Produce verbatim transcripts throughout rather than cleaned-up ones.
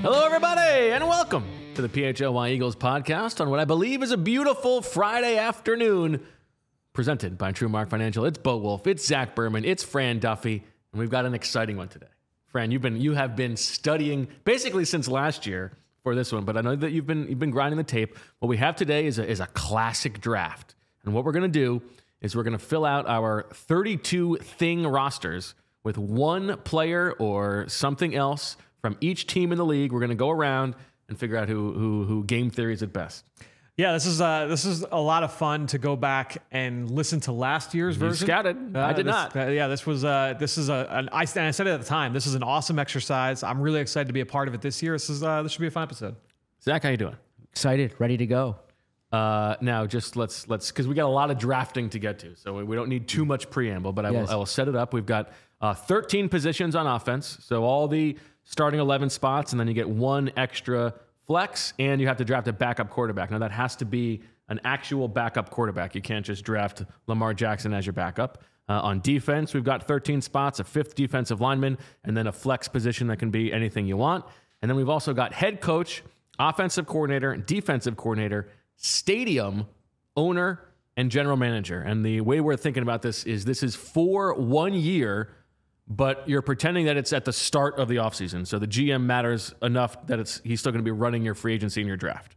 Hello, everybody, and welcome to the P H L Y Eagles podcast on what I believe is a beautiful Friday afternoon, presented by TrueMark Financial. It's Bo Wolf, it's Zach Berman, it's Fran Duffy, and we've got an exciting one today. Fran, you've been you have been studying basically since last year for this one, but I know that you've been you've been grinding the tape. What we have today is a, is a classic draft, and what we're going to do is we're going to fill out our thirty-two thing rosters with one player or something else from each team in the league. We're going to go around and figure out who who who game theory is at best. Yeah, this is uh, this is a lot of fun to go back and listen to last year's You version. scouted. Uh, I did this, not. Uh, yeah, this was uh, this is a an, I, and I said it at the time. This is an awesome exercise. I'm really excited to be a part of it this year. This is uh, this should be a fun episode. Zach, how you doing? Excited, ready to go. Uh, now, just let's let's because we got a lot of drafting to get to, so we, we don't need too much preamble. But I Yes. will I will set it up. We've got uh, thirteen positions on offense, so all the starting eleven spots, and then you get one extra flex, and you have to draft a backup quarterback. Now that has to be an actual backup quarterback. You can't just draft Lamar Jackson as your backup. Uh, on defense, we've got thirteen spots, a fifth defensive lineman, and then a flex position that can be anything you want. And then we've also got head coach, offensive coordinator, defensive coordinator, stadium owner, and general manager. And the way we're thinking about this is this is for one year, but you're pretending that it's at the start of the offseason. So the G M matters enough that it's he's still going to be running your free agency and your draft.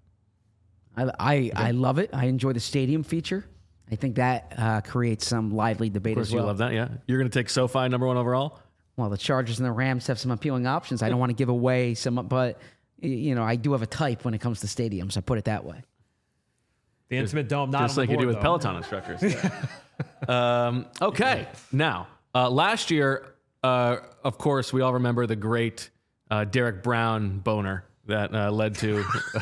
I I, I love it. I enjoy the stadium feature. I think that uh, creates some lively debate Of course, as well. you love that, yeah. You're going to take SoFi number one overall? Well, the Chargers and the Rams have some appealing options. I don't want to give away some, but y- you know, I do have a type when it comes to stadiums. I put it that way. The Intimate Dome, not Just on like the you do board, with though. Peloton instructors. um, okay, now, uh, last year, uh, of course, we all remember the great uh, Derek Brown boner that uh, led to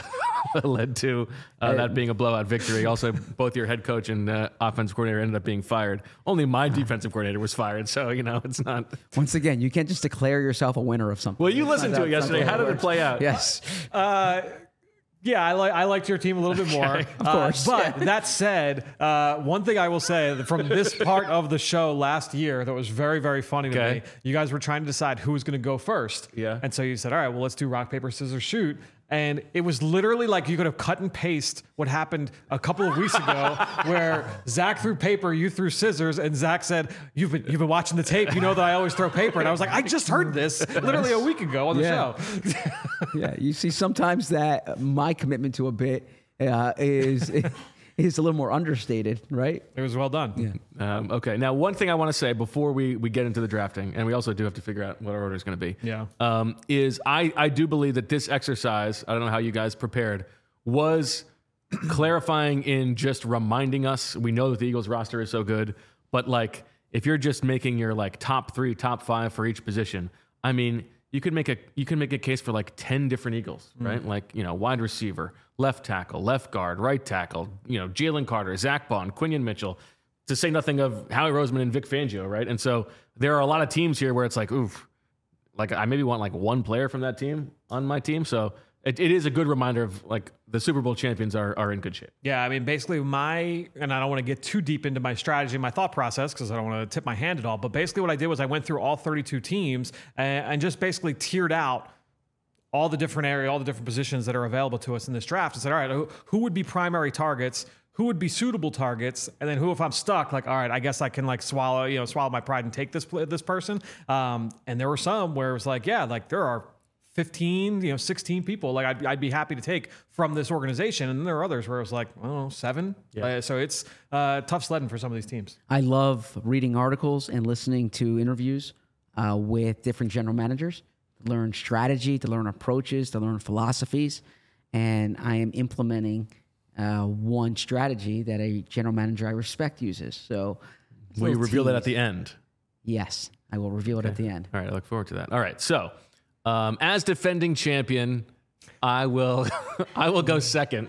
led to uh, that being a blowout victory. Also, both your head coach and uh, offensive coordinator ended up being fired. Only my defensive coordinator was fired, so, you know, it's not... Once again, you can't just declare yourself a winner of something. Well, you It's listened not to it that- yesterday. that's How not did how it play out? Yes. Uh, yeah, I like I liked your team a little bit more. Okay. Of course. Uh, but that said, uh, one thing I will say from this part of the show last year that was very, very funny to Okay. me, you guys were trying to decide who was going to go first. Yeah. And so you said, all right, well, let's do rock, paper, scissors, shoot. And it was literally like you could have cut and paste what happened a couple of weeks ago where Zach threw paper, you threw scissors, and Zach said, you've been, you've been watching the tape. You know that I always throw paper. And I was like, I just heard this literally a week ago on the Yeah. show. Yeah, you see, sometimes that my commitment to a bit uh, is is a little more understated, right? It was well done. Yeah. Um, okay. Now, one thing I want to say before we, we get into the drafting, and we also do have to figure out what our order is going to be, Yeah. um, is I, I do believe that this exercise, I don't know how you guys prepared, was clarifying in just reminding us. We know that the Eagles roster is so good, but like if you're just making your like top three, top five for each position, I mean, you could make a you can make a case for like ten different Eagles, right? Like, you know, wide receiver, left tackle, left guard, right tackle, you know, Jalen Carter, Zach Bond, Quinion Mitchell, to say nothing of Howie Roseman and Vic Fangio, right? And so there are a lot of teams here where it's like, oof, like I maybe want like one player from that team on my team. So it, it is a good reminder of like the Super Bowl champions are are in good shape. Yeah, I mean, basically my, and I don't want to get too deep into my strategy and my thought process because I don't want to tip my hand at all, but basically what I did was I went through all thirty-two teams and, and just basically tiered out all the different area, all the different positions that are available to us in this draft and said, all right, who, who would be primary targets? Who would be suitable targets? And then who, if I'm stuck, like, all right, I guess I can like swallow, you know, swallow my pride and take this, this person. Um, and there were some where it was like, yeah, like there are fifteen, you know, sixteen people like I'd, I'd be happy to take from this organization. And then there are others where it was like, I don't know, seven. Yeah. Uh, so it's uh, tough sledding for some of these teams. I love reading articles and listening to interviews uh, with different general managers to learn strategy, to learn approaches, to learn philosophies. And I am implementing uh, one strategy that a general manager I respect uses. So, Will you little reveal that tease. at the end? Yes, I will reveal it at the end. All right, I look forward to that. All right, so um, as defending champion, I will I will go second.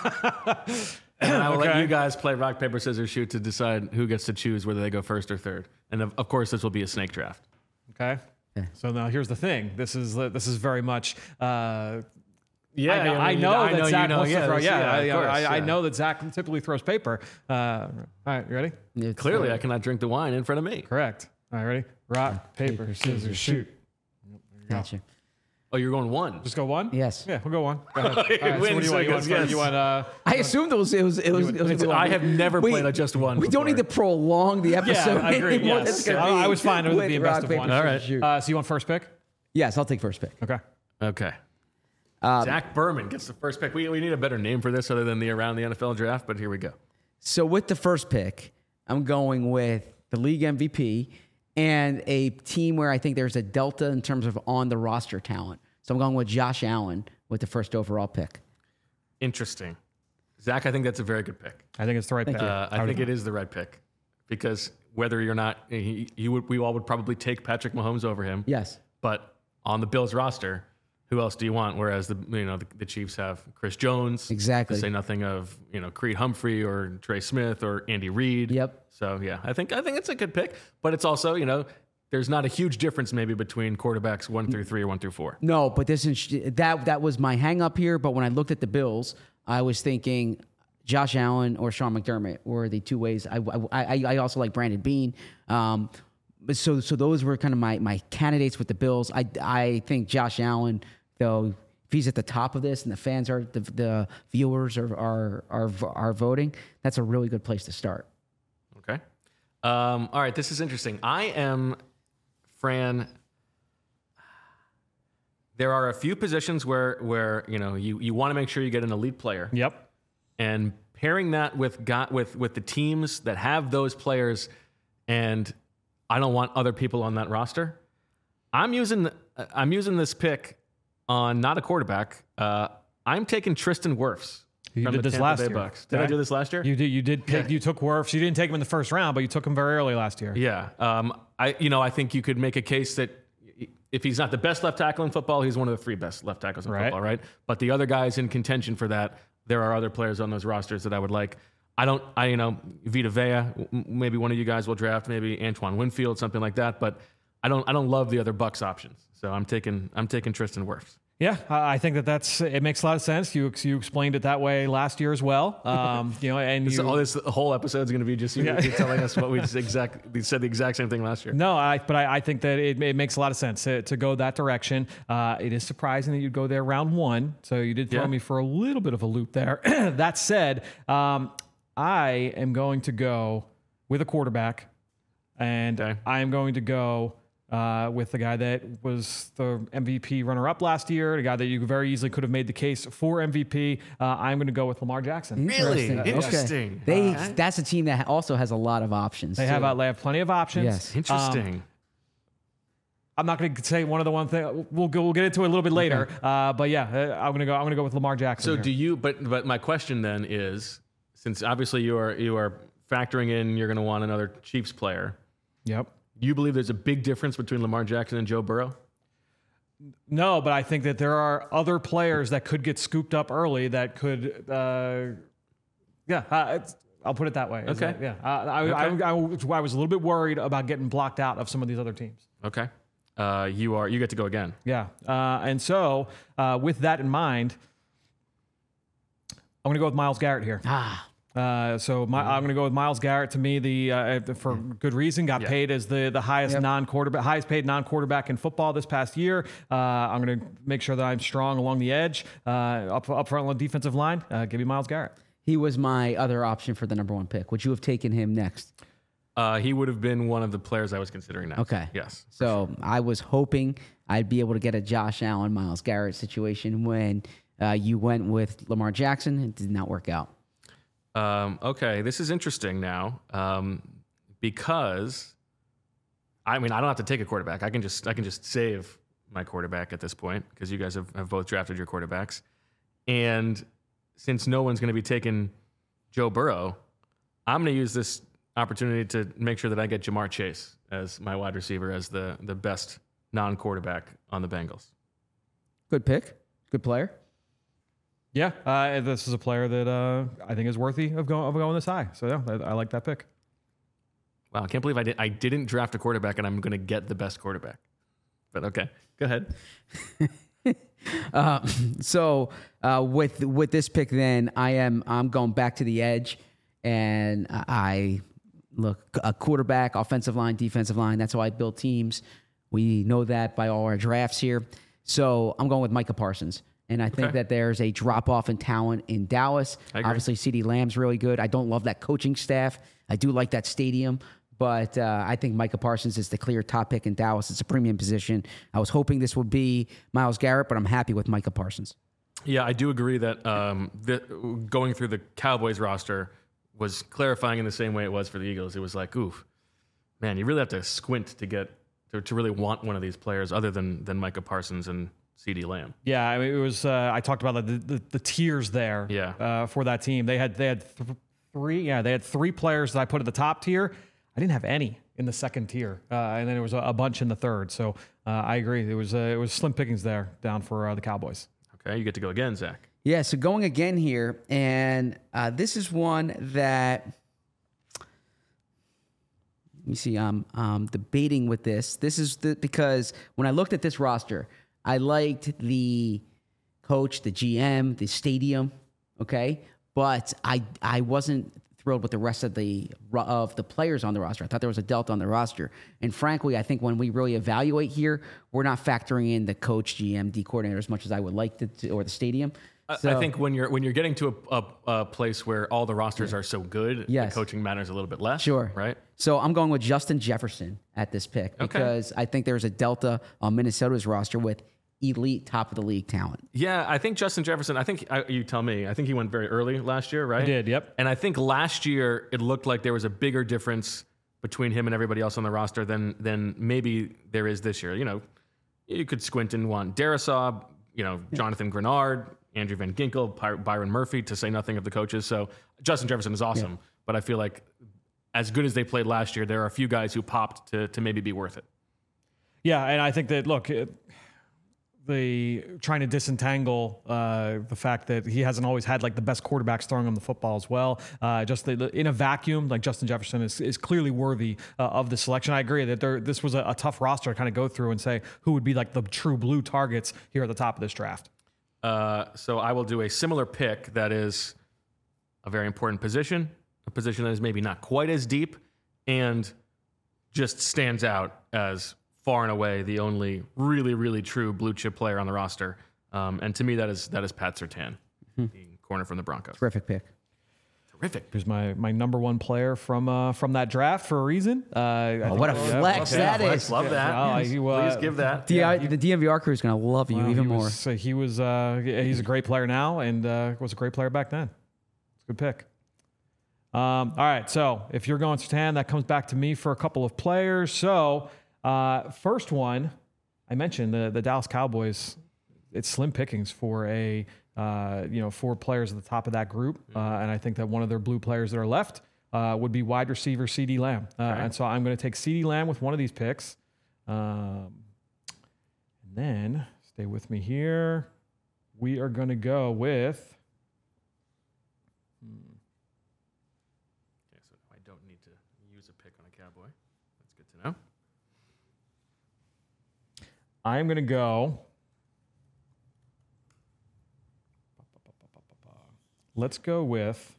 And I will let Okay. you guys play rock, paper, scissors, shoot to decide who gets to choose whether they go first or third. And of, of course, this will be a snake draft. Okay. Okay. So now here's the thing. This is this is very much. Uh, Yeah, I know, mean, I you know I that know, Zach you know, wants yeah, to throw. this- Yeah, I, of course, I, I yeah. know that Zach typically throws paper. Uh, all right, you ready? It's, Clearly, uh, I cannot drink the wine in front of me. Correct. All right, ready? Rock, paper, scissors, shoot. Gotcha. Oh, you're going one. Just go one? Yes. Yeah, we'll go one. Go ahead. All right, so Win, what do you want? You want, so yes. you want uh, I assumed it was it was it was. It was It's- I have never We- played a just one. We don't before. need to prolong the episode. I agree, anymore. yes. It's gonna I- I be was fine with it with being best rock, of paper, one. scissors, All right. shoot. uh, so you want first pick? Yes, I'll take first pick. Okay. Okay. Um, Zach Berman gets the first pick. We, we need a better name for this other than the Around the N F L Draft, but here we go. So with the first pick, I'm going with the league M V P and a team where I think there's a delta in terms of on the roster talent. So I'm going with Josh Allen with the first overall pick. Interesting. Zach, I think that's a very good pick. I think it's the right pick. Uh, I think it is the right pick because whether you're not, he, you would, we all would probably take Patrick Mahomes over him. Yes. But on the Bills roster, who else do you want? Whereas the you know the, the Chiefs have Chris Jones, Exactly. To say nothing of you know Creed Humphrey or Trey Smith or Andy Reid. Yep. So yeah, I think I think it's a good pick, but it's also you know there's not a huge difference maybe between quarterbacks one through three or one through four. No, but this is that that was my hang up here. But when I looked at the Bills, I was thinking Josh Allen or Sean McDermott were the two ways. I I, I also like Brandon Beane. Um, but so so those were kind of my my candidates with the Bills. I I think Josh Allen, though, if he's at the top of this and the fans are the the viewers are are are, are voting, that's a really good place to start. Okay. Um, all right, this is interesting. I am, Fran. There are a few positions where where you know you, you want to make sure you get an elite player, Yep. and pairing that with got with with the teams that have those players, and I don't want other people on that roster. I'm using I'm using this pick on not a quarterback. Uh, I'm taking Tristan Wirfs. You from did the this Tampa last Bay year. Bucks. Did I Okay. do this last year? You did. You did pick. You took Wirfs. You didn't take him in the first round, but you took him very early last year. Yeah. Um, I, you know, I think you could make a case that if he's not the best left tackle in football, he's one of the three best left tackles in Right. football, right? But the other guys in contention for that, there are other players on those rosters that I would like. I don't, I, you know, Vita Vea, m- maybe one of you guys will draft, maybe Antoine Winfield, something like that. But I don't, I don't love the other Bucks options. So I'm taking, I'm taking Tristan Wirfs. Yeah, I I think that that's it makes a lot of sense. You you explained it that way last year as well. Um, you know, and This, you, all this whole episode is going to be just you Yeah. you telling us what we just exact, we said the exact same thing last year. No, I, but I, I think that it, it makes a lot of sense to, to go that direction. Uh, it is surprising that you'd go there round one. So you did throw Yeah. me for a little bit of a loop there. That said, um, I am going to go with a quarterback, and Okay. I am going to go uh, with the guy that was the M V P runner-up last year, the guy that you very easily could have made the case for M V P. Uh, I'm going to go with Lamar Jackson. Really? Interesting. Interesting. They Okay. that's a team that also has a lot of options. They have, too. uh, they have plenty of options. Yes. Interesting. Um, I'm not going to say one of the one thing. We'll go, we'll get into it a little bit later. Uh, but yeah, uh, I'm going to go. I'm going to go with Lamar Jackson. So here. do you? But but my question then is, since obviously you are you are factoring in, you're going to want another Chiefs player. Yep. Do you believe there's a big difference between Lamar Jackson and Joe Burrow? No, but I think that there are other players that could get scooped up early that could. Uh, yeah, uh, it's, I'll put it that way. Is Okay. that- yeah. Uh, I, Okay. I, I, I was a little bit worried about getting blocked out of some of these other teams. Okay. Uh, you are you get to go again. Yeah. Uh, and so, uh, with that in mind, I'm going to go with Myles Garrett here. Ah, Uh, so my, I'm going to go with Myles Garrett. To me, the uh, for good reason, got Yeah. paid as the the highest Yep. non-quarterback, highest paid non-quarterback in football this past year. Uh, I'm going to make sure that I'm strong along the edge, uh, up up front on the defensive line. Uh, give me Myles Garrett. he was my other option for the number one pick. Would you have taken him next? Uh, he would have been one of the players I was considering next. Okay. Yes. So I was hoping I'd be able to get a Josh Allen, Myles Garrett situation when uh, you went with Lamar Jackson. It did not work out. Um, okay, this is interesting now um, because I mean I don't have to take a quarterback. I can just I can just save my quarterback at this point because you guys have, have both drafted your quarterbacks, and since no one's going to be taking Joe Burrow, I'm going to use this opportunity to make sure that I get Jamar Chase as my wide receiver as the the best non-quarterback on the Bengals. Good pick. Good player. Yeah, uh, this is a player that uh, I think is worthy of going of going this high. So yeah, I, I like that pick. Wow, I can't believe I did I didn't draft a quarterback and I'm going to get the best quarterback. But okay, go ahead. Uh, so uh, with with this pick, then I am I'm going back to the edge, and I look a quarterback, offensive line, defensive line. That's how I build teams. We know that by all our drafts here. So I'm going with Micah Parsons. And I think Okay. that there's a drop off in talent in Dallas. I agree. Obviously, CeeDee Lamb's really good. I don't love that coaching staff. I do like that stadium. But uh, I think Micah Parsons is the clear top pick in Dallas. It's a premium position. I was hoping this would be Myles Garrett, but I'm happy with Micah Parsons. Yeah, I do agree that um, the, going through the Cowboys roster was clarifying in the same way it was for the Eagles. It was like, oof, man, you really have to squint to get to, to really want one of these players other than than Micah Parsons and CeeDee Lamb. Yeah, I mean, it was. Uh, I talked about the, the the tiers there. Yeah. Uh, for that team, they had they had th- three. Yeah, they had three players that I put at the top tier. I didn't have any in the second tier, uh, and then there was a, a bunch in the third. So uh, I agree. It was uh, it was slim pickings there down for uh, the Cowboys. Okay, you get to go again, Zach. Yeah, so going again here, and uh, this is one that, let me see, I'm um, debating with this. This is the, because when I looked at this roster, I liked the coach, the G M, the stadium, okay? But I I wasn't thrilled with the rest of the of the players on the roster. I thought there was a delta on the roster. And frankly, I think when we really evaluate here, we're not factoring in the coach, G M, D coordinator as much as I would like to, or the stadium. I- So- I think when you're when you're getting to a, a, a place where all the rosters are so good, Yes. the coaching matters a little bit less. Sure. Right? So I'm going with Justin Jefferson at this pick because I think there's a delta on Minnesota's roster with elite top of the league talent. Yeah, I think Justin Jefferson, I think, I, you tell me, I think he went very early last year, right? He did, yep. And I think last year it looked like there was a bigger difference between him and everybody else on the roster than than maybe there is this year. You know, you could squint and want Darisaw, you know, Jonathan Grenard, Andrew Van Ginkel, Py- Byron Murphy, to say nothing of the coaches. So Justin Jefferson is awesome, but I feel like as good as they played last year, there are a few guys who popped to to maybe be worth it. Yeah, and I think that look, it, the trying to disentangle uh, the fact that he hasn't always had like the best quarterbacks throwing him the football as well. Uh, just the, in a vacuum, like Justin Jefferson is, is clearly worthy uh, of the selection. I agree that there, this was a, a tough roster to kind of go through and say who would be like the true blue targets here at the top of this draft. Uh, so I will do a similar pick that is a very important position, a position that is maybe not quite as deep and just stands out as far and away the only really, really true blue chip player on the roster. Um, and to me, that is that is Pat Surtain, the corner from the Broncos. Terrific pick. Terrific. Here's my my number one player from uh, from that draft for a reason. Uh, I Oh, what a think- flex Okay, that flex, is. Love that. Yeah, he, uh, Please give that. D- the D M V R crew is going to love you Well, even he more. Was, so he was uh, he's a great player now and uh, was a great player back then. It's a good pick. Um, all right, so if you're going Surtain, that comes back to me for a couple of players. So uh, first one, I mentioned the the Dallas Cowboys. It's slim pickings for a uh, you know four players at the top of that group, uh, and I think that one of their blue players that are left uh, would be wide receiver CeeDee Lamb, uh, and so I'm going to take CeeDee Lamb with one of these picks. Um, and then stay with me here. We are going to go with. Okay, so I don't need to use a pick on a Cowboy. That's good to know. I'm going to go. Let's go with.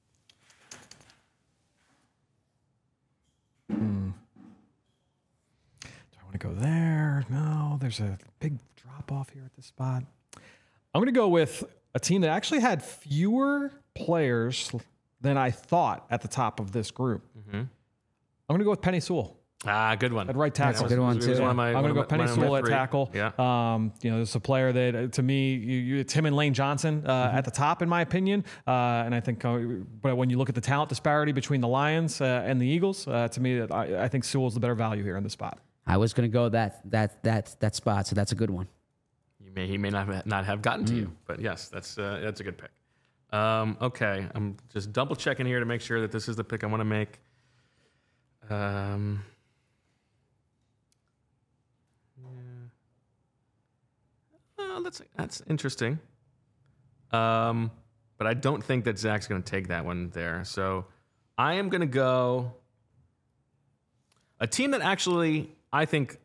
Hmm. Do I want to go there? No, there's a big drop off here at this spot. I'm going to go with a team that actually had fewer players than I thought at the top of this group. I'm going to go with Penny Sewell. Ah, good one. At right tackle. That's a good one, It was too. one of my- I'm one going to of go my- Penny one of my Sewell at three. tackle. Yeah. Um, you know, it's a player that, uh, to me, you, you, it's him and Lane Johnson uh, Mm-hmm. at the top, in my opinion. Uh, and I think, uh, but when you look at the talent disparity between the Lions uh, and the Eagles, uh, to me, I, I think Sewell's the better value here in the spot. I was going to go that that that that spot, so that's a good one. You may he may not have, not have gotten to you, but yes, that's uh, that's a good pick. Um, okay, I'm just double checking here to make sure that this is the pick I want to make. Um, yeah. Uh, that's that's interesting. Um, but I don't think that Zach's going to take that one there. So I am going to go a team that actually I think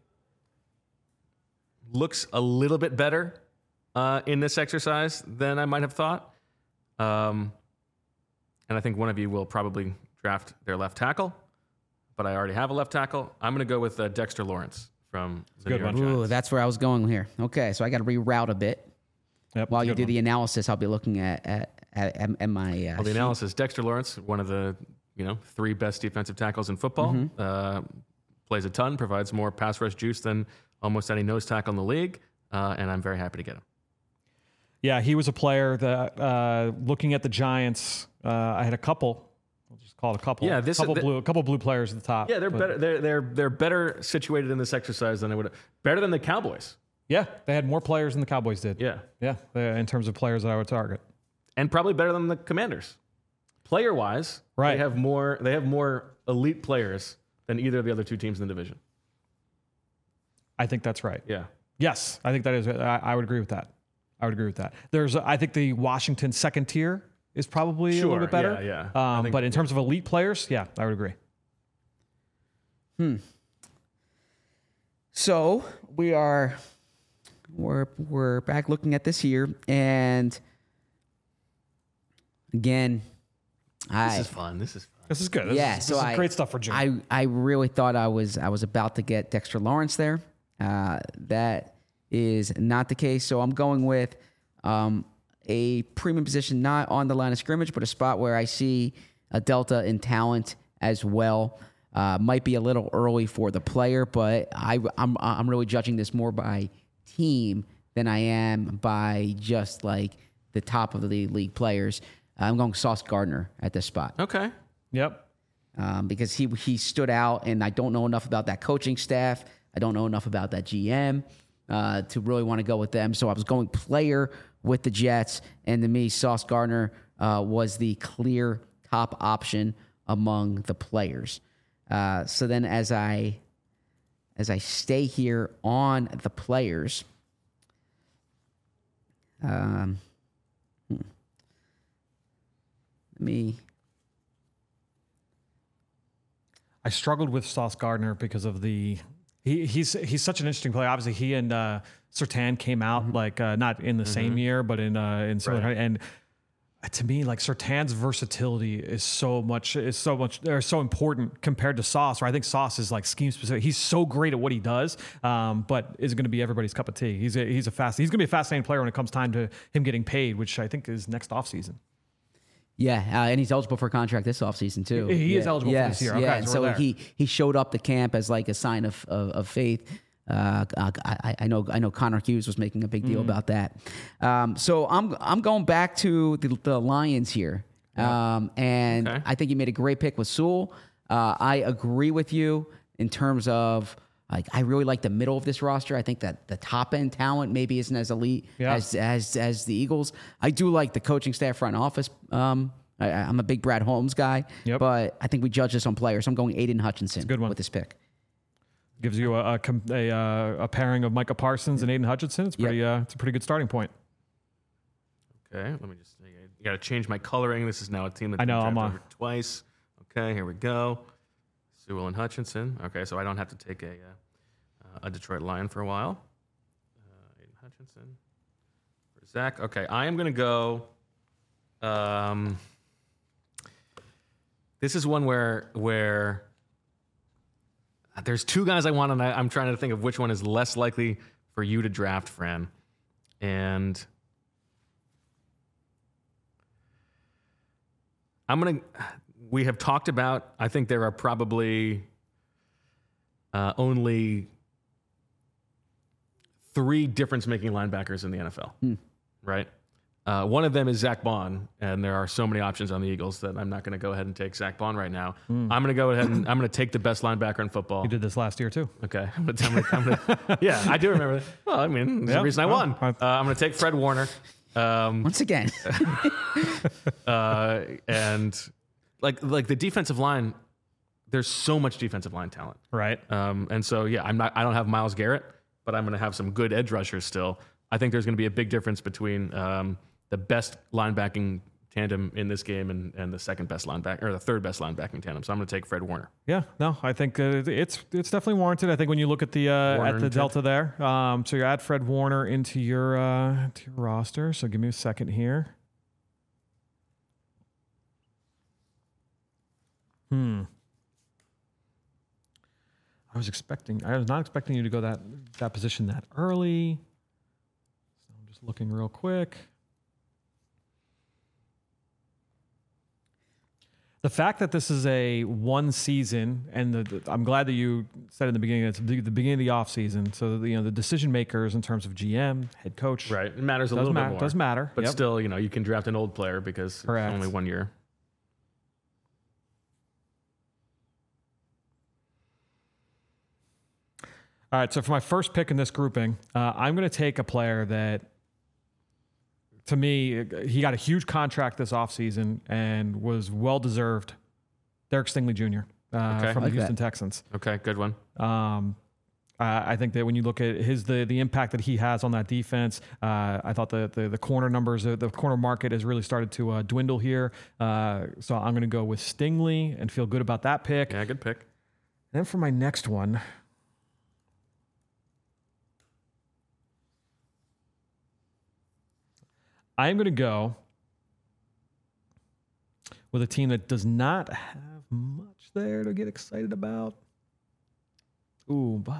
looks a little bit better uh, in this exercise than I might have thought. Um, and I think one of you will probably draft their left tackle, but I already have a left tackle. I'm going to go with uh, Dexter Lawrence from the good New York one. Ooh, Giants. that's where I was going here. Okay, so I got to reroute a bit. Yep, While you good do one. the analysis, I'll be looking at at, at, at, at my uh, Well, the sheet. analysis: Dexter Lawrence, one of the you know three best defensive tackles in football, Mm-hmm. uh, plays a ton, provides more pass rush juice than almost any nose tackle in the league, uh, and I'm very happy to get him. Yeah, he was a player that, uh, looking at the Giants, uh, I had a couple. We'll just call it a couple. Yeah, this- couple th- blue, a couple blue players at the top. Yeah, they're but- better. They're they're they're better situated in this exercise than they would. Better than the Cowboys. Yeah, they had more players than the Cowboys did. Yeah, yeah, uh, in terms of players that I would target. and probably better than the Commanders. Player wise, Right. They have more. They have more elite players than either of the other two teams in the division. I think that's right. Yeah. Yes, I think that is. I, I would agree with that. I would agree with that. There's, I think the Washington second tier is probably a Sure, little bit better. yeah, yeah. I Um, think- but in terms of elite players, yeah, I would agree. So we are we're we're back looking at this here, and again, I This is fun. This is fun. This is good. This yeah. is, so this is I, great stuff for June. I I really thought I was I was about to get Dexter Lawrence there. Uh, that is not the case. So I'm going with um, a premium position, not on the line of scrimmage, but a spot where I see a delta in talent as well. Uh, might be a little early for the player, but I, I'm I'm really judging this more by team than I am by just like the top of the league players. I'm going Sauce Gardner at this spot. Okay. Yep. Um, because he he stood out, and I don't know enough about that coaching staff. I don't know enough about that G M uh, to really want to go with them. So I was going player with the Jets, and to me, Sauce Gardner uh, was the clear top option among the players. Uh, so then, as I as I stay here on the players, um, hmm. let me. I struggled with Sauce Gardner because of the he, he's he's such an interesting player. Obviously, he and uh, Surtain came out Mm-hmm. like uh, not in the same year, but in uh, in similar Right. and. To me, like Surtain's versatility is so much is so much or so important compared to Sauce. Where I think Sauce is like scheme specific. He's so great at what he does, um, but is going to be everybody's cup of tea. He's a, he's a fast. He's going to be a fascinating player when it comes time to him getting paid, which I think is next offseason. Yeah, uh, and he's eligible for a contract this offseason too. He- he yeah. is eligible for yes, this year. Okay, yeah, so and we're so there. he he showed up to camp as like a sign of of, of faith. Uh, I, I know I know Connor Hughes was making a big deal about that. Um, so I'm I'm going back to the, the Lions here, um, and Okay. I think you made a great pick with Sewell. Uh, I agree with you in terms of. Like I really like the middle of this roster. I think that the top end talent maybe isn't as elite Yeah. as as as the Eagles. I do like the coaching staff, front office. Um, I, I'm a big Brad Holmes guy, Yep. but I think we judge this on players. I'm going Aiden Hutchinson good one. with this pick. Gives you a a, com- a, uh, a pairing of Micah Parsons and Aiden Hutchinson. It's pretty. Uh, it's a pretty good starting point. Okay. Let me just. You got to change my coloring. This is now a team that's I know, been I'm drafted on. over twice. Okay. Here we go. Sewell and Hutchinson. Okay. So I don't have to take a uh, a Detroit Lion for a while. Uh, Aiden Hutchinson for Zach. Okay. I am going to go. Um, this is one where where. There's two guys I want, and I, I'm trying to think of which one is less likely for you to draft, Fran. And I'm going to, we have talked about, I think there are probably uh, only three difference making linebackers in the N F L, right? Uh, one of them is Zach Bond, and there are so many options on the Eagles that I'm not going to go ahead and take Zach Bond right now. I'm going to go ahead and I'm going to take the best linebacker in football. You did this last year too. Okay. I'm gonna, I'm gonna, I'm gonna, yeah, I do remember that. Well, I mean, there's Yeah. a reason I Oh, won. I- Uh, I'm going to take Fred Warner. Um, Once again, uh, and like like the defensive line, there's so much defensive line talent. Right. Um, and so, yeah, I'm not, I don't have Myles Garrett, but I'm going to have some good edge rushers still. I think there's going to be a big difference between um, the best linebacking tandem in this game and, and the second best linebacker or the third best linebacking tandem. So I'm going to take Fred Warner. Yeah, no, I think uh, it's it's definitely warranted. I think when you look at the uh, Warner at the and delta there, um, so you add Fred Warner into your uh, to your roster. So give me a second here. Hmm. I was expecting, I was not expecting you to go that that position that early. So I'm just looking real quick. The fact that this is a one season, and the, the, I'm glad that you said in the beginning, it's the, the beginning of the off season. So the, you know the decision makers in terms of G M, head coach, Right. It matters a does little ma- bit more. does matter, But yep. still, you know, you can draft an old player because Correct. it's only one year. All right, so for my first pick in this grouping, uh, I'm going to take a player that, to me, he got a huge contract this offseason and was well-deserved. Derek Stingley Junior Uh, Okay. from Like the Houston that. Texans. Okay, good one. Um, uh, I think that when you look at his the the impact that he has on that defense, uh, I thought the, the the corner numbers, uh, the corner market has really started to uh, dwindle here. Uh, so I'm going to go with Stingley and feel good about that pick. Yeah, good pick. And then for my next one, I'm going to go with a team that does not have much there to get excited about. Ooh, but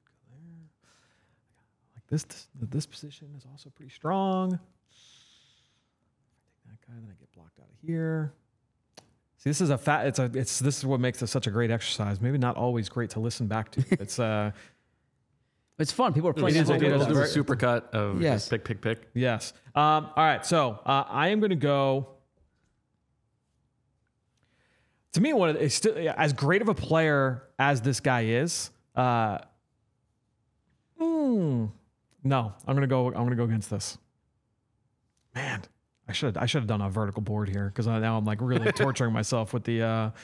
like this, this, this position is also pretty strong. If I take that guy, then I get blocked out of here. See, this is a fat. It's a. It's this is what makes it such a great exercise. Maybe not always great to listen back to. It's uh. It's fun. People are playing It at is, home it with is. We'll us. do a supercut of Yes. just pick, pick, pick. Yes. Um, all right. So uh, I am going to go. To me, one of the, it's still as great of a player as this guy is. Uh, mm, no, I'm going to go. I'm going to go against this. Man, I should I should have done a vertical board here because now I'm like really torturing myself with the. Uh,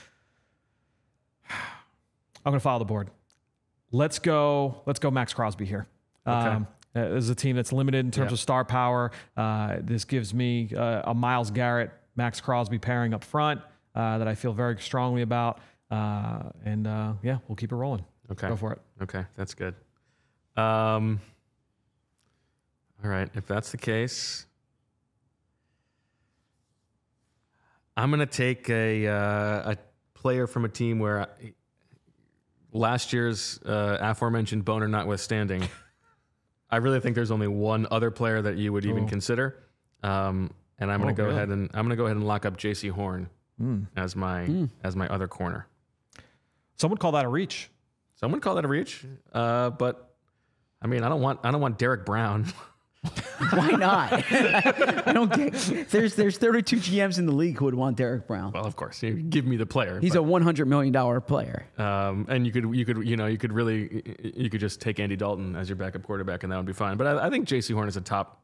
I'm going to follow the board. Let's go. Let's go, Max Crosby here. Okay. Um, uh, this is a team that's limited in terms Yep. of star power. Uh, this gives me uh, a Myles Garrett, Max Crosby pairing up front uh, that I feel very strongly about. Uh, and uh, yeah, we'll keep it rolling. Okay. Go for it. Okay, that's good. Um, all right, if that's the case, I'm going to take a uh, a player from a team where I, last year's uh, aforementioned boner notwithstanding, I really think there's only one other player that you would even Oh. consider. Um, and I'm going Oh, to go really? ahead and I'm going to go ahead and lock up J C Horn Mm. as my Mm. as my other corner. Some would call that a reach. Someone call that a reach, uh, but I mean, I don't want I don't want Derek Brown. Why not? I don't get. There's there's thirty-two G Ms in the league who would want Derek Brown. Well, of course, you give me the player. He's a one hundred million dollar player. a um, and you could you could you know you could really you could just take Andy Dalton as your backup quarterback, and that would be fine. But I, I think J C Horn is a top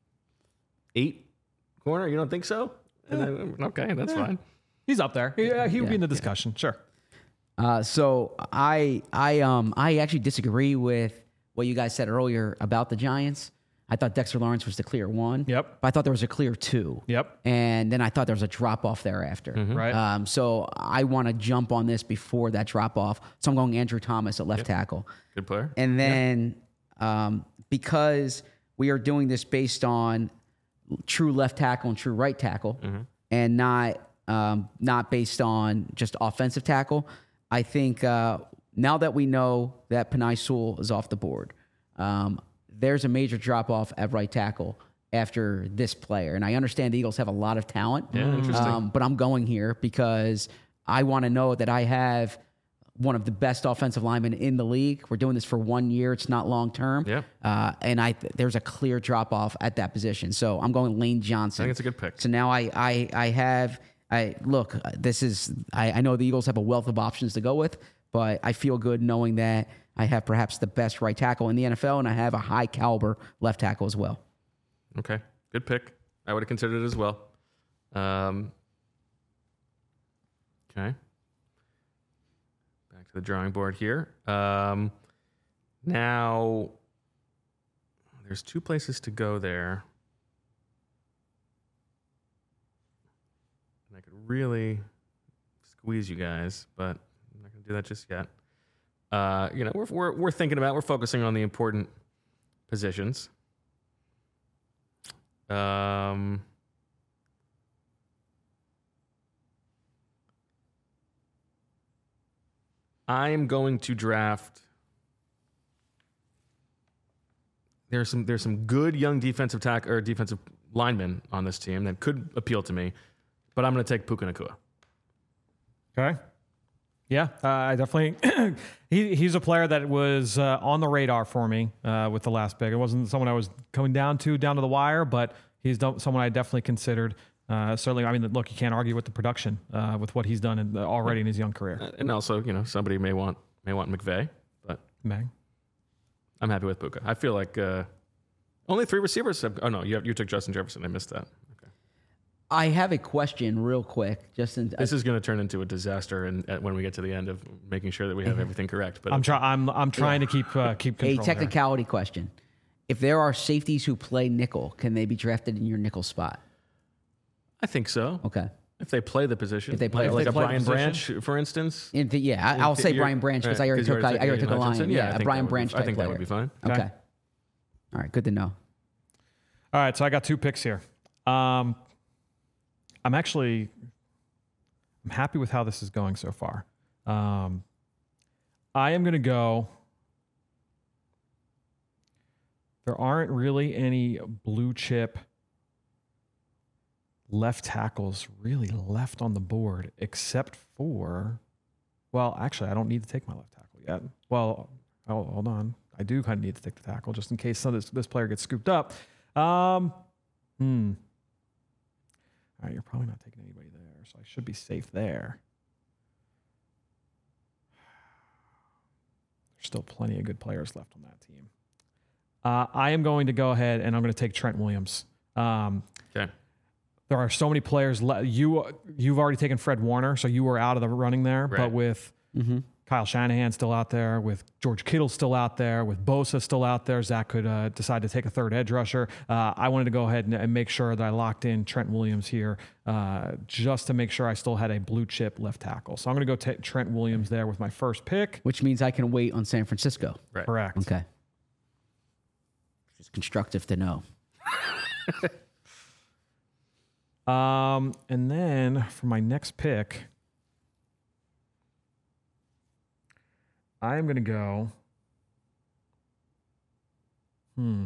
eight corner. You don't think so? And then, okay, that's fine. He's up there. Yeah, he would be Yeah, in the discussion. Sure. Uh, so I I um I actually disagree with what you guys said earlier about the Giants. I thought Dexter Lawrence was the clear one. Yep. But I thought there was a clear two. Yep. And then I thought there was a drop off thereafter. Right. Um, so I want to jump on this before that drop off. So I'm going Andrew Thomas at left tackle. Good player. And then um, because we are doing this based on true left tackle and true right tackle, and not um, not based on just offensive tackle, I think uh, now that we know that Penei Sewell is off the board, um, there's a major drop off at right tackle after this player. And I understand the Eagles have a lot of talent. Yeah, interesting. Um, but I'm going here because I want to know that I have one of the best offensive linemen in the league. We're doing this for one year. It's not long term. Yeah. Uh, and I there's a clear drop off at that position. So I'm going Lane Johnson. I think it's a good pick. So now I I I have I look. This is I, I know the Eagles have a wealth of options to go with, but I feel good knowing that I have perhaps the best right tackle in the N F L, and I have a high caliber left tackle as well. Okay, good pick. I would have considered it as well. Um, okay. Back to the drawing board here. Um, now, there's two places to go there. And I could really squeeze you guys, but I'm not going to do that just yet. Uh, you know, we're, we're, we're thinking about, we're focusing on the important positions. Um, I am going to draft. There's some there's some good young defensive tack or defensive linemen on this team that could appeal to me, but I'm going to take Puka Nacua. Okay. Yeah, uh, I definitely. he he's a player that was uh, on the radar for me uh, with the last pick. It wasn't someone I was coming down to down to the wire, but he's done, someone I definitely considered. Uh, certainly, I mean, look, you can't argue with the production uh, with what he's done in, uh, already in his young career. And also, you know, somebody may want may want McVay, but Meg. I'm happy with Puka. I feel like uh, only three receivers have. Oh no, you have, you took Justin Jefferson. I missed that. Okay. I have a question, real quick. Justin, This is going to turn into a disaster, and uh, when we get to the end of making sure that we have everything correct. But I'm trying. I'm I'm trying to keep uh, keep a control. technicality question: if there are safeties who play nickel, can they be drafted in your nickel spot? I think so. Okay. If they play the position, If they play- like, if like they a play Brian the Branch, for instance. In the, yeah, I, I'll say You're- Brian Branch because right, I already 'cause you took I, I already took a Aiden line. Hutchinson. Yeah, I a think Brian that would be- Branch I type think player. that would be fine. Okay. Okay. All right. Good to know. All right, so I got two picks here. Um, I'm actually I'm happy with how this is going so far. Um, I am going to go. There aren't really any blue chip left tackles really left on the board, except for, well, actually, I don't need to take my left tackle yet. Well, oh, hold on. I do kind of need to take the tackle just in case some of this, this player gets scooped up. Um, hmm. All right, you're probably not taking anybody there, so I should be safe there. There's still plenty of good players left on that team. Uh, I am going to go ahead and I'm going to take Trent Williams. Um, Okay. there are so many players. Le- you you've already taken Fred Warner, so you were out of the running there. Right. But with Kyle Shanahan still out there, with George Kittle still out there, with Bosa still out there, Zach could uh, decide to take a third edge rusher. Uh, I wanted to go ahead and, and make sure that I locked in Trent Williams here, uh, just to make sure I still had a blue chip left tackle. So I'm going to go take Trent Williams there with my first pick. Which means I can wait on San Francisco. Right. Correct. Okay. It's constructive to know. Um, and then for my next pick, I am going to go. Hmm.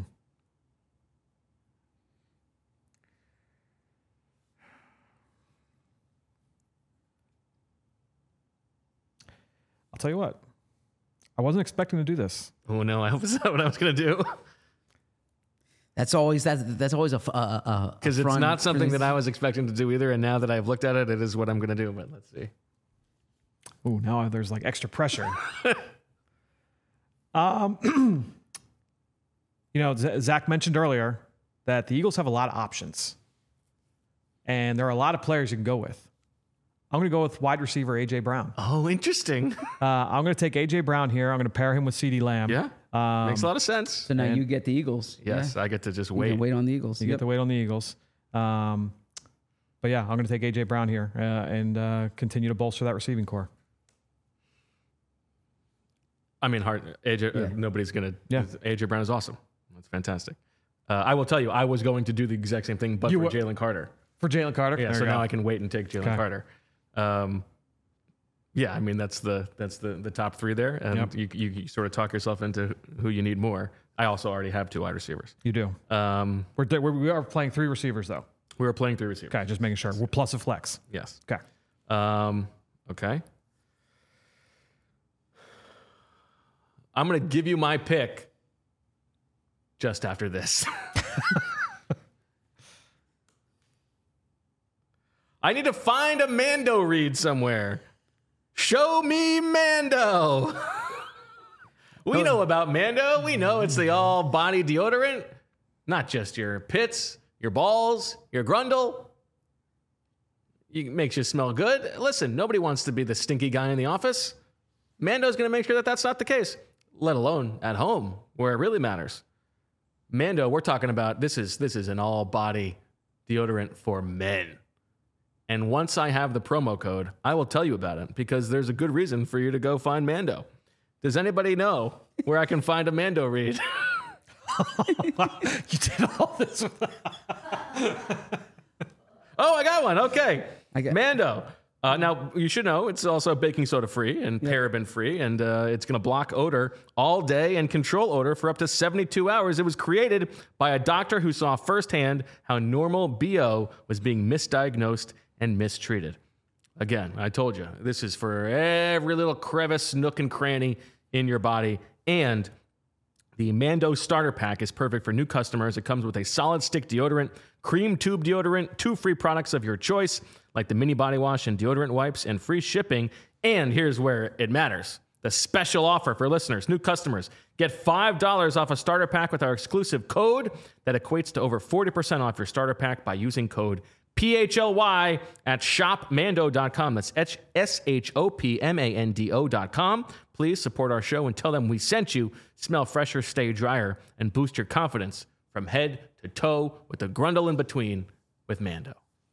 I'll tell you what. I wasn't expecting to do this. Oh no, I hope it's not what I was going to do. That's always that's that's always a because Because it's not something that I was expecting to do either. And now that I've looked at it, it is what I'm going to do. But let's see. Ooh, now there's like extra pressure. um, you know, Z- Zach mentioned earlier that the Eagles have a lot of options, and there are a lot of players you can go with. I'm going to go with wide receiver A J Brown. Oh, interesting. Uh, I'm going to take A J Brown here. I'm going to pair him with CeeDee Lamb. Yeah. Um, Makes a lot of sense. So now you get the Eagles. Yes, Yeah. I get to just You wait. can wait on the Eagles. You Yep. get to wait on the Eagles. Um, but yeah, I'm going to take A J Brown here uh, and uh, continue to bolster that receiving core. I mean, hard. A J, Yeah. uh, nobody's gonna. Yeah. A J Brown is awesome. That's fantastic. Uh, I will tell you, I was going to do the exact same thing, but You for wa- Jalen Carter. For Jalen Carter. Yeah. There So you now go. I can wait and take Jalen Okay. Carter. Um, yeah, I mean that's the that's the the top three there, and Yep. you, you you sort of talk yourself into who you need more. I also already have two wide receivers. You do. Um, We're, we're, we are playing three receivers, though. we were playing three receivers. Okay, just making sure. We're plus a flex. Yes. Okay. Um, okay. I'm going to give you my pick just after this. I need to find a Mando read somewhere. Show me Mando. We know about Mando. We know it's the all body deodorant, not just your pits, your balls, your grundle. It makes you smell good. Listen, nobody wants to be the stinky guy in the office. Mando's going to make sure that that's not the case, let alone at home where it really matters. Mando, we're talking about this is this is an all body deodorant for men. And once I have the promo code, I will tell you about it because there's a good reason for you to go find Mando. Does anybody know where I can find a Mando read? You did all this. Oh, I got one. Okay. I got- Mando. Uh, now, you should know it's also baking soda free and Yeah. paraben free, and uh, it's going to block odor all day and control odor for up to seventy-two hours. It was created by a doctor who saw firsthand how normal B O was being misdiagnosed and mistreated. Again, I told you, this is for every little crevice, nook, and cranny in your body. And the Mando Starter Pack is perfect for new customers. It comes with a solid stick deodorant, cream tube deodorant, two free products of your choice, like the mini body wash and deodorant wipes, and free shipping. And here's where it matters. The special offer for listeners, new customers. Get five dollars off a starter pack with our exclusive code that equates to over forty percent off your starter pack by using code P H L Y at shop mando dot com. That's S H O P M A N D O dot com. Please support our show and tell them we sent you. Smell fresher, stay drier, and boost your confidence from head to toe with the grundle in between with Mando.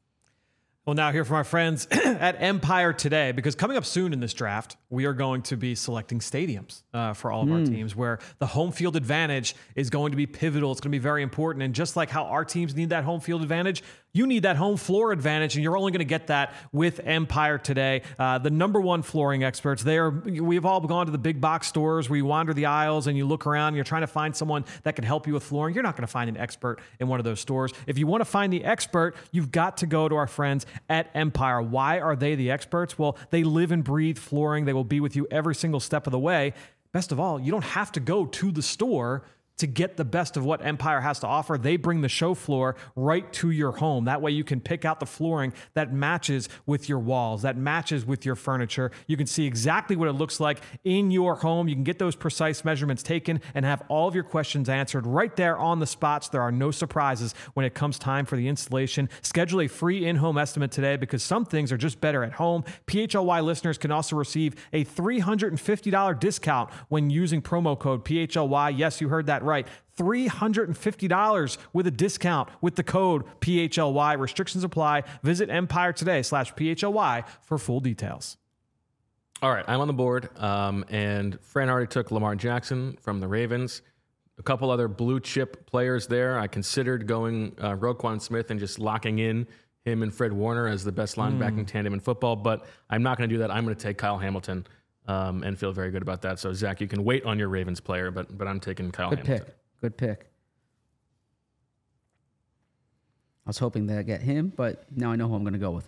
Well, now hear from our friends at Empire Today, because coming up soon in this draft, we are going to be selecting stadiums uh, for all of mm. our teams, where the home field advantage is going to be pivotal. It's going to be very important. And just like how our teams need that home field advantage, you need that home floor advantage, and you're only going to get that with Empire Today, uh, the number one flooring experts. They are. We've all gone to the big box stores where you wander the aisles and you look around and you're trying to find someone that can help you with flooring. You're not going to find an expert in one of those stores. If you want to find the expert, you've got to go to our friends at Empire. Why are they the experts? Well, they live and breathe flooring. They will be with you every single step of the way. Best of all, you don't have to go to the store to get the best of what Empire has to offer. They bring the show floor right to your home. That way you can pick out the flooring that matches with your walls, that matches with your furniture. You can see exactly what it looks like in your home. You can get those precise measurements taken and have all of your questions answered right there on the spots. There are no surprises when it comes time for the installation. Schedule a free in-home estimate today, because some things are just better at home. P H L Y listeners can also receive a three hundred fifty dollars discount when using promo code P H L Y. Yes, you heard that right. three hundred fifty dollars with a discount with the code P H L Y. Restrictions apply. Visit Empire Today slash P H L Y for full details. All right, I'm on the board, um, and Fran already took Lamar Jackson from the Ravens. A couple other blue chip players there. I considered going uh, Roquan Smith and just locking in him and Fred Warner as the best linebacking mm. tandem in football, but I'm not going to do that. I'm going to take Kyle Hamilton um, and feel very good about that. So, Zach, you can wait on your Ravens player, but but I'm taking Kyle Good Hamilton. Pick. Good pick. I was hoping that I get him, but now I know who I'm going to go with.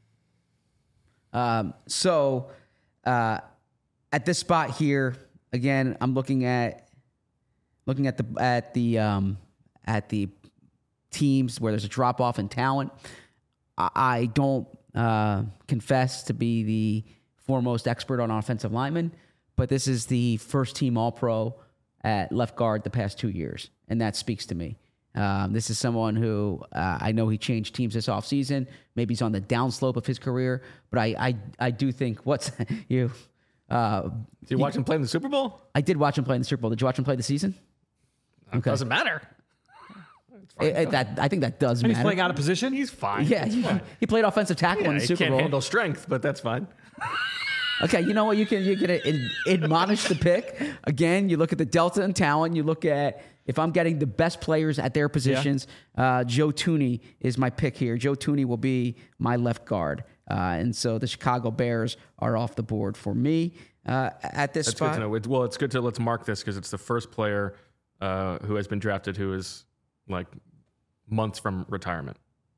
Um, so uh, at this spot here, again, I'm looking at looking at the at the um, at the teams where there's a drop off in talent. I, I don't uh, confess to be the foremost expert on offensive linemen, but this is the first team All-Pro at left guard the past two years, and that speaks to me. Um, this is someone who uh, I know he changed teams this offseason. Maybe he's on the downslope of his career, but I I, I do think what's you. Uh, Did you watch him play in the Super Bowl? I did watch him play in the Super Bowl. Did you watch him play the season? Okay. Doesn't matter. It, it, that I think that does and matter. He's playing out of position. He's fine. Yeah, he, he played offensive tackle yeah, in the Super Bowl. He can't Bowl. handle strength, but that's fine. Okay, you know what? You can you can ad- admonish the pick. Again, you look at the delta in talent. You look at if I'm getting the best players at their positions. Yeah. Uh, Joe Thuney is my pick here. Joe Thuney will be my left guard, uh, and so the Chicago Bears are off the board for me uh, at this That's spot. good to know. It, well, it's good to let's mark this because it's the first player uh, who has been drafted who is like months from retirement.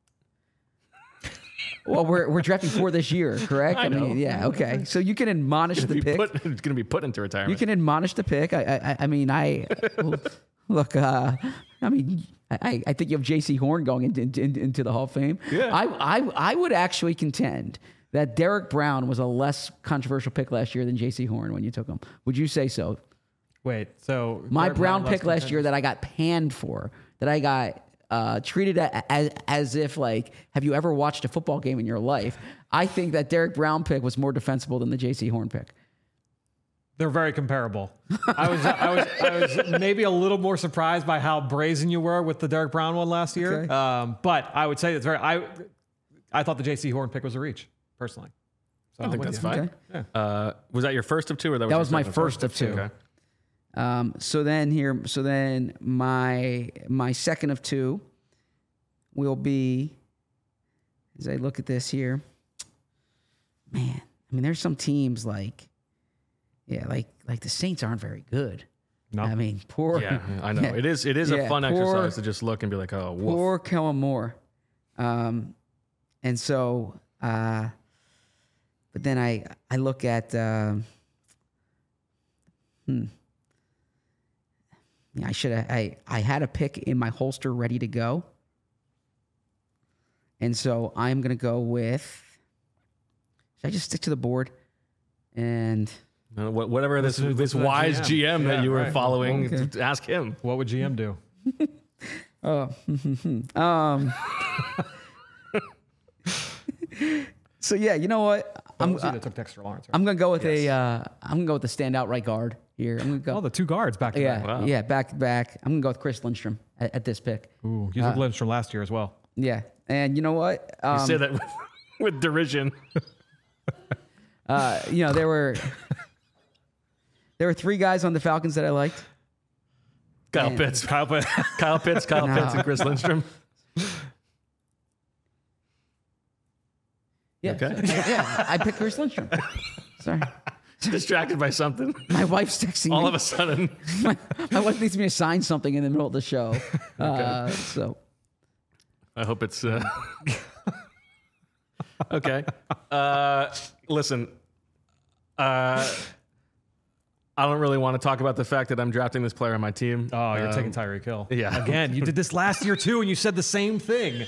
Well, we're we're drafting for this year, correct? I, I mean, yeah, okay. So you can admonish the pick. Put, it's going to be put into retirement. You can admonish the pick. I I, I mean, I look. Uh, I mean, I, I think you have J C Horn going into, into into the Hall of Fame. Yeah. I I I would actually contend that Derek Brown was a less controversial pick last year than J C Horn when you took him. Would you say so? Wait, so my Derek Brown, Brown pick last year that I got panned for, that I got. Uh, treated as, as if, like, have you ever watched a football game in your life? I think that Derek Brown pick was more defensible than the J C Horn pick. They're very comparable. I was I was I was maybe a little more surprised by how brazen you were with the Derek Brown one last year. Okay. Um, but I would say it's very. I I thought the J C Horn pick was a reach personally. So I think that's fine. Okay. Yeah. Uh, was that your first of two, or that was, That your was my second? first of two. Okay. Um, so then here, so then my my second of two will be, as I look at this here, man, I mean, there's some teams like, yeah, like like the Saints aren't very good. No. I mean, poor. Yeah, I know. yeah, It is It is yeah, a fun poor, exercise to just look and be like, oh, woof. Poor Kellen Moore. Um, and so, uh, but then I, I look at, um, hmm. Yeah, I should have, I, I had a pick in my holster ready to go. And so I'm going to go with, should I just stick to the board? And Uh, wh- Whatever this Listen to- this listen to that wise G M. G M, that Yeah, you were right. following, Okay. t- ask him. What would G M do? Oh, um, so yeah, you know what? I'm, I'm, that took Dexter Lawrence. Right? I'm gonna go with a, uh, I'm gonna go with the standout right guard here. I'm gonna go. Oh, the two guards back to yeah, back. Wow. yeah, back to back. I'm gonna go with Chris Lindstrom at, at this pick. Ooh, you took Lindstrom last year as well. Yeah, and you know what? Um, You say that with, with derision. uh, you know there were there were three guys on the Falcons that I liked. Kyle Man. Pitts, Kyle Pitt. Kyle Pitts, Kyle No. Pitts, and Chris Lindstrom. Yeah, Okay. yeah, I picked Chris Lindstrom. Sorry, Distracted by something. my wife's texting All me. of a sudden. my, my wife needs me to sign something in the middle of the show. Uh, so I hope it's uh... okay. Uh, listen, uh, I don't really want to talk about the fact that I'm drafting this player on my team. Oh, you're Um, taking Tyreek Hill. yeah. Again, you did this last year too, and you said the same thing.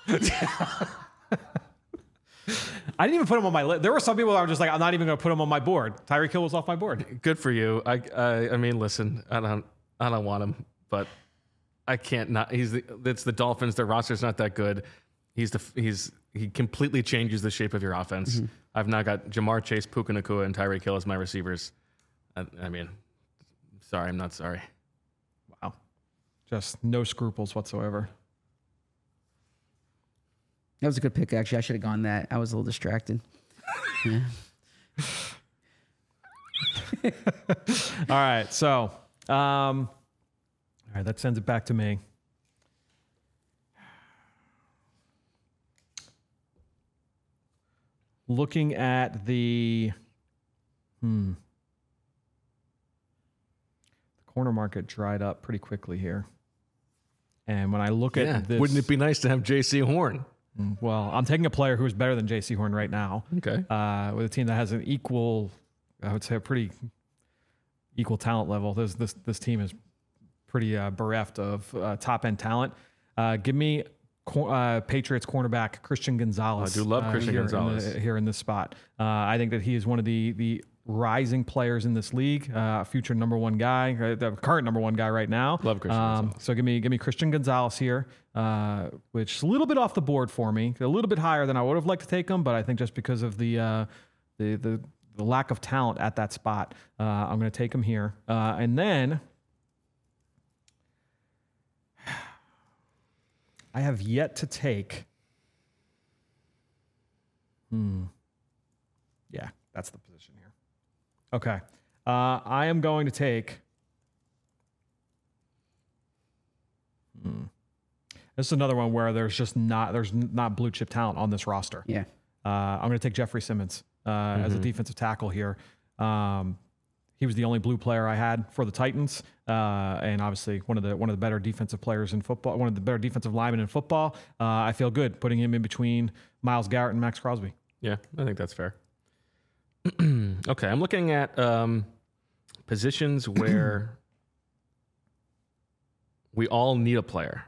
I didn't even put him on my list. There were some people that were just like, I'm not even going to put him on my board. Tyreek Hill was off my board. Good for you. I, I, I mean, listen, I don't, I don't want him, but I can't not. He's the, it's the Dolphins. Their roster's not that good. He's the, he's, he completely changes the shape of your offense. Mm-hmm. I've now got Jamar Chase, Puka Nacua, and Tyreek Hill as my receivers. I, I mean, sorry, I'm not sorry. Wow. Just no scruples whatsoever. that was a good pick. Actually, I should have gone that. I was a little distracted. Yeah. All right. So, um, all right, that sends it back to me. Looking at the, hmm, the corner market dried up pretty quickly here. And when I look Yeah. at this, Wouldn't it be nice to have J C Horn? well, I'm taking a player who's better than J C Horn right now. Okay. Uh, with a team that has an equal, I would say, a pretty equal talent level. This this this team is pretty uh, bereft of uh, top end talent. Uh, give me cor- uh, Patriots cornerback Christian Gonzalez. I do love uh, Christian here in Gonzalez. the- here in this spot. Uh, I think that he is one of the the rising players in this league. Uh, future number one guy, uh, the current number one guy right now. Love Christian Um, Gonzalez. so give me give me Christian Gonzalez here, uh, which is a little bit off the board for me, a little bit higher than I would have liked to take him, but I think just because of the uh, the, the the lack of talent at that spot, uh, I'm going to take him here, uh, and then I have yet to take. Hmm. Yeah, that's the position here. Okay, uh, I am going to take. Hmm. This is another one where there's just not there's n- not blue chip talent on this roster. Yeah. Uh, I'm going to take Jeffrey Simmons uh, as a defensive tackle here. Um, he was the only blue player I had for the Titans, uh, and obviously one of the one of the better defensive players in football, one of the better defensive linemen in football. Uh, I feel good putting him in between Myles Garrett and Max Crosby. Yeah, I think that's fair. Okay, I'm looking at um, positions where we all need a player.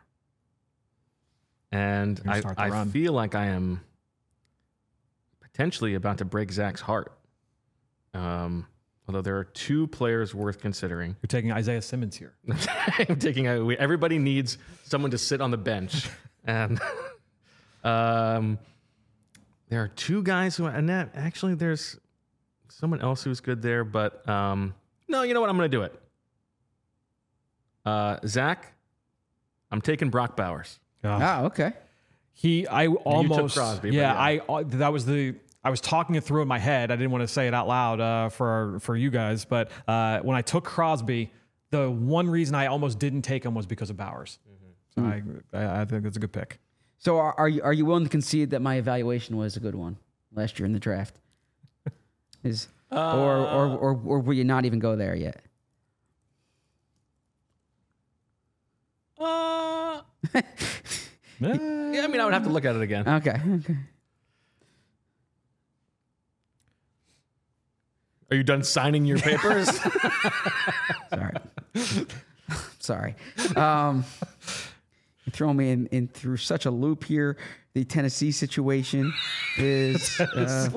And You're gonna I, start the I run. feel like I am potentially about to break Zach's heart. Um, although there are two players worth considering. You're taking Isaiah Simmons here. I'm taking a, we, everybody needs someone to sit on the bench. And um, there are two guys who, and that, actually there's someone else who's good there, but um, no, you know what? I'm going to do it. Uh, Zach, I'm taking Brock Bowers. Ah, okay. He, I almost, Crosby, but yeah, yeah. I uh, that was the. I was talking it through in my head. I didn't want to say it out loud uh, for for you guys, but uh, when I took Crosby, the one reason I almost didn't take him was because of Bowers. So I, I I think that's a good pick. So are, are you are you willing to concede that my evaluation was a good one last year in the draft? Is uh, or, or or or will you not even go there yet? Uh, yeah, I mean, I would have to look at it again. Okay. Okay. Are you done signing your papers? Sorry. Sorry. Um, you throw me in, in through such a loop here. The Tennessee situation is uh,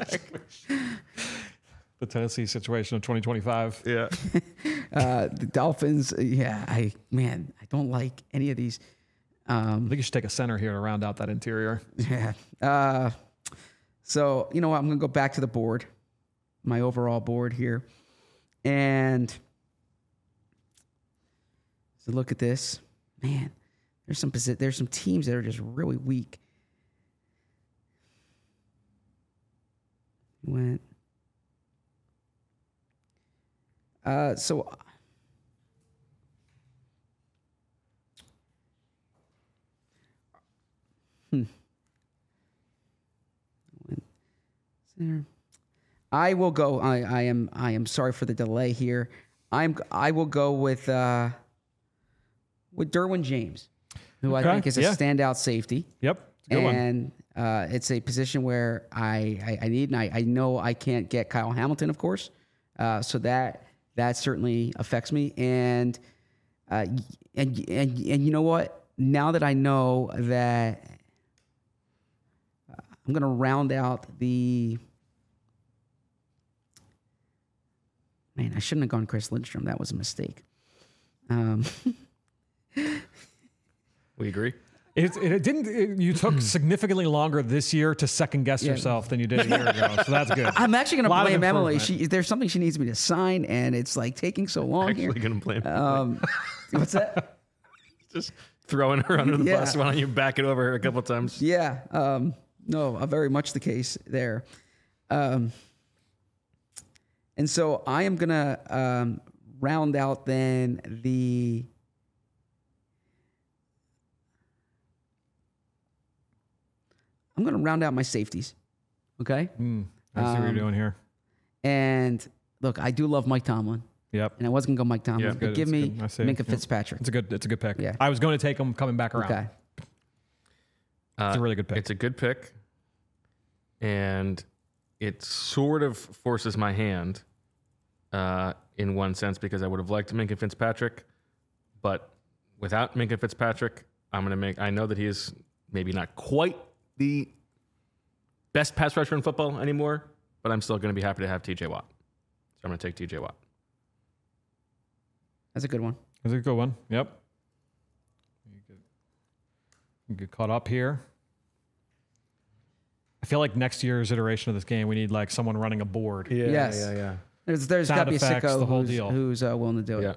the Tennessee situation of twenty twenty-five. Yeah. uh, the Dolphins. Yeah, I man, I don't like any of these. Um, I think you should take a center here to round out that interior. Yeah. Uh, so you know what? I'm gonna go back to the board, my overall board here, and so look at this, man. There's some posi- there's some teams that are just really weak. Went. Uh, so. Hmm. Center. I will go. I, I am. I am sorry for the delay here. I'm. I will go with uh, with Derwin James, who Okay, I think is a yeah. standout safety. Yep. It's a good one. And uh, it's a position where I, I, I need, and I, I know I can't get Kyle Hamilton, of course. Uh, so that that certainly affects me. And uh, and and and you know what? Now that I know that, uh, I'm going to round out the. Man, I shouldn't have gone Chris Lindstrom. That was a mistake. Um, We agree. It, it, it didn't. It, you took significantly longer this year to second guess Yeah. yourself than you did a year ago, so that's good. I'm actually going Lot to of blame Emily. improvement. She, there's something she needs me to sign, and it's like taking so long Actually here. going to blame her. Um, what's that? Just throwing her under the Yeah. bus. Why don't you back it over her a couple of times? Yeah. Um, no, uh, very much the case there. Um, and so I am going to um, round out then the. I'm going to round out my safeties. Okay. Mm, I see what you're Um, doing here. And look, I do love Mike Tomlin, Yep. and I wasn't going to go Mike Tomlin, Yeah, but good. give It's me good. I see. Minka Yep. Fitzpatrick. It's a good. It's a good pick. Yeah. I was going to take him coming back around. Okay. Uh, It's a really good pick. It's a good pick. And it sort of forces my hand uh, in one sense because I would have liked Minka Fitzpatrick. But without Minka Fitzpatrick, I'm going to make, I know that he is maybe not quite the best pass rusher in football anymore, but I'm still going to be happy to have T J Watt. So I'm going to take T J Watt. That's a good one. That's a good one. Yep. You get, you get caught up here. I feel like next year's iteration of this game, we need like someone running a board. Yeah, Yes. yeah, yeah. There's there's got Sound to be a effects, sicko the whole who's, deal. who's uh, willing to do Yeah. it.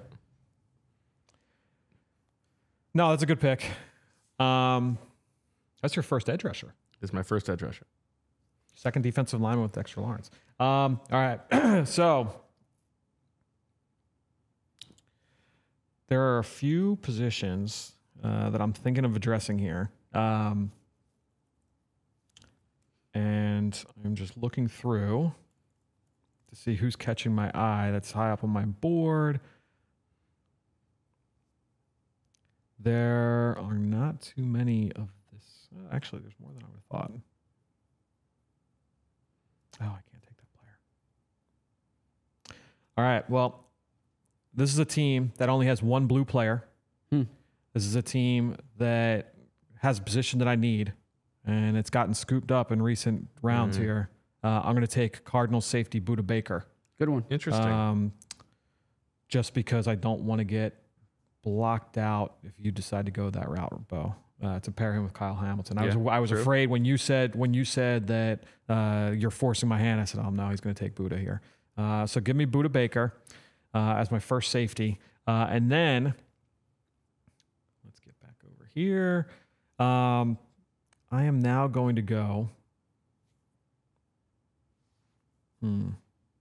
No, that's a good pick. Um, that's your first edge rusher. This is my first edge rusher. Second defensive lineman with Dexter Lawrence. Um, all right. So there are a few positions uh, that I'm thinking of addressing here. Um, and I'm just looking through to see who's catching my eye that's high up on my board. There are not too many of this. uh, Actually, there's more than I would have thought. Oh, I can't take that player. All right. Well, this is a team that only has one blue player. Hmm. This is a team that has a position that I need, and it's gotten scooped up in recent rounds Mm. here. Uh, I'm going to take Cardinals safety Buda Baker. Good one. Interesting. Um, just because I don't want to get blocked out if you decide to go that route, Bo. Uh, to pair him with Kyle Hamilton. I Yeah, was I was true. afraid when you said when you said that uh, you're forcing my hand. I said, oh no, he's going to take Buda here. Uh, so give me Buda Baker uh, as my first safety, uh, and then let's get back over here. Um, I am now going to go. Hmm.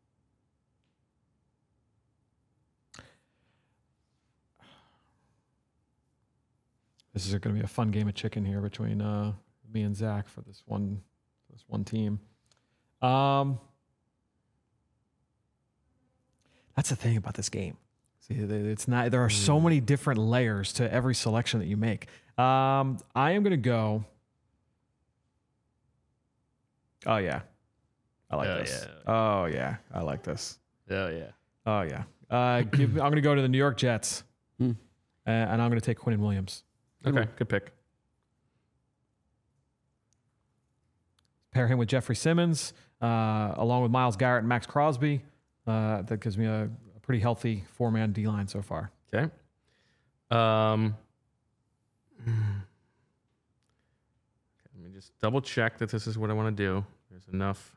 This is going to be a fun game of chicken here between uh, me and Zach for this one, this one team. Um, That's the thing about this game. See, it's not. There are so many different layers to every selection that you make. Um, I am going to go. Oh yeah, I like Oh, this. yeah. Oh yeah, I like this. Oh yeah. Oh yeah. Uh, give me, I'm going to go to the New York Jets, Hmm. uh, and I'm going to take Quinnen Williams. Okay, good pick. Pair him with Jeffrey Simmons, uh, along with Myles Garrett and Max Crosby. Uh, that gives me a, a pretty healthy four-man D-line so far. Okay. Um, let me just double check that this is what I want to do. There's enough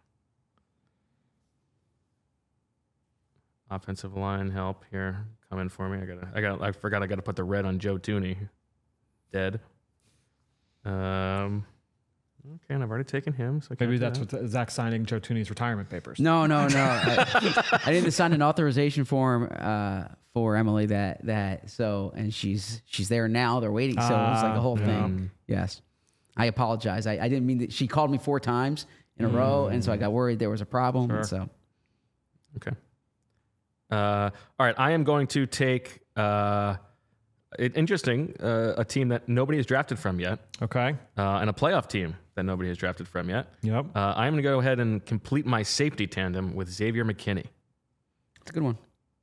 offensive line help here coming for me. I gotta, I got, I forgot I got to put the red on Joe Tooney. Dead. Um. Okay, and I've already taken him. So I can't Maybe do that's that. what Zach's signing Joe Tooney's retirement papers. No, no, no. I, I need to sign an authorization form uh, for Emily that that so and she's she's there now. They're waiting. So it's like a whole Ah, thing. Yes. I apologize. I, I didn't mean that. She called me four times in a row, and so I got worried there was a problem. And so Okay. Uh, all right, I am going to take uh, it, interesting uh, a team that nobody has drafted from yet, Okay. uh, and a playoff team that nobody has drafted from yet. Yep. Uh, I'm going to go ahead and complete my safety tandem with Xavier McKinney. it's a good one.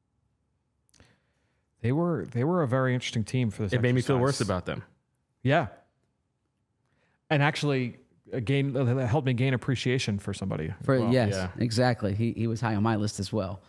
They were they were a very interesting team for this. It made me feel exercise. worse about them. Yeah. And actually, uh, gain uh, helped me gain appreciation for somebody. as For well. yes, yeah. exactly. He he was high on my list as well.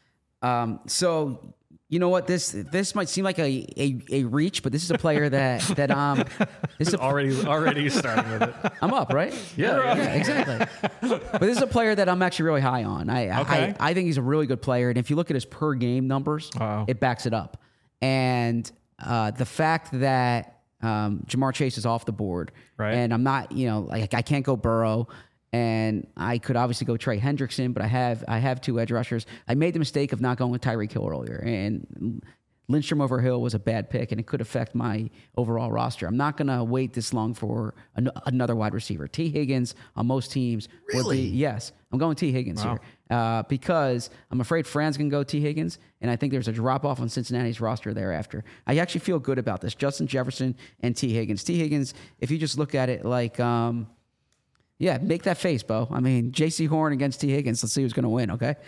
Um, so you know what this this might seem like a a, a reach, but this is a player that that um this is a, Already, already starting with it. I'm up, right? Yeah, yeah, exactly. But this is a player that I'm actually really high on. I Okay. I, I think he's a really good player, and if you look at his per game numbers, Uh-oh. it backs it up. And uh, the fact that um, Jamar Chase is off the board, Right. and I'm not, you know, like I can't go Burrow, and I could obviously go Trey Hendrickson, but I have I have two edge rushers. I made the mistake of not going with Tyreek Hill earlier, and Lindstrom over Hill was a bad pick, and it could affect my overall roster. I'm not going to wait this long for an, another wide receiver. T. Higgins on most teams. Really? Be, yes. I'm going T. Higgins Wow. here uh, because I'm afraid Fran's going to go T. Higgins, and I think there's a drop-off on Cincinnati's roster thereafter. I actually feel good about this. Justin Jefferson and T. Higgins. T. Higgins, if you just look at it like, um, yeah, make that face, Bo. I mean, J C. Horn against T. Higgins. Let's see who's going to win, okay?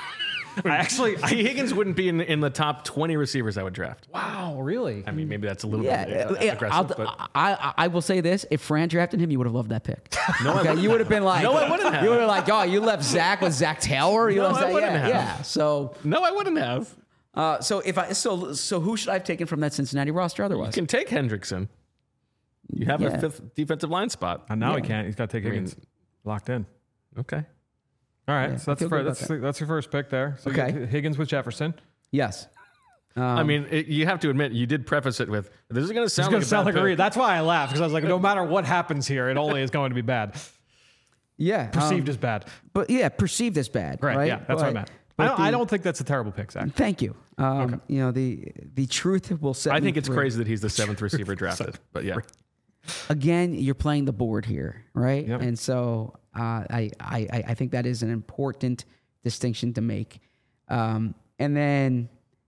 I actually. I, T. Higgins wouldn't be in, in the top twenty receivers I would draft. wow. Really? I mean, maybe that's a little Yeah, bit uh, yeah, aggressive, I'll- but I, I I will say this: if Fran drafted him, you would have loved that pick. No, okay? You would have been like, No, I wouldn't have. You would have like, oh, you left Zach with Zach Taylor. You No, left I Zach- wouldn't yeah, have. yeah. So, no, I wouldn't have. uh, so if I so so who should I have taken from that Cincinnati roster You otherwise? can take Hendrickson. You have Yeah. a fifth defensive line spot. And now he Yeah. can't. He's got to take mean- Higgins locked in. Okay. All right. Yeah, so I that's feel the good first, about that's, the, that's your first pick there. So you Okay. get Higgins with Jefferson. Yes. I mean, it, you have to admit, you did preface it with, this is going to It's sound going like to a sound bad like a pick. read. That's why I laughed because I was like, no matter what happens here, it only is going to be bad. Yeah. Perceived um, as bad. but yeah, perceived as bad. Right. Right. Yeah. That's what I But- meant. but I don't, the- I don't think that's a terrible pick, Zach. Thank you. Um, You know the the truth will set. I me think it's free. crazy that he's the seventh receiver drafted. But yeah. Again, you're playing the board here, right? Yep. And so uh, I, I I think that is an important distinction to make. Um, and then,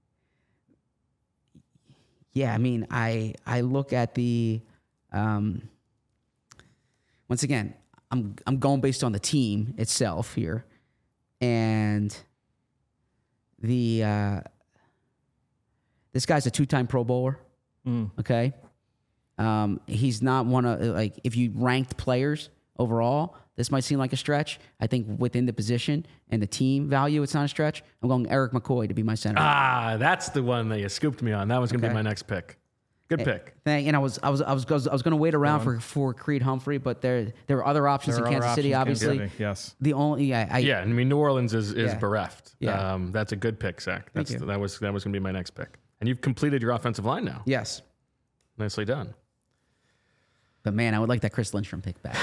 yeah, I mean, I I look at the um, once again, I'm I'm going based on the team itself here, and the uh, this guy's a two-time Pro Bowler. Mm. Okay. Um, he's not one of like if you ranked players overall, this might seem like a stretch. I think within the position and the team value, it's not a stretch. I'm going Eric McCoy to be my center. Ah, that's the one that you scooped me on. That was going to Okay. be my next pick. Good pick. Thing, and I was I was I was I was going to wait around for, for Creed Humphrey, but there there were other options There in are Kansas other City. options in Obviously, Kansas City, yes. the only yeah I, Yeah, I mean, New Orleans is, is Yeah. bereft. Yeah. Um, that's a good pick, Zach. That's you. that was that was going to be my next pick. And you've completed your offensive line now. yes, Nicely done. but man, I would like that Chris Lindstrom pick back.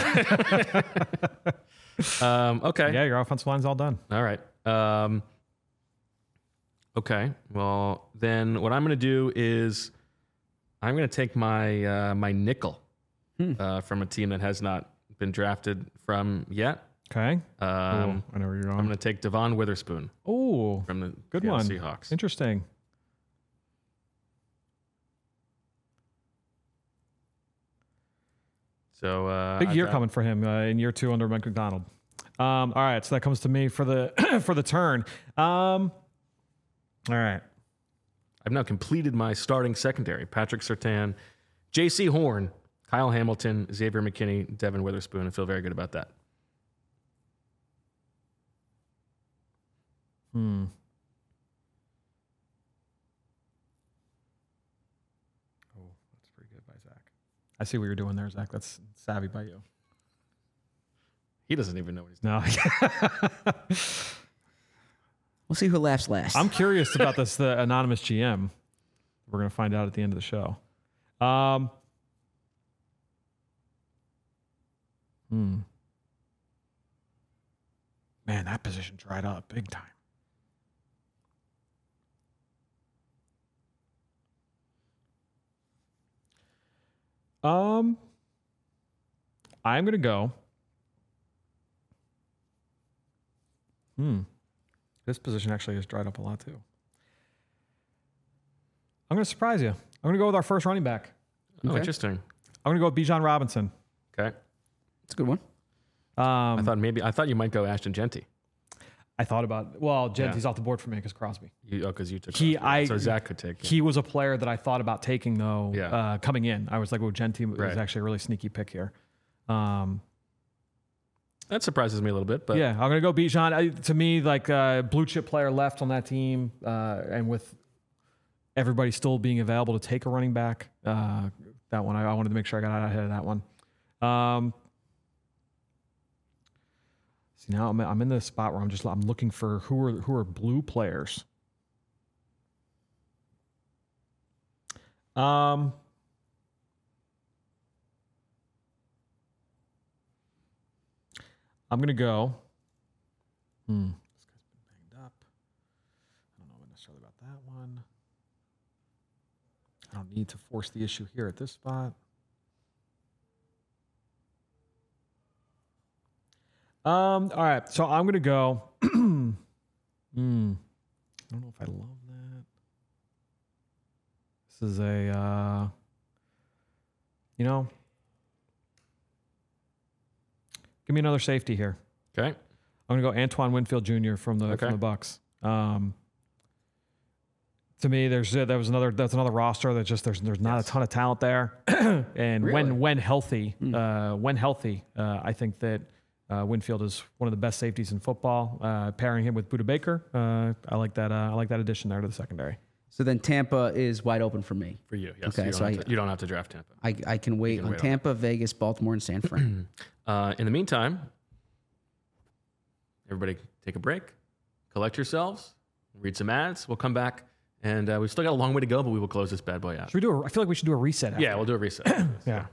Um, okay. Yeah, your offensive line's all done. All right. Um, okay. Well, then what I'm going to do is I'm going to take my uh, my nickel Hmm. uh, from a team that has not been drafted from yet. Okay. Um, Ooh, I know where you're I'm going. going to take Devon Witherspoon Oh, from the good Seattle one. Seahawks. Interesting. So uh, Big I've year got- coming for him uh, in year two under Mike McDonald. Um, all right, so that comes to me for the for the turn. Um, all right. I've now completed my starting secondary. Patrick Surtain, J C Horn, Kyle Hamilton, Xavier McKinney, Devin Witherspoon. I feel very good about that. Hmm. Oh, that's pretty good by Zach. I see what you're doing there, Zach. That's savvy by you. He doesn't even know what he's doing. No. We'll see who laughs last. I'm curious about this, the anonymous G M. We're going to find out at the end of the show. Um, hmm. Man, that position dried up big time. Um, I'm going to go. Hmm. This position actually has dried up a lot too. I'm going to surprise you. I'm going to go with our first running back. Oh, Okay. interesting. I'm going to go with Bijan Robinson. Okay. It's a good one. Um, I thought maybe I thought you might go Ashton Genty. I thought about, well, Genty's Yeah. off the board for me because Crosby. You, oh, because you took He, Crosby. I, so Zach could take. He was a player that I thought about taking though. Yeah. Uh, coming in, I was like, "Oh, Genty was Right. actually a really sneaky pick here." Um, That surprises me a little bit, but yeah, I'm gonna go Bijan. I, to me, like uh, blue chip player left on that team, uh, and with everybody still being available to take a running back, uh, that one I, I wanted to make sure I got out ahead of that one. Um, see now I'm I'm in the spot where I'm just I'm looking for who are who are blue players. Um. I'm gonna go. Hmm. This guy's been banged up. I don't know necessarily about that one. I don't need to force the issue here at this spot. Um. All right. So I'm gonna go. Hmm. I don't know if I love that. This is a. Uh, you know. Give me another safety here. okay. I'm gonna go Antoine Winfield Junior from the Okay. from the Bucks. Um, to me, there's uh, that was another that's another roster that just there's there's not Yes. a ton of talent there, and Really? when when healthy, uh, when healthy, uh, I think that uh, Winfield is one of the best safeties in football. Uh, pairing him with Budda Baker, uh, I like that. Uh, I like that addition there to the secondary. So then Tampa is wide open for me. For you, yes. Okay, you, don't so have I- to, you don't have to draft Tampa. I, I can wait can on wait on Tampa, Vegas, Baltimore, and San Fran. Uh, in the meantime, everybody take a break, collect yourselves, read some ads. We'll come back, and uh, we've still got a long way to go, but we will close this bad boy out. Should we do? A, I feel like we should do a reset. After. Yeah, we'll do a reset. Yeah.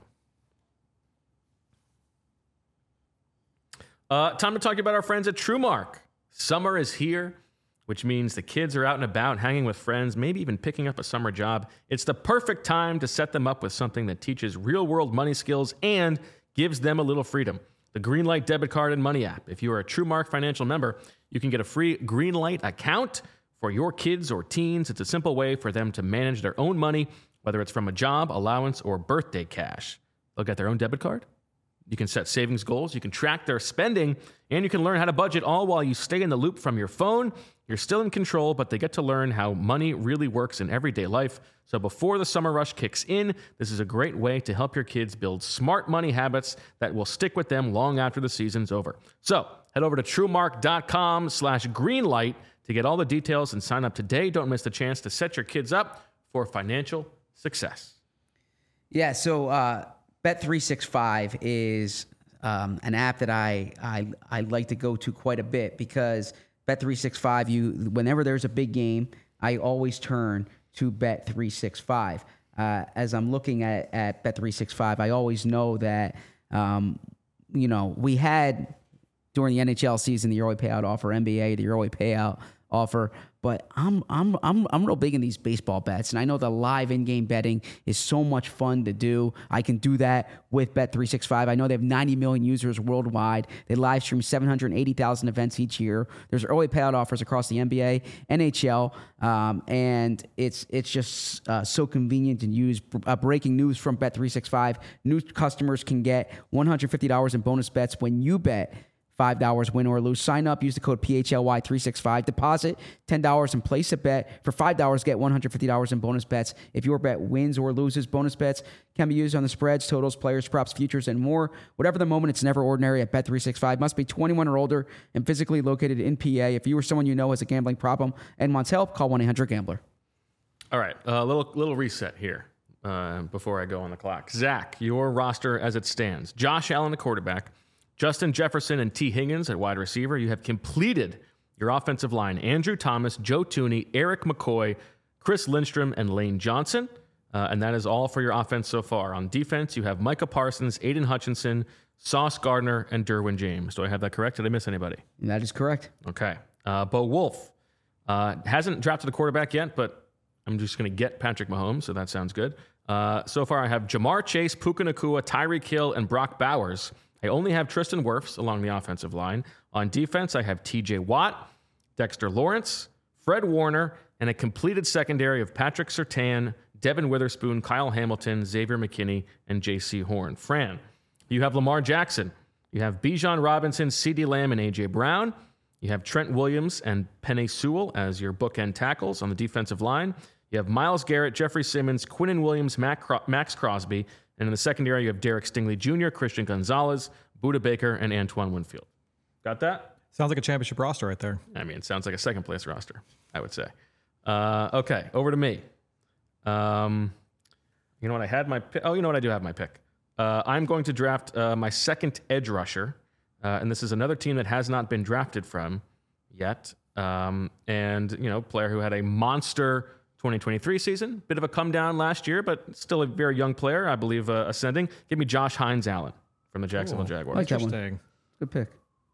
Uh, time to talk about our friends at TrueMark. Summer is here, which means the kids are out and about, hanging with friends, maybe even picking up a summer job. It's the perfect time to set them up with something that teaches real-world money skills and gives them a little freedom. The Greenlight debit card and money app. If you are a TrueMark financial member, you can get a free Greenlight account for your kids or teens. It's a simple way for them to manage their own money, whether it's from a job, allowance, or birthday cash. They'll get their own debit card. You can set savings goals, you can track their spending, and you can learn how to budget all while you stay in the loop from your phone. You're still in control, but they get to learn how money really works in everyday life. So before the summer rush kicks in, this is a great way to help your kids build smart money habits that will stick with them long after the season's over. So head over to truemark.com slash greenlight to get all the details and sign up today. Don't miss the chance to set your kids up for financial success. Yeah, so uh, Bet three sixty-five is um, an app that I, I I like to go to quite a bit because Bet three sixty-five, you whenever there's a big game, I always turn to Bet three sixty-five. Uh, as I'm looking at, at Bet three sixty-five, I always know that, um, you know, we had during the N H L season the early payout offer, N B A the early payout offer. But I'm I'm I'm I'm real big in these baseball bets, and I know the live in-game betting is so much fun to do. I can do that with Bet three sixty-five. I know they have ninety million users worldwide. They live stream seven hundred eighty thousand events each year. There's early payout offers across the N B A, N H L, um, and it's it's just uh, so convenient to use. Uh, breaking news from Bet three sixty-five: new customers can get one hundred fifty dollars in bonus bets when you bet five dollars win or lose. Sign up, use the code P H L Y three sixty-five. Deposit ten dollars and place a bet. For five dollars, get one hundred fifty dollars in bonus bets. If your bet wins or loses, bonus bets can be used on the spreads, totals, players, props, futures, and more. Whatever the moment, it's never ordinary at Bet three sixty-five. Must be twenty-one or older and physically located in P A. If you or someone you know has a gambling problem and wants help, call one eight hundred gambler. All right, a uh, little little reset here uh, before I go on the clock. Zach, your roster as it stands. Josh Allen, the quarterback. Justin Jefferson and T. Higgins at wide receiver. You have completed your offensive line. Andrew Thomas, Joe Thuney, Eric McCoy, Chris Lindstrom, and Lane Johnson. Uh, and that is all for your offense so far. On defense, you have Micah Parsons, Aiden Hutchinson, Sauce Gardner, and Derwin James. Do I have that correct? Did I miss anybody? That is correct. Okay. Uh, Bo Wolf uh, hasn't drafted a quarterback yet, but I'm just going to get Patrick Mahomes, so that sounds good. Uh, so far, I have Jamar Chase, Puka Nacua, Tyreek Hill, and Brock Bowers. I only have Tristan Wirfs along the offensive line. On defense, I have T J Watt, Dexter Lawrence, Fred Warner, and a completed secondary of Patrick Surtain, Devin Witherspoon, Kyle Hamilton, Xavier McKinney, and J C Horn. Fran, you have Lamar Jackson. You have Bijan Robinson, CeeDee Lamb, and A J Brown. You have Trent Williams and Penei Sewell as your bookend tackles on the defensive line. You have Myles Garrett, Jeffrey Simmons, Quinnen Williams, Max Crosby. And in the secondary, you have Derek Stingley Junior, Christian Gonzalez, Budda Baker, and Antoine Winfield. Got that? Sounds like a championship roster right there. I mean, it sounds like a second-place roster, I would say. Uh, okay, over to me. Um, you know what? I had my pick. Oh, you know what? I do have my pick. Uh, I'm going to draft uh, my second edge rusher. Uh, and this is another team that has not been drafted from yet. Um, and, you know, player who had a monster twenty twenty-three season. Bit of a come down last year, but still a very young player, I believe, uh, ascending. Give me Josh Hines Allen from the Jacksonville Ooh, Jaguars. Like that one. Interesting. Good pick.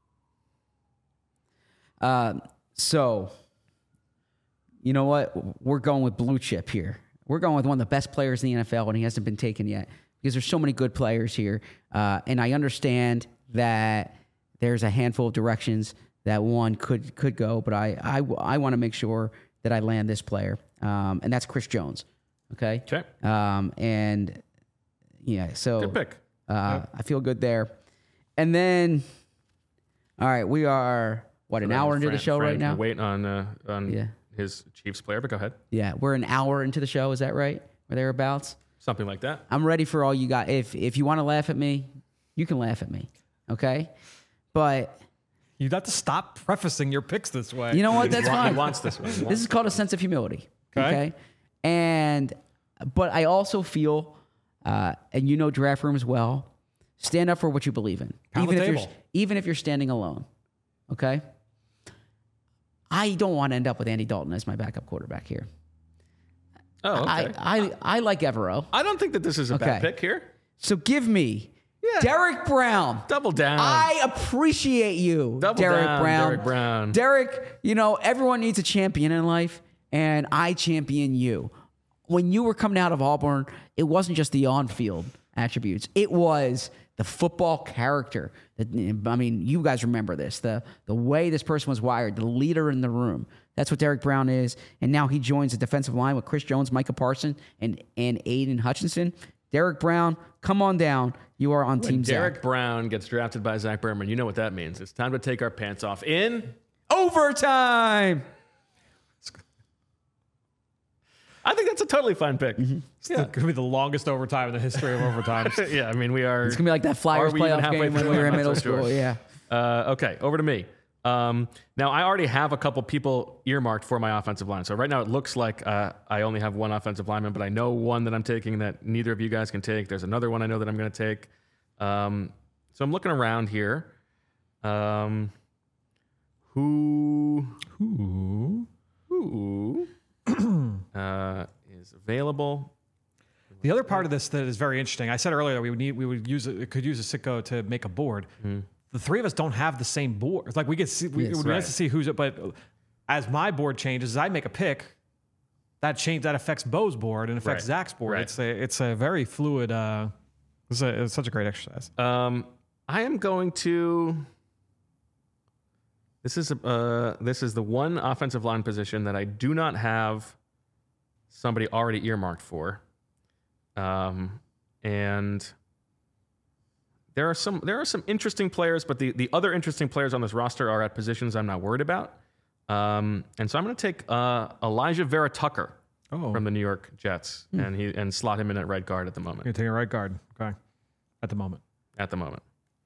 Uh, so, you know what? We're going with blue chip here. We're going with one of the best players in the N F L, and he hasn't been taken yet because there's so many good players here. Uh, and I understand that there's a handful of directions that one could could go, but I I, I want to make sure that I land this player, um, and that's Chris Jones. Okay. Okay. Um, and yeah, so Good pick. Uh, I feel good there. And then, all right, we are what an hour into Fran, the show Fran right now. Wait on uh, on Yeah. his Chiefs player, but go ahead. Yeah, we're an hour into the show. Is that right? Or thereabouts? Something like that. I'm ready for all you got. If if you want to laugh at me, you can laugh at me. Okay, but You got to stop prefacing your picks this way. you know what? That's He fine. wants this one. He This wants- is called a sense of humility. Okay. Okay. And, but I also feel, uh, and you know draft rooms well, stand up for what you believe in. Pound even the if table. you're even if you're standing alone. Okay. I don't want to end up with Andy Dalton as my backup quarterback here. Oh, okay. I, I, I like Evero. I don't think that this is a bad Okay. pick here. So give me Yeah. Derek Brown. Double down. I appreciate you, Double Derek down, Brown. Derek Brown. Derek, you know, everyone needs a champion in life, and I champion you. When you were coming out of Auburn, it wasn't just the on-field attributes. It was the football character. The, I mean, you guys remember this. The, the way this person was wired, the leader in the room. That's what Derek Brown is. And now he joins the defensive line with Chris Jones, Micah Parsons, and, and Aiden Hutchinson. Derek Brown, come on down. You are on When Team Derek Zach. Brown gets drafted by Zach Berman, you know what that means. It's time to take our pants off in. Overtime. I think that's a totally fine pick. It's going to be the longest overtime in the history of overtimes. Yeah, I mean, we are. It's going to be like that Flyers Are we even playoff halfway game when through? we were in I'm not middle so school. sure. Yeah. Uh, okay, over to me. Um, now, I already have a couple people earmarked for my offensive line. So right now it looks like uh, I only have one offensive lineman, but I know one that I'm taking that neither of you guys can take. There's another one I know that I'm going to take. Um, so I'm looking around here. Um, who Ooh. who uh, is available? The other part of this that is very interesting, I said earlier that we would need, we would use it, could use a Sitco to make a board. The three of us don't have the same board. It's like we get see, we, Yes, it would be right. nice to see who's it, but as my board changes, as I make a pick, that change that affects Bo's board and affects Right. Zach's board. Right. It's a it's a very fluid. Uh, it's, a, it's such a great exercise. Um, I am going to. This is a, uh, this is the one offensive line position that I do not have somebody already earmarked for, um, and there are some there are some interesting players, but the the other interesting players on this roster are at positions I'm not worried about, um, and so I'm going to take uh, Elijah Vera Tucker Oh, from the New York Jets, and he and slot him in at right guard at the moment. you're taking a right guard. Okay, at the moment. At the moment,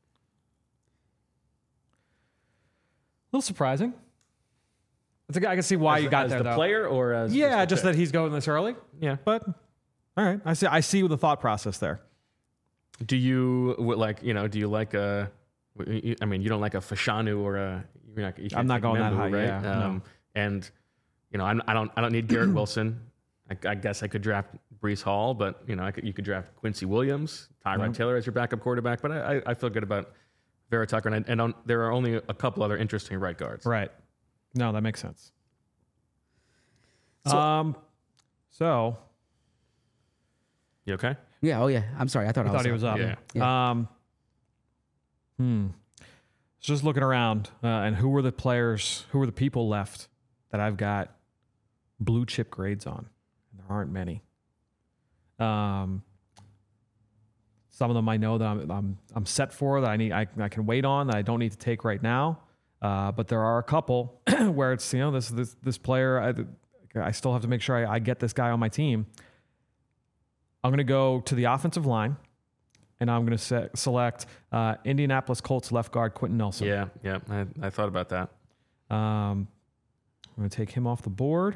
A little surprising. It's a, I can see why as, you got as there, the though. player or as Yeah, the just pick? that he's going this early. Yeah. But all right, I see. I see the thought process there. Do you what, like you know? Do you like a? I mean, you don't like a Fashanu or a. You're not, you can't I'm not take going that Membu, high, right? yeah, no. Um, And you know, I'm, I don't. I don't need Garrett Wilson. I, I guess I could draft Brees Hall, but you know, I could. You could draft Quincy Williams, Tyrod Yep. Taylor as your backup quarterback. But I, I, I feel good about Vera Tucker, and, I, and on, there are only a couple other interesting right guards. Right. No, that makes sense. So- um. So You okay? Yeah. Oh yeah. I'm sorry. I thought I I was. thought he was up. Yeah. Yeah. Um. Hmm. Just looking around, uh, and who were the players? Who were the people left that I've got blue chip grades on? There aren't many. Um. Some of them I know that I'm I'm, I'm set for, that I need I, I can wait on, that I don't need to take right now. Uh, but there are a couple where it's, you know, this this this player I, I still have to make sure I, I get this guy on my team. I'm going to go to the offensive line, and I'm going to se- select uh, Indianapolis Colts left guard Quentin Nelson. Yeah. Yeah. I, I thought about that. Um, I'm going to take him off the board.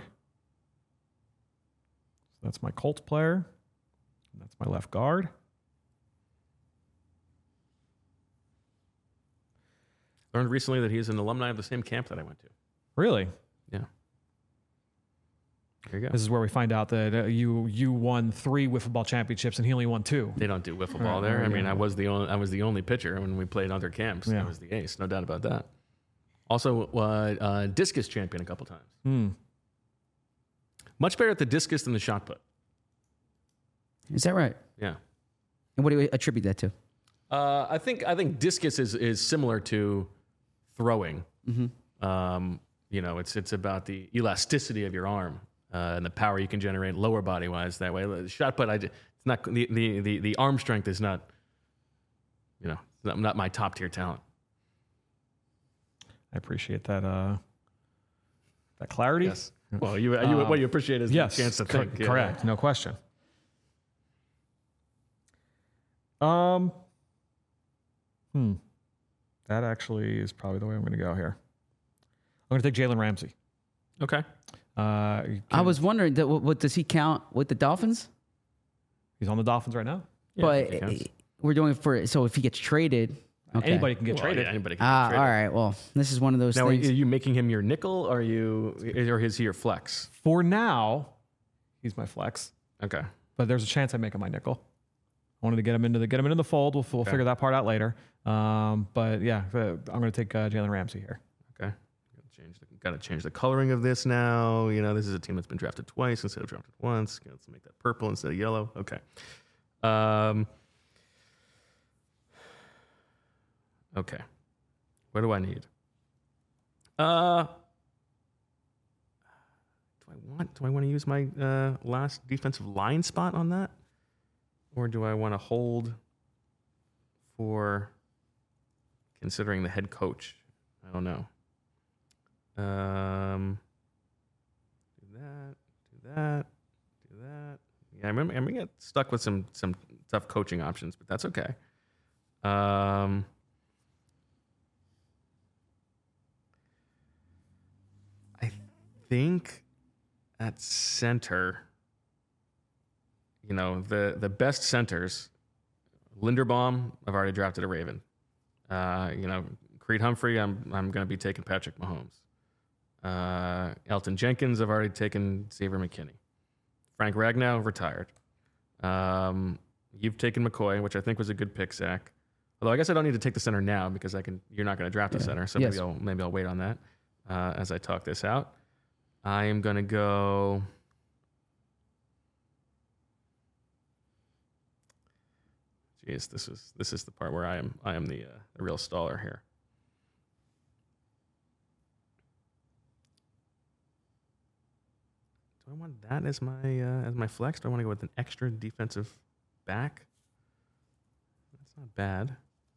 So that's my Colts player. That's my left guard. Learned recently that he's an alumni of the same camp that I went to. Really? Yeah. There you go. This is where we find out that uh, you you won three wiffle ball championships and he only won two. They don't do wiffle ball Right, there. right, I mean, yeah. I was the only I was the only pitcher when we played other camps. Yeah. I was the ace, no doubt about that. Also, uh, uh, discus champion a couple times. Hmm. Much better at the discus than the shot put. Is that right? Yeah. And what do you attribute that to? Uh, I think I think discus is is similar to throwing. Mm-hmm. Um, you know, it's it's about the elasticity of your arm uh, and the power you can generate lower body wise that way. The shot put, I d- it's not the, the the the arm strength is not. You know, not, not my top tier talent. I appreciate that uh, that clarity. Yes. Well, you, you what you appreciate is Yes, the chance to cor- think. Yeah. correct, no question. Um, hmm, that actually is probably the way I'm going to go here. I'm going to take Jalen Ramsey. Okay. Uh, I was wondering that what, what does he count with the Dolphins? he's on the Dolphins right now. Yeah, I think but it counts. we're doing it for so if he gets traded, okay. Anybody can get Well, traded. yeah, anybody can Ah, get all traded. right. Well, this is one of those Now, are things. you making him your nickel, or are you, or is he your flex? For now, he's my flex, Okay. but there's a chance I make him my nickel. I wanted to get him into the get him into the fold. We'll, we'll Okay. figure that part out later. Um, but yeah, uh, I'm going to take uh, Jalen Ramsey here. Okay. Gotta change the, gotta change the coloring of this now. You know, this is a team that's been drafted twice instead of drafted once. Let's make that purple instead of yellow. Okay. Um. Okay. What do I need? Uh. Do I want? Do I want to use my uh, last defensive line spot on that, or do I want to hold for considering the head coach? I don't know. Um, do that, do that, do that. Yeah, I remember. I'm gonna get stuck with some some tough coaching options, but that's okay. Um, I think at center, you know, the the best centers, Linderbaum, I've already drafted a Raven. Uh, you know, Creed Humphrey, I'm I'm going to be taking Patrick Mahomes. Uh, Elton Jenkins, I've already taken Xavier McKinney. Frank Ragnow, retired. Um, you've taken McCoy, which I think was a good pick, Zach. Although I guess I don't need to take the center now because I can. You're not going to draft a Yeah. center, so Yes. maybe I'll maybe I'll wait on that. uh, as I talk this out. I am going to go. Jeez, this is this is the part where I am I am the uh, the real staller here. Do I want that as my uh, as my flex? Do I want to go with an extra defensive back? That's not bad.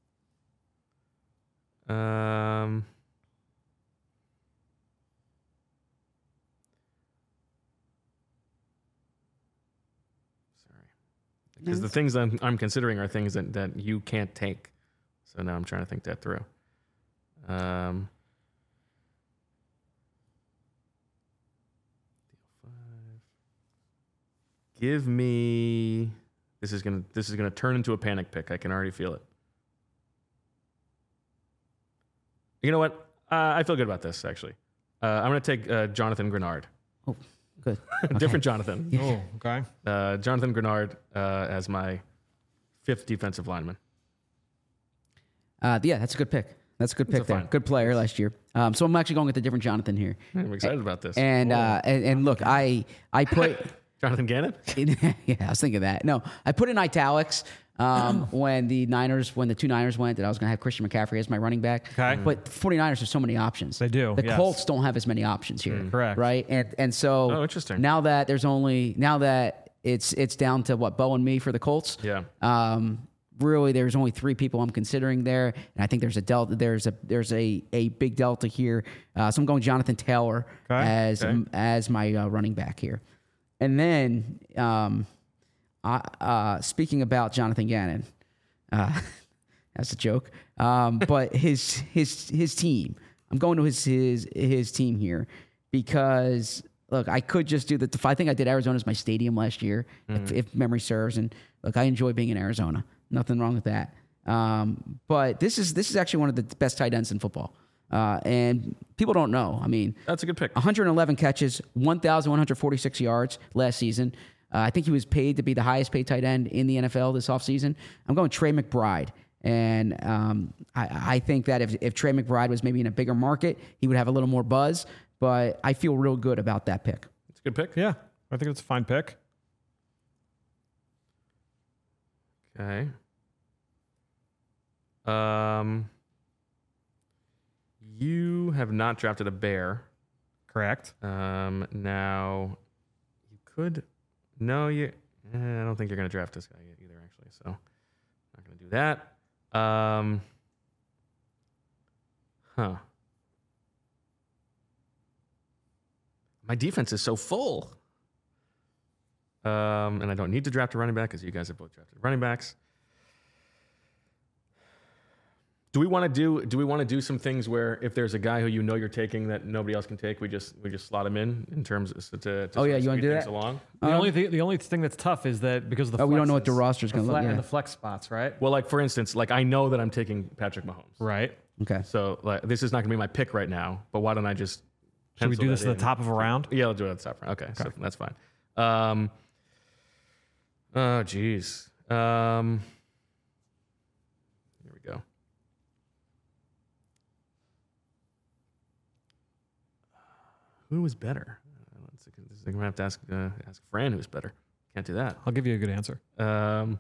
Um, sorry, because the things I'm I'm considering are things that, that you can't take. So now I'm trying to think that through. Um. Give me. This is gonna. This is gonna turn into a panic pick. I can already feel it. You know what? Uh, I feel good about this actually. Uh, I'm gonna take uh, Jonathan Grenard. Oh, good. Different Jonathan. Yeah. Oh, okay. Uh, Jonathan Grenard uh, as my fifth defensive lineman. Uh, yeah, that's a good pick. That's a good pick a there. fine- Good player last year. Um, so I'm actually going with a different Jonathan here. I'm excited about this. And uh, and, and look, I I put Jonathan Gannon. yeah, I was thinking that. No, I put in italics um, when the Niners, when the two Niners went, that I was going to have Christian McCaffrey as my running back. Okay. But the 49ers have so many options. They do, The yes. Colts don't have as many options here. Correct. Right. And and so Oh, interesting. now that there's only now that it's it's down to what, Bo and me for the Colts. Yeah. Um, really, there's only three people I'm considering there, and I think there's a delta. There's a there's a a big delta here. Uh, so I'm going Jonathan Taylor Okay, as okay. as my uh, running back here, and then um, I, uh, speaking about Jonathan Gannon, uh, that's a joke. Um, but his his his team. I'm going to his his his team here because. Look, I could just do the. I think I did Arizona as my stadium last year, Mm-hmm. if, if memory serves. And look, I enjoy being in Arizona. Nothing wrong with that. Um, but this is this is actually one of the best tight ends in football, uh, and people don't know. I mean, That's a good pick. one hundred eleven catches, one thousand one hundred forty-six yards last season. Uh, I think he was paid to be the highest paid tight end in the N F L this offseason. I'm going Trey McBride. And um, I, I think that if, if Trey McBride was maybe in a bigger market, he would have a little more buzz. But I feel real good about that pick. It's a good pick. Yeah, I think it's a fine pick. Okay. Um, you have not drafted a bear. Correct. Um, now you could. No, you. Eh, I don't think you're going to draft this guy yet either. Actually, so not going to do that. Um, huh. My defense is so full. Um, and I don't need to draft a running back because you guys have both drafted running backs. Do we want to do? Do we want to do some things where if there's a guy who you know you're taking that nobody else can take, we just we just slot him in in terms of to. to Oh, yeah, sort of you wanna speed do things that? Along. The Um, only thing, the only thing that's tough is that because of the Oh, we don't know what the flexes, roster's gonna the look- fle- yeah. and the flex spots, right? Well, like for instance, like I know that I'm taking Patrick Mahomes, Right. Okay. so like this is not going to be my pick right now. But why don't I just? Should we pencil do this that at the in? top of a round? Yeah, I'll do it at the top. Okay, okay. So that's fine. Um, oh, geez. Um, here we go. Who was better? Uh, let's see, this is- I'm gonna have to ask uh, ask Fran who's better. Can't do that. I'll give you a good answer. Um,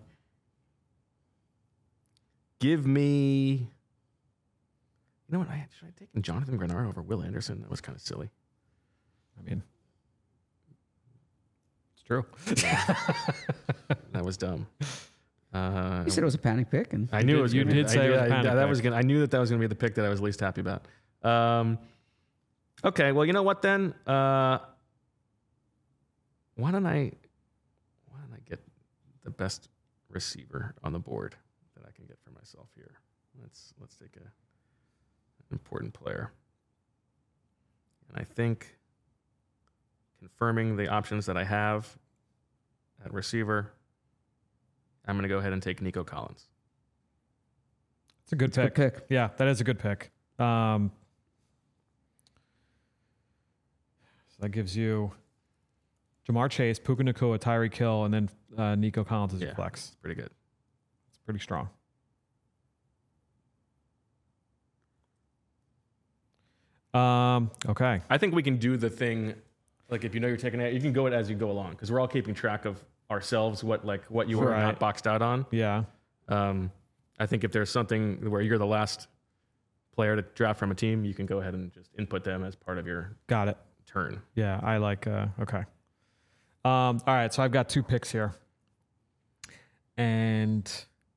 give me. You know what? I should I taken Jonathan Grenard over Will Anderson? That was kind of silly. I mean, it's true. That was dumb. Uh, You said it was a panic pick, and I knew did- it was. you gonna be- did I say it knew- was a I- panic that pick. was gonna. I knew that that was going to be the pick that I was least happy about. Um, okay, well, you know what then? Uh, why don't I? Why don't I get the best receiver on the board that I can get for myself here? Let's let's take a, an important player, and I think confirming the options that I have at receiver, I'm going to go ahead and take Nico Collins. It's a good it's a pick. good pick. Yeah, that is a good pick. Um, so that gives you Jamar Chase, Puka Nacua, Tyreek Hill, and then uh, Nico Collins as your Yeah. flex. It's pretty good. It's pretty strong. Um, okay. I think we can do the thing, like if you know you're taking it, you can go it as you go along because we're all keeping track of ourselves, what like what you are Right. not boxed out on. Yeah. Um, I think if there's something where you're the last player to draft from a team, you can go ahead and just input them as part of your Got it. turn. Yeah, I like, uh, okay. Um, all right, so I've got two picks here. And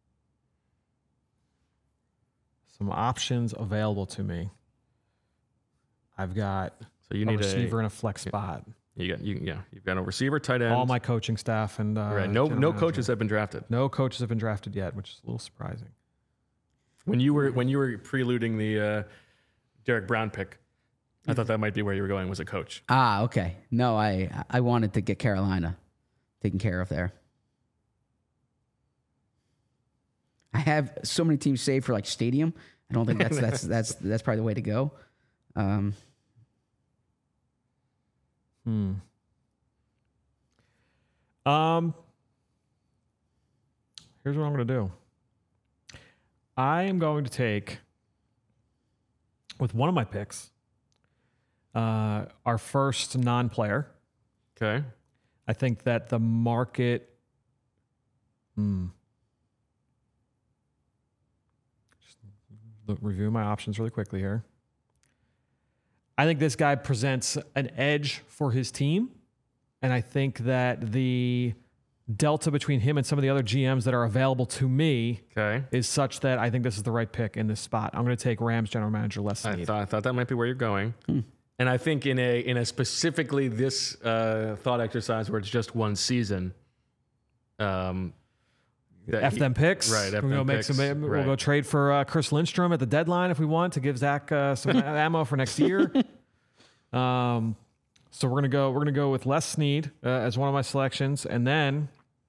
some options available to me. I've got So you a need receiver a in a flex spot. you got you yeah you've got a receiver, tight end. All my coaching staff and uh, right. No general no manager. coaches have been drafted. No coaches have been drafted yet, which is a little surprising. When you were when you were preluding the uh, Derek Brown pick, I thought that might be where you were going was a coach. Ah, okay. No, I I wanted to get Carolina taken care of there. I have so many teams saved for like stadium. I don't think that's that's that's that's probably the way to go. Um, Hmm. Um. Here's what I'm going to do. I am going to take, with one of my picks, uh, our first non-player. Okay. I think that the market. Hmm. Just look, review my options really quickly here. I think this guy presents an edge for his team. And I think that the delta between him and some of the other G Ms that are available to me Okay. is such that I think this is the right pick in this spot. I'm going to take Rams general manager Les I Snead. thought I thought that might be where you're going. And I think in a in a specifically this uh, thought exercise where it's just one season. Um, that F he- them picks. Right. F We'll go them make picks, some. We'll right. go trade for uh, Chris Lindstrom at the deadline if we want to give Zach uh, some ammo for next year. Um, so we're gonna go. We're gonna go with Les Snead uh, as one of my selections, and then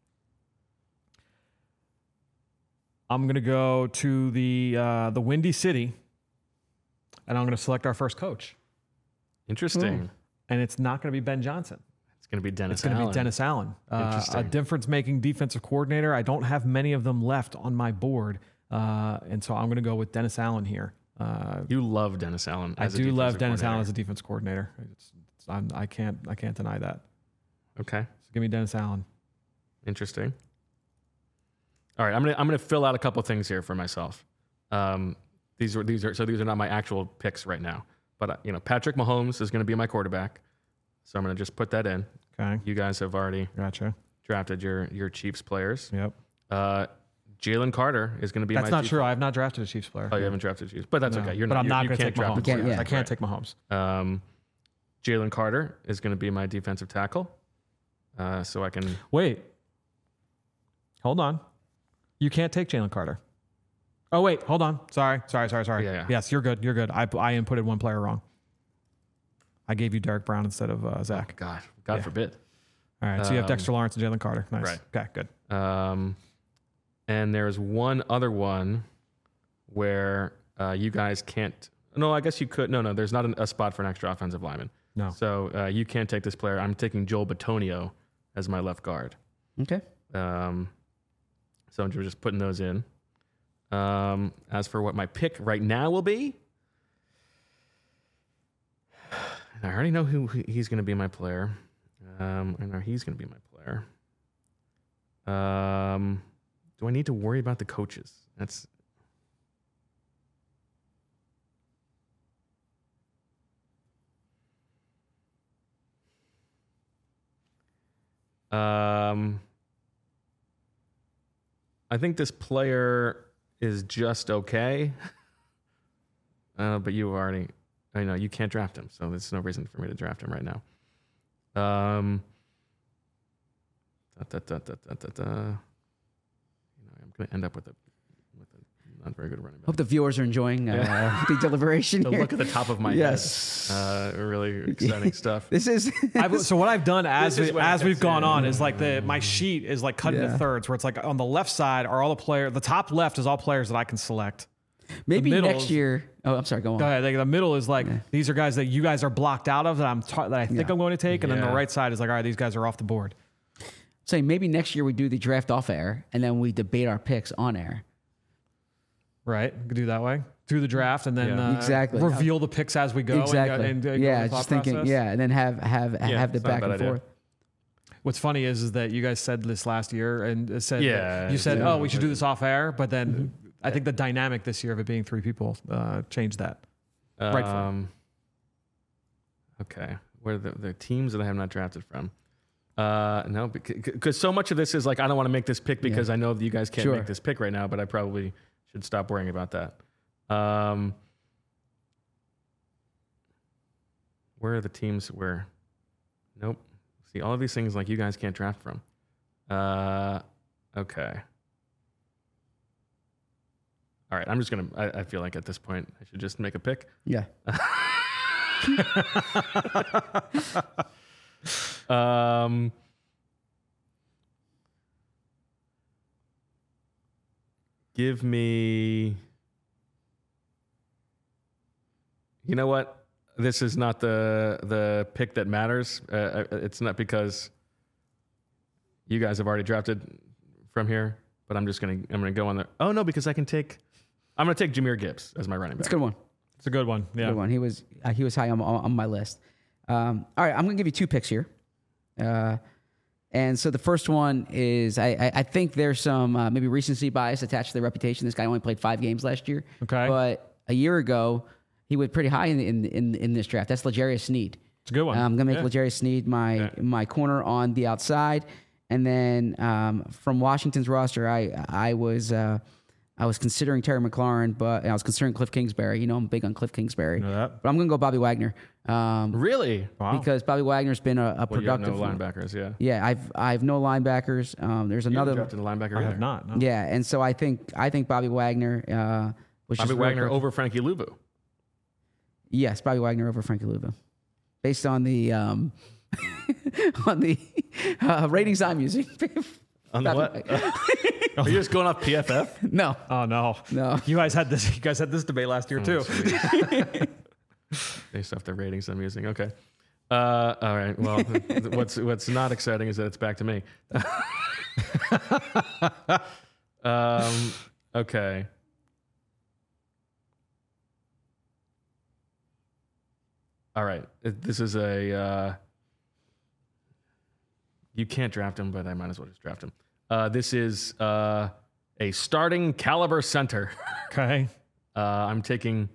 I'm gonna go to the uh, the Windy City, and I'm gonna select our first coach. Interesting. And it's not gonna be Ben Johnson. It's going to be Dennis. It's going to Allen. be Dennis Allen, uh, a Interesting. difference-making defensive coordinator. I don't have many of them left on my board, uh, and so I'm going to go with Dennis Allen here. Uh, You love Dennis Allen. I As a do love defensive Dennis Allen coordinator. as a defense coordinator. It's, it's, I'm, I can't, I can't deny that. Okay. So give me Dennis Allen. Interesting. All right, I'm gonna I'm gonna fill out a couple things here for myself. Um, these are these are so these are not my actual picks right now, but uh, you know Patrick Mahomes is going to be my quarterback, so I'm gonna just put that in. Okay, You guys have already gotcha. drafted your your Chiefs players. Yep. Uh, Jalen Carter is going to be That's my not Chiefs- true. I have not drafted a Chiefs player. Oh, you haven't drafted Chiefs, but that's No. okay. You're but not. I'm you- not you going to can't take draft Mahomes. a can't- quarterback. yeah. I can't Right. take Mahomes. Um, Jalen Carter is going to be my defensive tackle, uh, so I can. Wait. Hold on. You can't take Jalen Carter. Oh, wait. Hold on. Sorry. Sorry. Sorry. Sorry. Yeah, yeah. Yes, you're good. You're good. I, I inputted one player wrong. I gave you Derek Brown instead of uh, Zach. God, God Yeah. forbid. All right. So you have Um, Dexter Lawrence and Jalen Carter. Nice. right. Okay. Good. Um, and there's one other one where uh, you guys can't. No, I guess you could. No, no, there's not an, a spot for an extra offensive lineman. No. So uh, you can't take this player. I'm taking Joel Batonio as my left guard. okay. Um, so I'm just putting those in. Um, as for what my pick right now will be, I already know who who he's going to be my player. Um, I know he's going to be my player. Um, do I need to worry about the coaches? That's um. I think this player is just okay. Uh, but you already, I know you can't draft him, so there's no reason for me to draft him right now. Um, da, da, da, da, da, da, da. You know, I'm going to end up with a with a not very good running back. Hope the viewers are enjoying uh, the deliberation The here. look at the top of my Yes. head. Uh, really exciting stuff. This is I've, so what I've done as This is we, what as it we've gets gone in. on is like the my sheet is like cut Yeah. into thirds where it's like on the left side are all the players. The top left is all players that I can select. maybe middle next is- year. Oh, I'm sorry. Go on. Go ahead. Like the middle is like these are guys that you guys are blocked out of that I'm ta- that I think Yeah. I'm going to take, and then Yeah. the right side is like all right, these guys are off the board. Say maybe next year we do the draft off air and then we debate our picks on air. Right? We could do that way. do the draft and then Yeah. uh, Exactly. reveal the picks as we go. Exactly. And, and, uh, go yeah, with the just thought thinking. process. Yeah, and then have have have the it's not a back bad and idea. forth. What's funny is, is that you guys said this last year and it said Yeah, that you said, yeah. oh, we should do this off air, but then Mm-hmm. I think the dynamic this year of it being three people uh, changed that. Right foot. Um, okay. Where are the, the teams that I have not drafted from? Uh, no, because so much of this is like, I don't want to make this pick because I know that you guys can't Sure. make this pick right now, but I probably should stop worrying about that. Um, where are the teams where? Nope. See, all of these things like you guys can't draft from. Uh, okay. All right. I'm just going to, I I feel like at this point, I should just make a pick. Yeah. Um, give me. You know what? This is not the the pick that matters. Uh, it's not because you guys have already drafted from here, but I'm just gonna I'm gonna go on there. Oh no, because I can take. I'm gonna take Jahmyr Gibbs as my running back. It's a good one. It's a good one. Yeah. Good one. He was uh, he was high on, on my list. Um, all right, I'm going to give you two picks here. Uh, and so the first one is I, I, I think there's some uh, maybe recency bias attached to the reputation. This guy only played five games last year. Okay. But a year ago, he went pretty high in in in, in this draft. That's L'Jarius Sneed. It's a good one. I'm going to make Yeah. L'Jarius Sneed my Yeah. my corner on the outside. And then um, from Washington's roster, I I was uh, I was considering Terry McLaurin, but and I was considering Cliff Kingsbury. You know, I'm big on Cliff Kingsbury. Know that. But I'm going to go Bobby Wagner. Um, Really? Wow. because Bobby Wagner's been a, a Well, you have productive no linebackers. Yeah. Yeah, I've I've no linebackers. Um, there's You haven't another. drafted a linebacker I either. have not. No. Yeah, and so I think I think Bobby Wagner uh, was Bobby just real Wagner quick- over Frankie Luvu. Yes, Bobby Wagner over Frankie Luvu, based on the um, on the uh, ratings I'm using. On the Bobby what? Wagner. Are you just going off P F F? no, Oh no. no. You guys had this. You guys had this debate last year too. Based off the ratings I'm using. Okay. Uh, all right. Well, what's what's not exciting is that it's back to me. um, okay. All right. It- This is a. Uh, you can't draft him, but I might as well just draft him. Uh, this is uh, a starting caliber center. Okay. Uh, I'm taking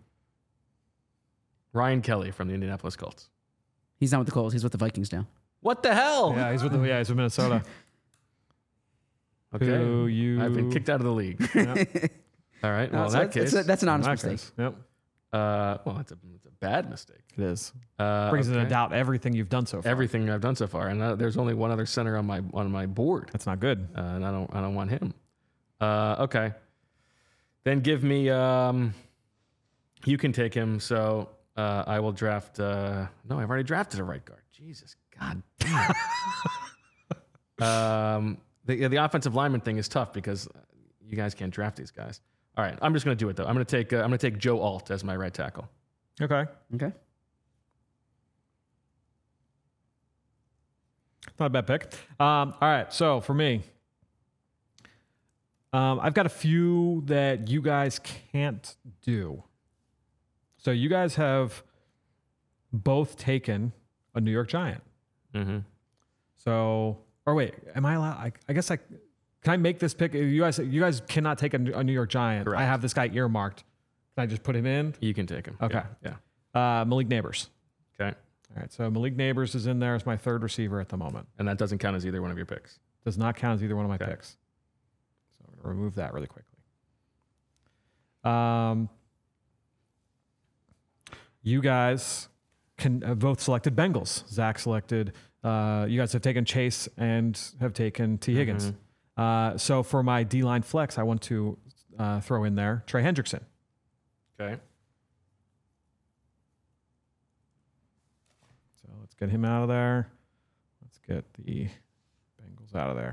Ryan Kelly from the Indianapolis Colts. He's not with the Colts. He's with the Vikings now. What the hell? Yeah, he's with the, yeah, he's with Minnesota. Okay. Who you? I've been kicked out of the league. All right. Well, Uh, in so that that's, case, that's, a, that's an In honest that mistake. case, Yep. uh, well, it's a, it's a bad mistake. It is. Uh, Brings into okay. doubt everything you've done so far. Everything I've done so far, and uh, there's only one other center on my on my board, That's not good. uh, and I don't I don't want him. Uh, okay. Then give me. Um, you can take him. So uh, I will draft. Uh, no, I've already drafted a right guard. Jesus, God. damn. um, the the offensive lineman thing is tough because you guys can't draft these guys. All right, I'm just going to do it though. I'm going to take uh, I'm going to take Joe Alt as my right tackle. Okay. Okay. Not a bad pick. Um, all right. So for me, um, I've got a few that you guys can't do. So you guys have both taken a New York Giant. Mm-hmm. So, or wait, am I allowed? I, I guess I can I make this pick. You guys, you guys cannot take a, a New York Giant. Correct. I have this guy earmarked. Can I just put him in? You can take him. Okay. Yeah. Uh, Malik Neighbors. yeah. Okay. All right. So Malik Neighbors is in there as my third receiver at the moment. And that doesn't count as either one of your picks. Does not count as either one of my Okay. picks. So I'm going to remove that really quickly. Um, you guys can have both selected Bengals. Zach selected. Uh, you guys have taken Chase and have taken T. Higgins. Uh, so for my D line flex, I want to uh, throw in there Trey Hendrickson. Okay. So let's get him out of there. Let's get the Bengals out of there.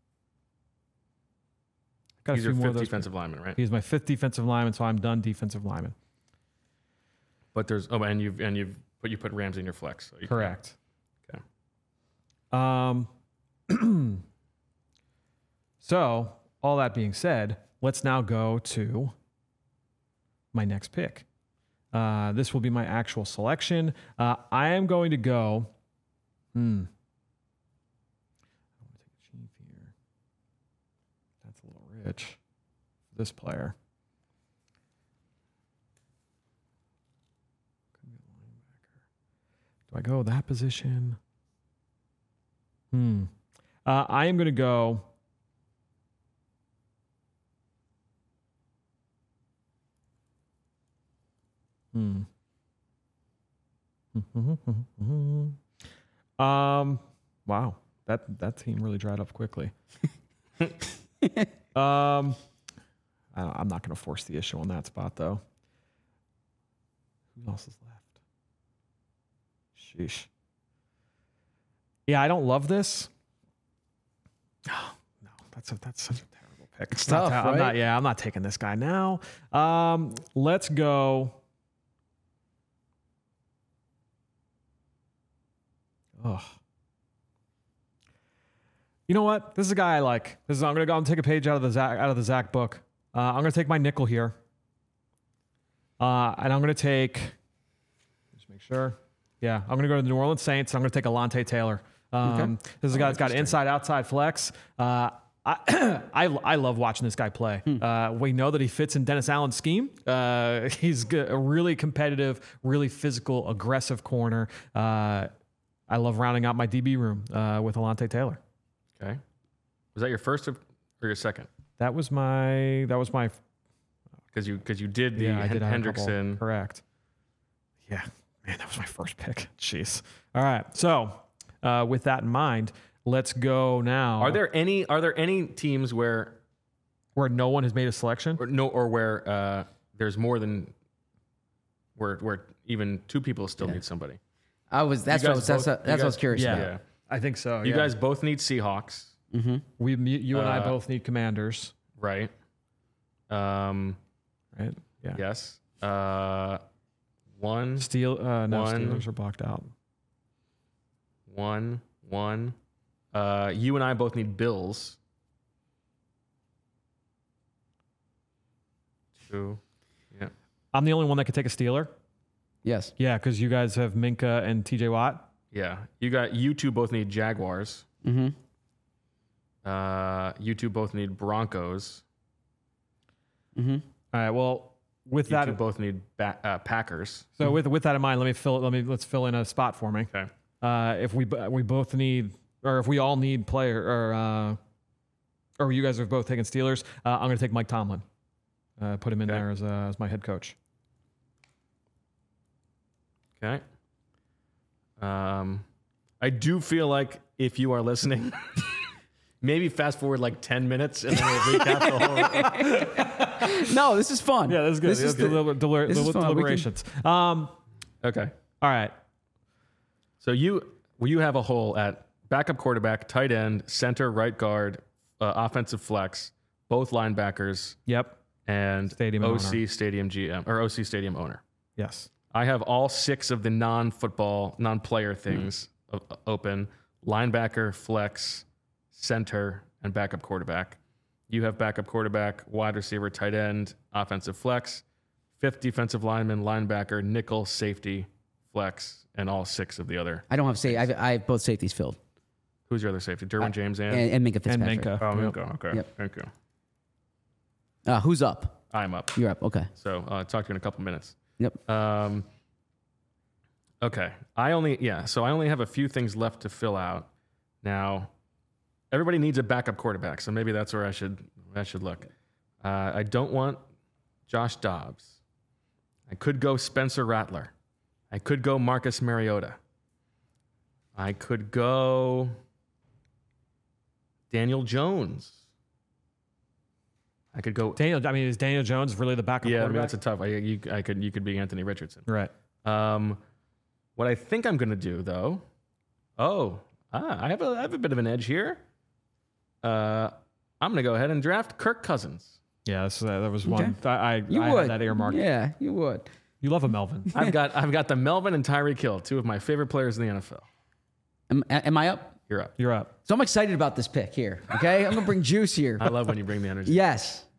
Got He's a few your more of fifth those. defensive lineman, right? He's my fifth defensive lineman, so I'm done defensive lineman. But there's oh, and you've and you've but you put Ramsey in your flex. So you Correct. Okay. Um. So all that being said, let's now go to my next pick. Uh, this will be my actual selection. Uh, I am going to go. Hmm. I want to take a chief here. That's a little rich for this player. Could be a linebacker. Do I go that position? Hmm. Uh, I am going to go. Hmm. um. Wow. That that team really dried up quickly. um. I don't, I'm not going to force the issue on that spot though. Who else is left? Sheesh. Yeah, I don't love this. Oh, no, that's a, that's such a terrible pick. It's not tough, ta- I'm right? not, yeah, I'm not taking this guy now. Um, let's go. Oh, you know what? This is a guy I like. This is I'm gonna go and take a page out of the Zach out of the Zach book. Uh, I'm gonna take my nickel here, uh, and I'm gonna take. Just make sure. Yeah, I'm gonna go to the New Orleans Saints. I'm gonna take Alontae Taylor. Um, Okay. This is a guy that's got inside outside flex. Uh, I, I I love watching this guy play. Hmm. Uh, we know that he fits in Dennis Allen's scheme. Uh, he's g- a really competitive, really physical, aggressive corner. Uh, I love rounding out my D B room uh, with Alontae Taylor. Okay. Was that your first or or your second? That was my that was my Because you because you did the yeah I did have a couple. Hendrickson. Correct. Yeah, man, that was my first pick. Jeez. All right, so uh, with that in mind, let's go now. Are there any are there any teams where where no one has made a selection? or no or where uh, there's more than where where even two people still need somebody? I was. That's You what I guys was. That's, both- what, that's you what I was guys- curious yeah. about. Yeah. I think so. You yeah. guys both need Seahawks, we you and I Uh, both need Commanders, right? Um, right? Yeah. yes. Uh, one, Steel. Uh, no, One. Steelers are blocked out. one, one. Uh, you and I both need Bills. Two. Yeah. I'm the only one that could take a Steeler. Yes. Yeah, because you guys have Minka and T J Watt. Yeah. You got you two both need Jaguars. Mm-hmm. Uh, you two both need Broncos. Mm-hmm. All right. Well, with You that, two both need ba- uh, Packers. so with with that in mind, let me fill. Let me let's fill in a spot for me. Okay. Uh, if we b- we both need, or if we all need player, or uh, or you guys are both taking Steelers, uh, I'm going to take Mike Tomlin. Uh, put him in Okay. there as uh, as my head coach. Okay. Um, I do feel like if you are listening, maybe fast forward like ten minutes and then we'll recap the whole. No, this is fun. Yeah, that's good. This This is is deliber- delir- this is deli- fun. We can- deliberations. Um, Okay. all right. So you well, you have a hole at backup quarterback, tight end, center, right guard, uh, offensive flex, both linebackers, Yep. and Stadium O owner. C Stadium G M or O C Stadium owner. Yes. I have all six of the non-football, non-player things o- open: linebacker, flex, center, and backup quarterback. You have backup quarterback, wide receiver, tight end, offensive flex, fifth defensive lineman, linebacker, nickel, safety, flex, and all six of the other. I don't have safety. I have, I have both safeties filled. Who's your other safety? Derwin James and, And, and Minka And Fitzpatrick. Minka. oh, Yep. Minka. Okay, Yep. thank you. Uh, who's up? I'm up. You're up. Okay. So uh, talk to you in a couple minutes. Yep. Um, okay. I only, yeah, so I only have a few things left to fill out. Now, everybody needs a backup quarterback, so maybe that's where I should I should look. Uh, I don't want Josh Dobbs. I could go Spencer Rattler. I could go Marcus Mariota. I could go Daniel Jones. I could go. Daniel. I mean, is Daniel Jones really the backup Yeah, I mean, quarterback? that's a tough. I, you, I could you could be Anthony Richardson. right. Um, what I think I'm going to do, though, oh, ah, I have a I have a bit of an edge here. Uh, I'm going to go ahead and draft Kirk Cousins. Yeah, that's, uh, that was one. I, I, You I would. had that earmarked. Yeah, you would. You love a Melvin. I've got I've got the Melvin and Tyreek Hill, two of my favorite players in the N F L. Am, am I up? You're up. You're up. So I'm excited about this pick here. Okay, I'm gonna bring juice here. I love when you bring the energy. Yes.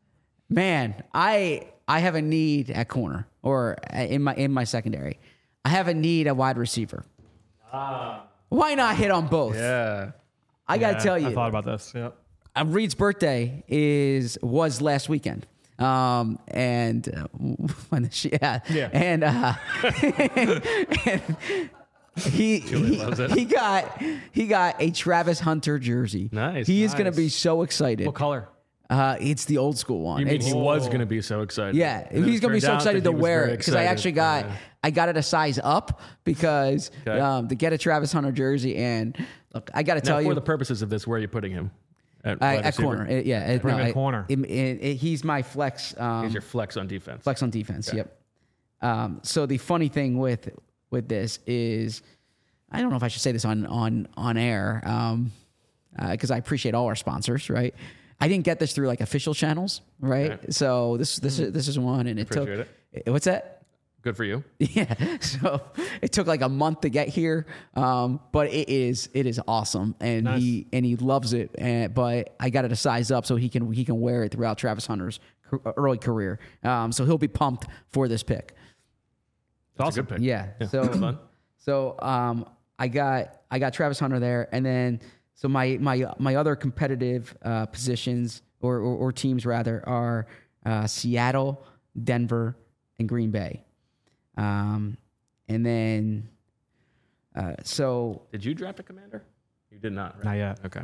Man, I I have a need at corner or in my in my secondary. I have a need at wide receiver. Ah. Why not hit on both? Yeah. I got to Yeah, tell you. I thought about this. Yep. Uh, Reed's birthday is was last weekend. Um, and uh, when she, yeah, Yeah. and uh, and he he, loves it. he got he got a Travis Hunter jersey. Nice, He is going to nice. be so excited. What color? Uh, it's the old school one. You mean It's- he was going to be so excited? yeah, And then he's it gonna be turned so out excited that to he was wear very it because I excited. actually got Yeah. I got it a size up because Okay. um, to get a Travis Hunter jersey and look, I got to Now, tell for you the purposes of this, where are you putting him? At, I, wide at receiver? corner, It- yeah, it- Put him no, at I- corner. it- it- it- he's my flex. Um, He's your flex on defense. Flex on defense. Yep. Um, so the funny thing with with this is, I don't know if I should say this on on on air, um, because I appreciate all our sponsors. Right. I didn't get this through like official channels. Right. Okay. So this this is this is one, and it Appreciate took. It. What's that? Good for you. Yeah. So it took like a month to get here, um, but it is it is awesome, and Nice. he and he loves it. And but I got it a size up so he can he can wear it throughout Travis Hunter's ca- early career. Um, so he'll be pumped for this pick. That's a good pick. Yeah. So That's fun. so um, I got I got Travis Hunter there, and then so my my my other competitive uh, positions or, or or teams rather are uh, Seattle, Denver, and Green Bay. Um, and then, uh, so, Did you draft a commander? You did not, right? Not yet. Okay.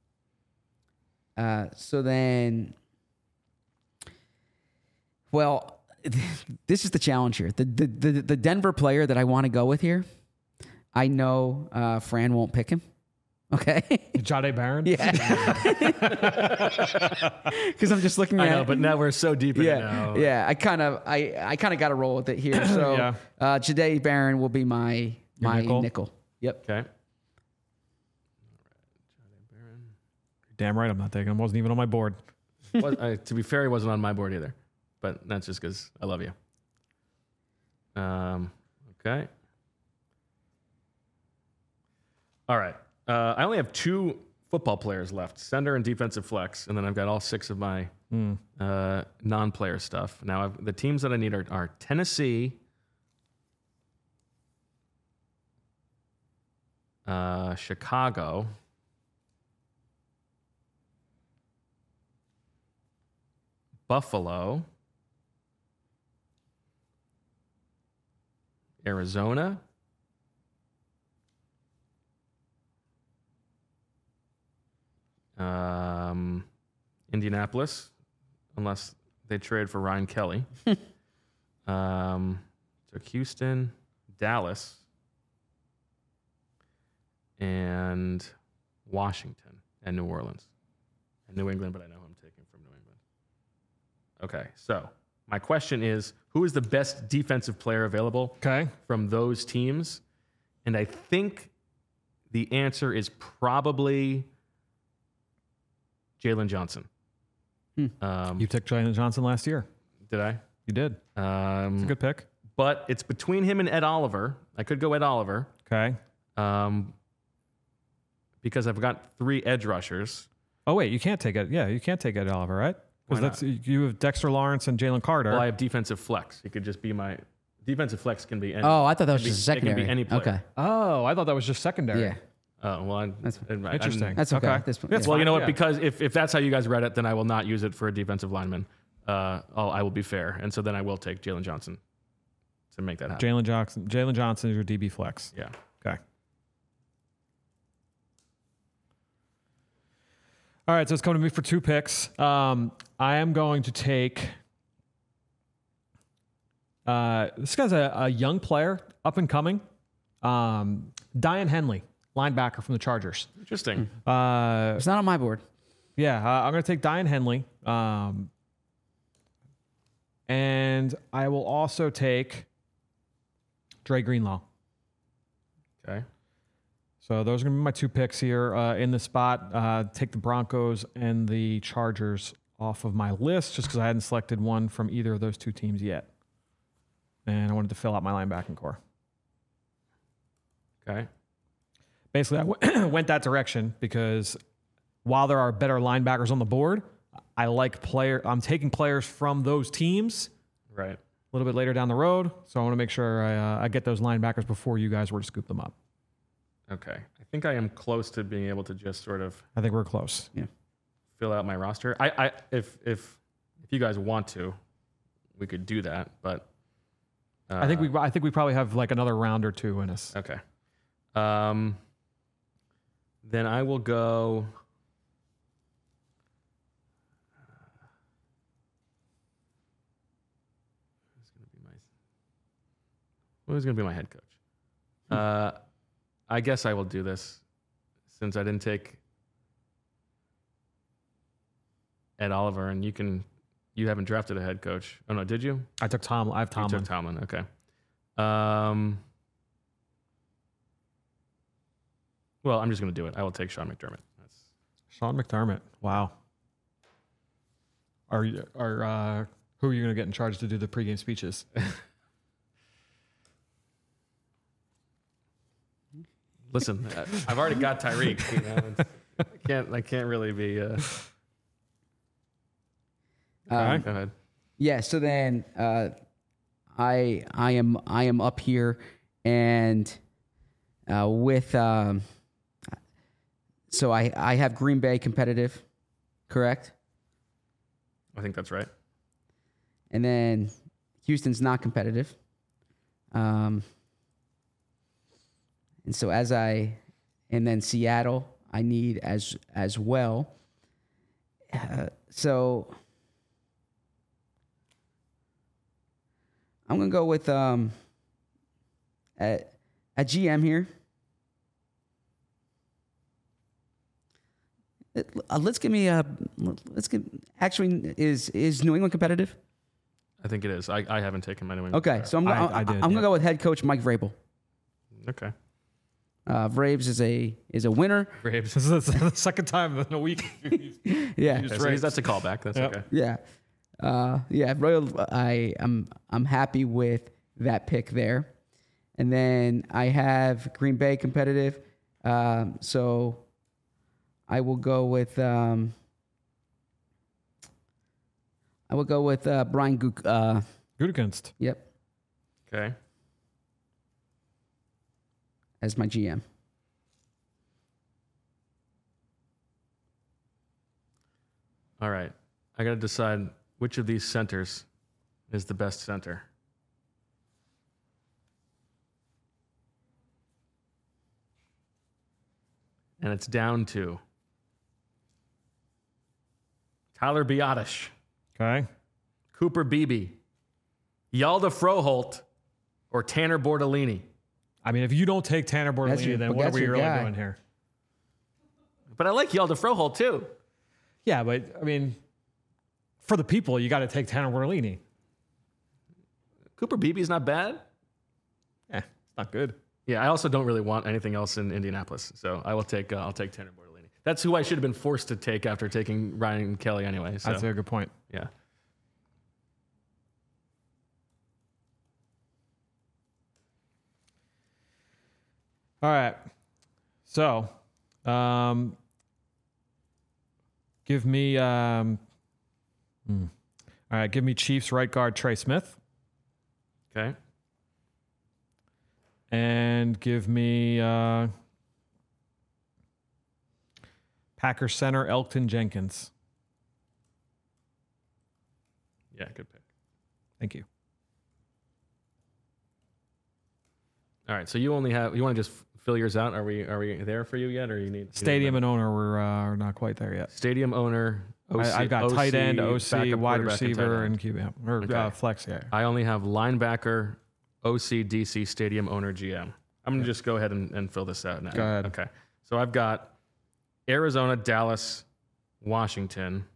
uh, so then, well, this is the challenge here. The, the, the, the Denver player that I want to go with here, I know, uh, Fran won't pick him. Okay. Jade Barron? Yeah. Cause I'm just looking at I know, but now we're so deep in it yeah, now. yeah. I kind of, I, I kind of got to roll with it here. So, Yeah. uh, Jade Barron will be my, Your my nickel? nickel. Yep. Okay. Damn right I'm not taking him. Wasn't even on my board. Was, uh, to be fair, he wasn't on my board either, but that's just because I love you. Um, okay. All right. Uh, I only have two football players left, center and defensive flex, and then I've got all six of my Mm. uh, non-player stuff. Now, I've, the teams that I need are, are Tennessee, uh, Chicago, Buffalo, Arizona, um, Indianapolis, unless they trade for Ryan Kelly. um, took Houston, Dallas, and Washington, and New Orleans. And New England, but I know who I'm taking from New England. Okay, so my question is, who is the best defensive player available Okay. from those teams? And I think the answer is probably Jalen Johnson. Um, You took Jalen Johnson last year. did I? You did. Um, It's a good pick. but it's between him and Ed Oliver. I could go Ed Oliver Okay. um, because I've got three edge rushers. Oh, wait. You can't take it. Yeah, you can't take Ed Oliver, right? Why Because that's you have Dexter Lawrence and Jalen Carter. Well, I have defensive flex. He could just be my defensive flex. Can be any. Oh, I thought that was can be- just a it can be secondary. any player. Okay. oh, I thought that was just secondary. Yeah. Oh well, I, That's I- I- Interesting. That's okay. Okay. This, That's yeah. Well, you know what? Yeah. Because if, if that's how you guys read it, then I will not use it for a defensive lineman. Uh, oh, I will be fair, and so then I will take Jalen Johnson to make that happen. Jalen Johnson. Jalen Johnson is your D B flex. Yeah. Okay. All right, so it's coming to me for two picks. Um, I am going to take. Uh, this guy's a, a young player, up and coming. Um, Diane Henley, linebacker from the Chargers. Interesting. Uh, It's not on my board. yeah, uh, I'm going to take Diane Henley. Um, and I will also take Dre Greenlaw. Okay. So those are going to be my two picks here uh, in the spot. Uh, take the Broncos and the Chargers off of my list just because I hadn't selected one from either of those two teams yet. And I wanted to fill out my linebacking core. Okay. Basically, I w- went that direction because while there are better linebackers on the board, I like player. I'm taking players from those teams Right. a little bit later down the road. So I want to make sure I, uh, I get those linebackers before you guys were to scoop them up. Okay. I think I am close to being able to just sort of I think we're close. Yeah. fill out my roster. I, I if if if you guys want to, we could do that. But uh, I think we I think we probably have like another round or two in us. okay. Um. Then I will go. Who's going to be my? Who's going to be my head coach? Uh, I guess I will do this since I didn't take Ed Oliver, and you can. You haven't drafted a head coach. Oh no, did you? I took Tom. I have You Tomlin. took Tomlin. Okay. Um. Well, I'm just going to do it. I will take Sean McDermott. That's Sean McDermott. Wow. Are you are uh, who are you going to get in charge to do the pregame speeches? Listen, uh, I've already got Tyreek. You know, it's- I can't. I can't really be. Uh, Um, go ahead. Yeah. So then, uh, I I am I am up here, and uh, with um, so I I have Green Bay competitive, correct? I think that's right. And then Houston's not competitive. Um, and so as I, and then Seattle, I need as as well. Uh, so I'm gonna go with um, a, a G M here. Uh, let's give me a. Let's get. Actually, is is New England competitive? I think it is. I, I haven't taken my New England. Okay, so I'm gonna, I- I I, did, I'm gonna yeah. go with head coach Mike Vrabel. Okay. Uh, Vraves is a is a winner. Braves. This is the second time in a week. Yeah, Okay, so that's a callback. That's Yep. okay. yeah, uh, yeah. Royal. I am I'm happy with that pick there, and then I have Green Bay competitive. Um, so I will go with um, I will go with uh, Brian Guk. Uh, Gutekunst. yep, Okay. as my G M. All right. I got to decide which of these centers is the best center. And it's down to Tyler Biotish, Okay. Cooper Beebe, Yalda Froholt, or Tanner Bordellini. I mean, if you don't take Tanner That's Bordellini, your- then but what are that's we your really guy. doing here? But I like Yalda Froholt too. Yeah, but I mean, for the people, you got to take Tanner Bordellini. Cooper Beebe's not bad. Eh, it's not good. Yeah, I also don't really want anything else in Indianapolis, so I will take uh, I'll take Tanner Bordellini. That's who I should have been forced to take after taking Ryan Kelly anyway. So That's a good point. yeah, All right. So, um, give me, um, hmm. all right, give me Chiefs right guard Trey Smith, okay, and give me uh, Packers center Elton Jenkins. yeah, good pick. Thank you. All right, so you only have you want to just fill yours out? Are we are we there for you yet, or you need you need Stadium another- and owner were uh, not quite there yet. stadium owner? O C, I, I've got O C, tight end, O C, backup wide quarterback, and tight receiver, end. and Q B or Okay. uh, flex. Yeah. I only have linebacker, O C, D C, stadium owner, G M. I'm gonna just go ahead and, and fill this out now. Go ahead. Okay, so I've got Arizona, Dallas, Washington.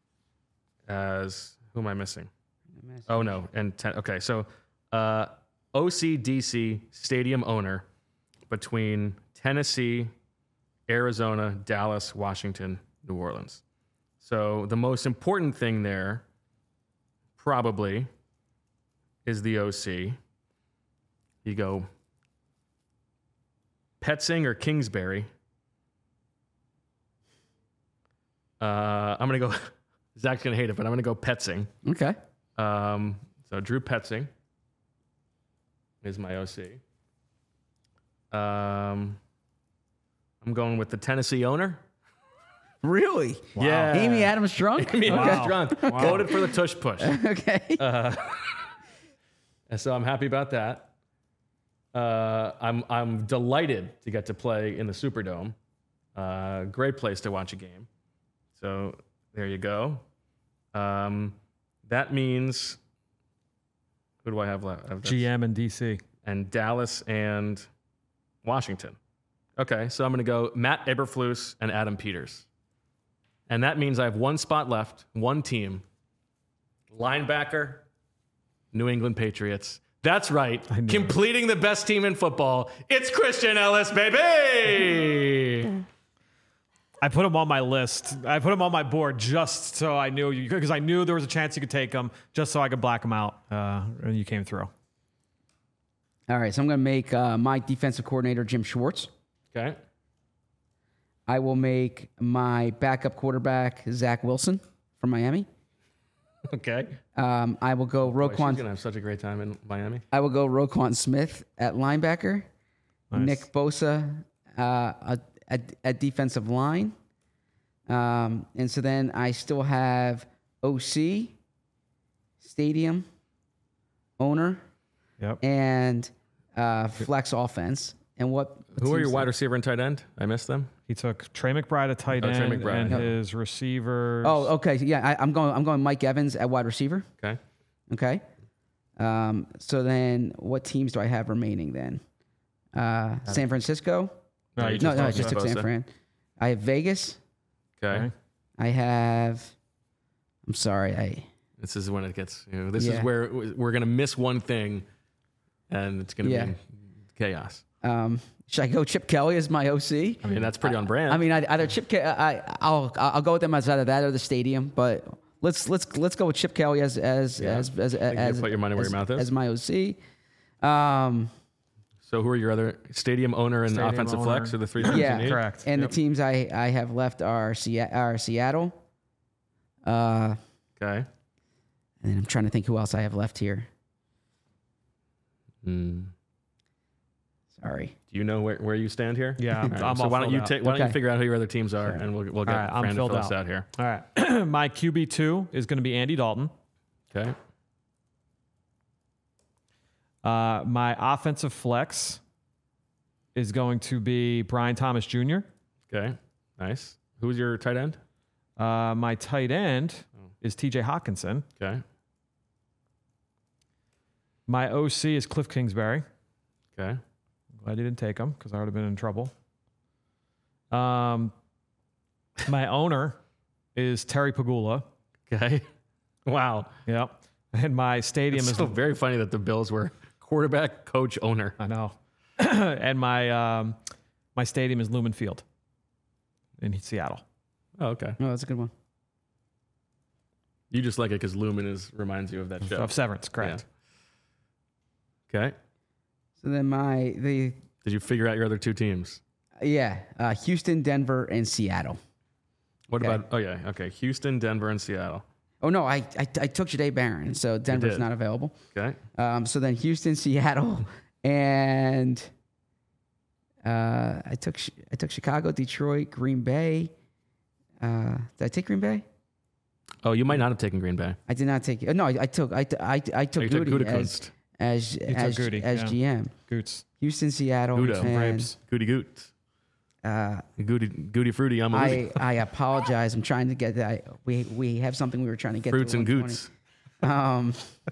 As who am I missing? Oh no, and ten, okay, so uh, O C D C stadium owner between Tennessee, Arizona, Dallas, Washington, New Orleans. So the most important thing there probably is the O C. You go Petzing or Kingsbury. Uh, I'm gonna go Zach's going to hate it, but I'm going to go Petzing. Okay. Um, so Drew Petzing is my O C. Um, I'm going with the Tennessee owner. Really? Yeah. Amy Adams drunk? Amy Wow. Adams drunk. Wow. Voted for the tush push. Okay. Uh, and so I'm happy about that. Uh, I'm I'm delighted to get to play in the Superdome. Uh, great place to watch a game. So there you go. Um, that means who do I have left? I've- that's- G M and D C. and Dallas and Washington. Okay, so I'm going to go Matt Eberflus and Adam Peters. And that means I have one spot left, one team. Linebacker, New England Patriots. That's right. Completing the best team in football. It's Christian Ellis, baby. I put him on my list. I put him on my board just so I knew you, because I knew there was a chance you could take him, just so I could black him out. Uh, and you came through. All right. So I'm going to make uh, my defensive coordinator Jim Schwartz. Okay. I will make my backup quarterback Zach Wilson from Miami. Okay. Um, I will go Boy, she's Roquan. going to have such a great time in Miami. I will go Roquan Smith at linebacker. Nice. Nick Bosa uh, at, at, at defensive line. Um, and so then I still have O C, stadium, owner, Yep. and uh, flex offense. And what? Who are your teams- wide receiver and tight end? I missed them. He took Trey McBride at tight Oh, Trey end, McBride. and Yep. his receivers. Oh, okay. Yeah, I, I'm going. I'm going Mike Evans at wide receiver. Okay. Okay. Um, so then, what teams do I have remaining then? Uh, San Francisco. No, you No, just no, I talked just took about- San Fran. I have Vegas. Okay. Okay. I have. I'm sorry. I This is when it gets, you know, this is Yeah. where we're going to miss one thing and it's going to Yeah. be chaos. um. Should I go Chip Kelly as my O C? I mean, that's pretty on brand. I mean, I, either Chip. Ke- I I'll I'll go with them as either that or the stadium. But let's let's let's go with Chip Kelly as as Yeah. as as, you as put your money where as, your mouth is. as my O C. Um. so who are your other stadium owner and Stadium offensive owner. flex are the three things Yeah. you need? Correct. And Yep. the teams I, I have left are, Se- are Seattle. Uh, Okay. and I'm trying to think who else I have left here. Hmm. Sorry. Do you know where, where you stand here? Yeah, I'm- All right, I'm so all why don't filled you out. take? Why don't Okay. you figure out who your other teams are, and we'll we'll get All right, I'm Fran to filled fill us out. out here. All right. My Q B two is going to be Andy Dalton. Okay. Uh, my offensive flex is going to be Brian Thomas Junior Okay. Nice. Who's your tight end? Uh, my tight end is T J Hawkinson. Okay. My O C is Cliff Kingsbury. Okay. Glad you didn't take him because I would have been in trouble. Um, my owner is Terry Pagula. Okay. Wow. Yep. And my stadium It's is still very funny that the Bills were quarterback, coach, owner. I know. And my um, my stadium is Lumen Field in Seattle. Oh, okay. Oh, that's a good one. You just like it because Lumen is reminds you of that show. Of Severance, correct. Yeah. Okay. So then my, the, Did you figure out your other two teams? yeah, uh, Houston, Denver, and Seattle. What Okay. about? Oh yeah. Okay. Houston, Denver, and Seattle. Oh, no, I, I, I took Jadae Barron, so Denver's did. not available. Okay. Um, so then Houston, Seattle, and uh, I took Chi- I took Chicago, Detroit, Green Bay. Uh, did I take Green Bay? Oh, you might not have taken Green Bay. I did not take. No, I, I took I, I, I took Oh, you took Goody Gutekunst. as as as, took Goody, as yeah. G M. Goots. Houston, Seattle, Gudo. and Grapes. Goody Goot. uh, Goody Goody Fruity. I'm a I I apologize. I'm trying to get that. We we have something we were trying to get. Fruits to and at one Goots. twenty. Um,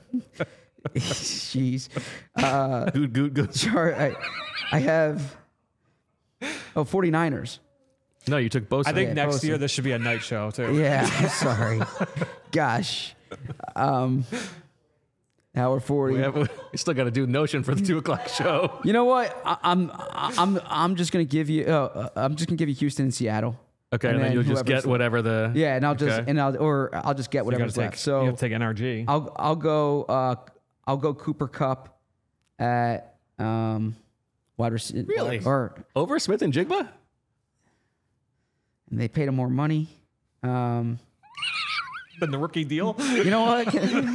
jeez. Uh, Goot Goot Goot. Char- I, I have. Oh, 49ers. No, you took Bosa. I think Yeah, next Bosa. year this should be a night show too. Yeah, I'm sorry. Gosh. Um, hour forty. we, have, we still got to do Notion for the two o'clock show. You know what? I, I'm I'm I'm just gonna give you. Uh, I'm just gonna give you Houston and Seattle. Okay, and, then, you'll just whoever's get whatever the. Yeah, and I'll just Okay. and I'll or I'll just get You gotta whatever's take, left. So you have to take N R G. I'll I'll go uh I'll go Cooper Cup at um wide receiver. Really? Or over Smith and Jigba. and they paid him more money. Um, than the rookie deal. You know what?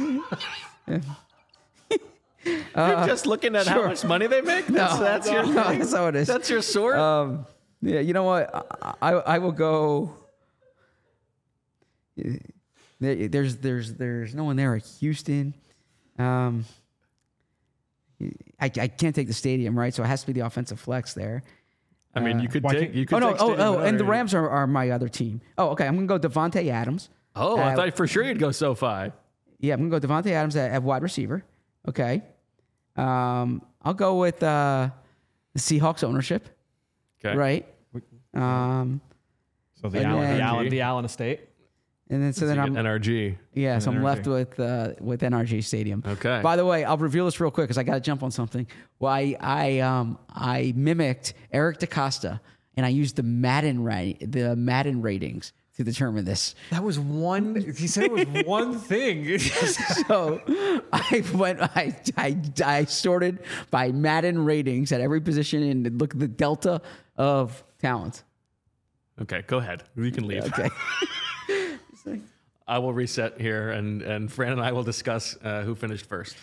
You're just looking at how much money they make. That's, No, that's your no, that's how it is. that's your sword. Um, yeah, you know what? I I, I will go. There, there's there's there's no one there at Houston. Um, I I can't take the stadium, right? So it has to be the offensive flex there. I mean, you could why take. can't- You could Oh no! take Oh Stadium oh! Winner. And the Rams are, are my other team. Oh okay. I'm gonna go Devontae Adams. Oh, I Uh, thought for sure you'd go SoFi. Yeah, I'm gonna go Devontae Adams at, at wide receiver. Okay. Um, I'll go with uh, the Seahawks ownership. Okay. Right. Um, So the And Allen, then- the Allen, the Allen estate. and then so So then you I'm get N R G. yeah, so I'm N R G. left with uh, with N R G Stadium. Okay. By the way, I'll reveal this real quick because I got to jump on something. Well, I I um I mimicked Eric DaCosta and I used the Madden right the Madden ratings to determine this. That was one. He said it was one thing. So I went, I, I, I sorted by Madden ratings at every position and look at the delta of talent. Okay, go ahead. You can leave. Okay. I will reset here, and and Fran and I will discuss uh, who finished first.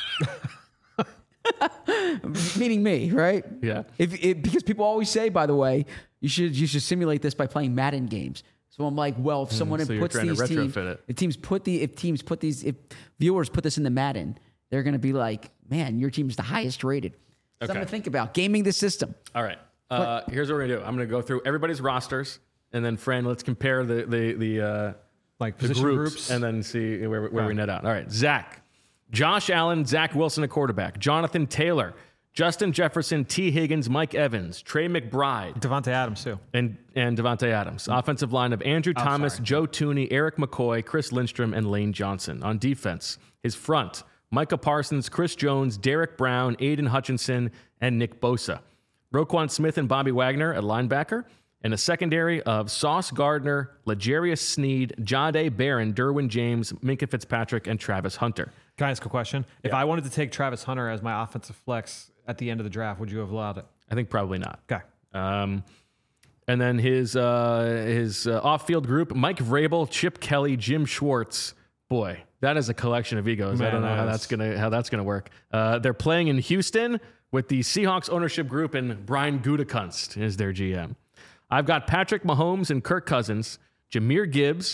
Meaning me, right? Yeah. If it, because people always say, by the way, you should you should simulate this by playing Madden games. So I'm like, well, if someone so you're puts trying to these teams, retrofit it. if teams put the if teams put these if viewers put this in the Madden, they're going to be like, man, your team's the highest rated. Something Okay. to think about. Gaming the system. All right. Uh, here's what we're gonna do. I'm gonna go through everybody's rosters, and then Fran, let's compare the the the, uh, Like the position groups, groups. and then see where, where we net out. All right, Zach, Josh Allen, Zach Wilson, a quarterback. Jonathan Taylor, Justin Jefferson, T. Higgins, Mike Evans, Trey McBride, Devontae Adams too. and and Devontae Adams. Offensive line of Andrew Thomas, sorry. Joe Tooney, Eric McCoy, Chris Lindstrom, and Lane Johnson. On defense, his front, Micah Parsons, Chris Jones, Derek Brown, Aiden Hutchinson, and Nick Bosa. Roquan Smith and Bobby Wagner at linebacker. And a secondary of Sauce Gardner, L'Jarius Sneed, Jahdae Barron, Derwin James, Minka Fitzpatrick, and Travis Hunter. Can I ask a question? If I wanted to take Travis Hunter as my offensive flex at the end of the draft, would you have allowed it? I think probably not. Okay. Um, and then his uh, his uh, off-field group: Mike Vrabel, Chip Kelly, Jim Schwartz. Boy, that is a collection of egos. I Man, don't know that how is- that's gonna how that's gonna work. Uh, they're playing in Houston with the Seahawks ownership group, and Brian Gutekunst is their G M. I've got Patrick Mahomes and Kirk Cousins, Jahmyr Gibbs,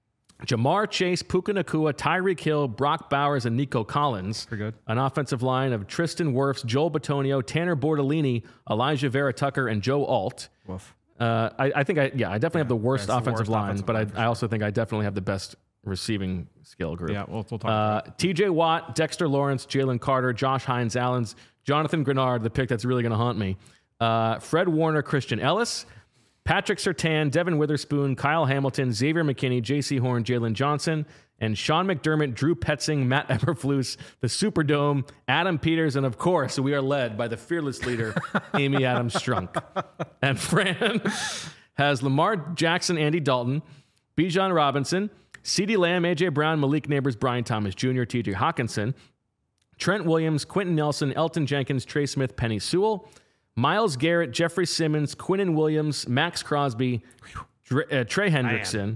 Jamar Chase, Puka Nacua, Tyreek Hill, Brock Bowers, and Nico Collins. Pretty good. An offensive line of Tristan Wirfs, Joel Bitonio, Tanner Bordellini, Elijah Vera Tucker, and Joe Alt. Woof. Uh, I, I think I yeah I definitely have the worst that's the offensive worst line, offensive but line for I, I also think I definitely have the best receiving skill group. Yeah, we'll, we'll talk Uh, about T J Watt, Dexter Lawrence, Jalen Carter, Josh Hines Allens, Jonathan Grenard, the pick that's really going to haunt me. Uh, Fred Warner, Christian Ellis, Patrick Surtain, Devin Witherspoon, Kyle Hamilton, Xavier McKinney, J C Horn, Jalen Johnson, and Sean McDermott, Drew Petzing, Matt Eberflus, the Superdome, Adam Peters, and of course, we are led by the fearless leader, Amy Adams Strunk. And Fran has Lamar Jackson, Andy Dalton, Bijan Robinson, CeeDee Lamb, A J Brown, Malik Neighbors, Brian Thomas Junior, T J Hawkinson, Trent Williams, Quentin Nelson, Elton Jenkins, Trey Smith, Penny Sewell, Myles Garrett, Jeffrey Simmons, Quinnen Williams, Max Crosby, Dre, uh, Trey Hendrickson.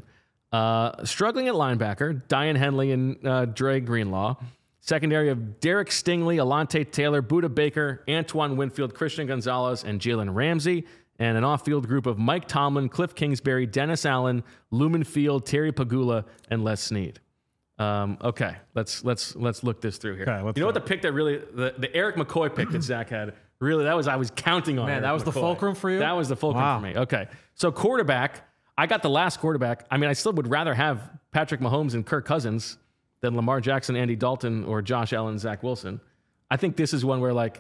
Uh, struggling at linebacker, Diane Henley and uh, Dre Greenlaw. Secondary of Derek Stingley, Alante Taylor, Buda Baker, Antoine Winfield, Christian Gonzalez, and Jalen Ramsey. And an off-field group of Mike Tomlin, Cliff Kingsbury, Dennis Allen, Lumen Field, Terry Pagula, and Les Snead. Um, okay, let's let's let's look this through here. Okay, let's you know what go. the pick that really the, the Eric McCoy pick that Zach had really that was I was counting on. Man, Eric that was the McCoy. fulcrum for you? That was the fulcrum Wow. for me. Okay, so quarterback, I got the last quarterback. I mean, I still would rather have Patrick Mahomes and Kirk Cousins than Lamar Jackson, Andy Dalton, or Josh Allen, Zach Wilson. I think this is one where like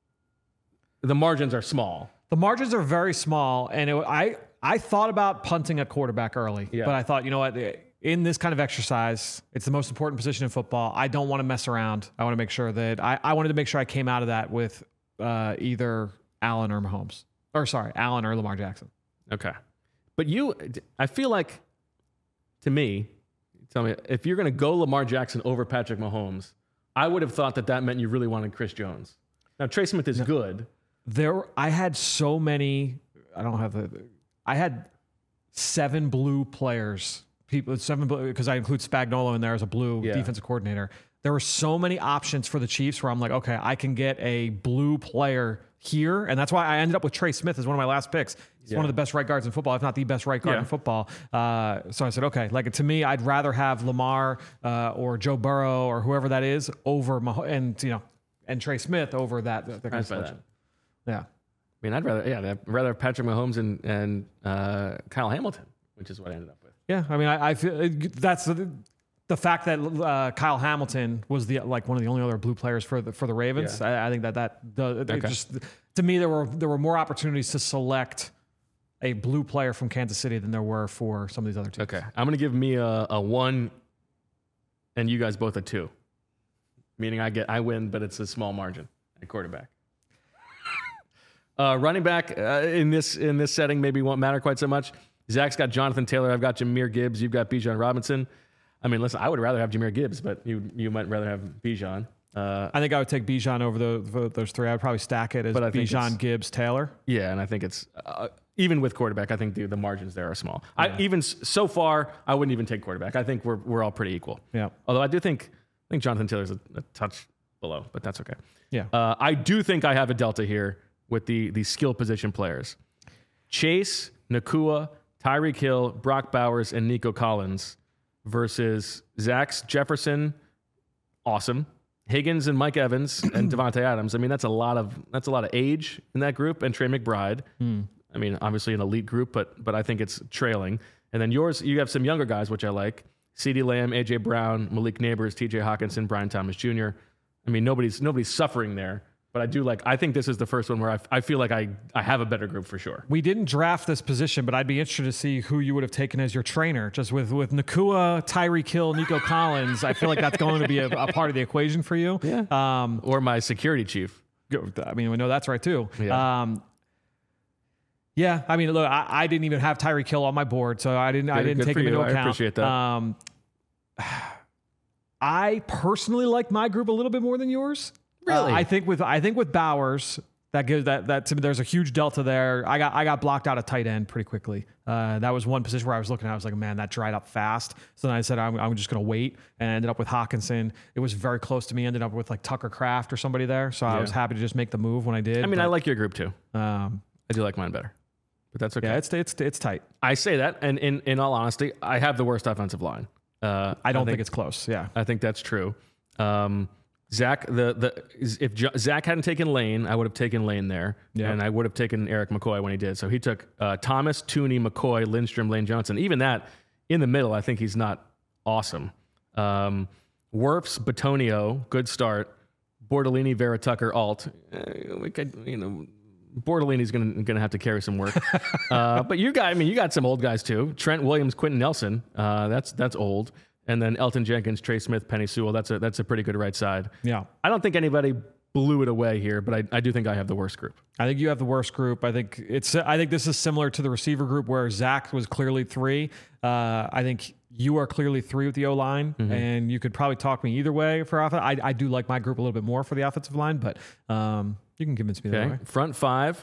the margins are small. The margins are very small, and it, I I thought about punting a quarterback early, Yeah. but I thought, you know what, in this kind of exercise, it's the most important position in football. I don't want to mess around. I want to make sure that I, I wanted to make sure I came out of that with uh, either Allen or Mahomes, or sorry, Allen or Lamar Jackson. Okay. But you, I feel like, to me, tell me, if you're going to go Lamar Jackson over Patrick Mahomes, I would have thought that that meant you really wanted Chris Jones. Now, Trey Smith is good. There, I had so many. I don't have the. I had seven blue players people, seven because I include Spagnuolo in there as a blue Yeah. defensive coordinator. There were so many options for the Chiefs where I'm like, okay, I can get a blue player here, and that's why I ended up with Trey Smith as one of my last picks. He's Yeah. one of the best right guards in football, if not the best right guard Yeah. in football. Uh, so I said, okay, like to me, I'd rather have Lamar uh, or Joe Burrow or whoever that is over Mah- and you know and Trey Smith over that. that, that kind of I'd buy selection. that. Yeah. I mean, I'd rather, yeah, I'd rather have Patrick Mahomes and, and uh, Kyle Hamilton, which is what I ended up with. Yeah, I mean, I, I feel that's the, the fact that uh, Kyle Hamilton was the like one of the only other blue players for the for the Ravens. Yeah. I, I think that that the, it Okay. just to me there were there were more opportunities to select a blue player from Kansas City than there were for some of these other teams. Okay. I'm going to give me a, a one and you guys both a two, meaning I get, I win, but it's a small margin at quarterback. uh, running back uh, in this, in this setting, maybe won't matter quite so much. Zach's got Jonathan Taylor. I've got Jahmyr Gibbs. You've got Bijan Robinson. I mean, listen, I would rather have Jahmyr Gibbs, but you, you might rather have Bijan. Uh, I think I would take Bijan over the, the, those three. I would probably stack it as But I think it's- Bijan, Gibbs, Taylor. Yeah, and I think it's uh, even with quarterback. I think the, the margins there are small. I even s- so far, I wouldn't even take quarterback. I think we're we're all pretty equal. Yeah. Although I do think I think Jonathan Taylor's a, a touch below, but that's okay. Yeah. Uh, I do think I have a delta here with the the skill position players: Chase, Nakua, Tyreek Hill, Brock Bowers, and Nico Collins versus Zach's Jefferson. Awesome. Higgins and Mike Evans and Devontae Adams. I mean, that's a lot of that's a lot of age in that group. And Trey McBride. I mean, obviously an elite group, but but I think it's trailing. And then yours, you have some younger guys, which I like: CeeDee Lamb, A J Brown, Malik Neighbors, T J Hawkinson, Brian Thomas Junior I mean, nobody's nobody's suffering there. But I do like. I think this is the first one where I, I feel like I I have a better group for sure. We didn't draft this position, but I'd be interested to see who you would have taken as your trainer. Just with with Nakua, Tyreek Hill, Nico Collins, I feel like that's going to be a, a part of the equation for you. Yeah. Um, Or my security chief. I mean, we know that's right too. Yeah. Um, yeah. I mean, look, I, I didn't even have Tyreek Hill on my board, so I didn't. I Good- didn't good take for him you. into I account. appreciate that. Um, I personally like my group a little bit more than yours. Really? Uh, I think with I think with Bowers, that gives that that to me, there's a huge delta there. I got I got blocked out at tight end pretty quickly. Uh, that was one position where I was looking at. I was like, man, that dried up fast. So then I said, I'm, I'm just going to wait, and I ended up with Hawkinson. It was very close to me. Ended up with like Tucker Kraft or somebody there. So I was happy to just make the move when I did. I mean, I but, like your group too. um, I do like mine better, but that's okay. yeah, it's it's it's tight. I say that, and in in all honesty, I have the worst offensive line. Uh, I don't think, it's close. Yeah. I think that's true. Um, Zach, the the if Jo- Zach hadn't taken Lane, I would have taken Lane there, Yeah. and I would have taken Eric McCoy when he did. So he took uh, Thomas, Tooney, McCoy, Lindstrom, Lane Johnson. Even that in the middle, I think he's not awesome. Um, Wirfs, Batonio, good start. Bordellini, Vera Tucker, Alt. Eh, we could, you know, Bordellini's gonna gonna have to carry some work. uh, but you got, I mean, you got some old guys too. Trent Williams, Quentin Nelson. Uh, that's that's old. And then Elton Jenkins, Trey Smith, Penny Sewell. That's a that's a pretty good right side. Yeah. I don't think anybody blew it away here, but I, I do think I have the worst group. I think you have the worst group. I think it's. I think this is similar to the receiver group where Zach was clearly three. Uh, I think you are clearly three with the O line, Mm-hmm. and you could probably talk me either way for offense. I, I do like my group a little bit more for the offensive line, but um, you can convince me that Okay, way. front five.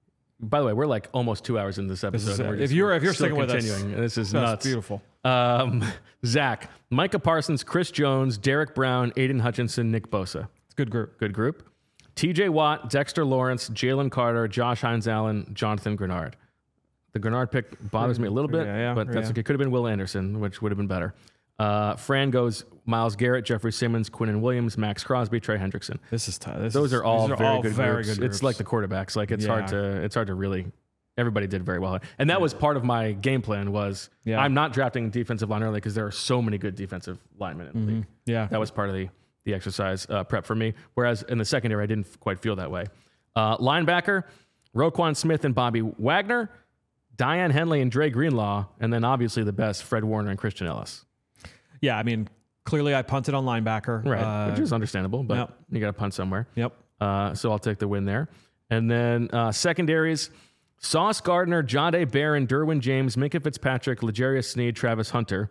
By the way, we're like almost two hours into this episode. is- and we're if just you're- if you're still sticking with us, continuing. this is That's nuts. beautiful. Um, Zach, Micah Parsons, Chris Jones, Derek Brown, Aiden Hutchinson, Nick Bosa. It's a good group. Good group. T J Watt, Dexter Lawrence, Jalen Carter, Josh Hines Allen, Jonathan Grenard. The Grenard pick bothers me a little bit, Yeah, yeah, but that's yeah. okay. Could have been Will Anderson, which would have been better. Uh, Fran goes Myles Garrett, Jeffrey Simmons, Quinnen Williams, Max Crosby, Trey Hendrickson. This is tough. This Those is, are all these are very all good very groups. good It's groups. like the quarterbacks. Like it's hard Yeah. to it's hard to really. Everybody did very well, and that was part of my game plan. Was Yeah. I'm not drafting defensive line early because there are so many good defensive linemen in the league. yeah. That was part of the the exercise uh, prep for me. Whereas in the secondary, I didn't quite feel that way. Uh, linebacker, Roquan Smith and Bobby Wagner, Diane Henley and Dre Greenlaw, and then obviously the best, Fred Warner and Christian Ellis. Yeah. I mean, clearly I punted on linebacker. Right, Uh, which is understandable, but yep. you got to punt somewhere. Yep. Uh, so I'll take the win there. And then uh, secondaries, Sauce Gardner, Jahdae Barron, Derwin James, Minkah Fitzpatrick, L'Jarius Sneed, Travis Hunter.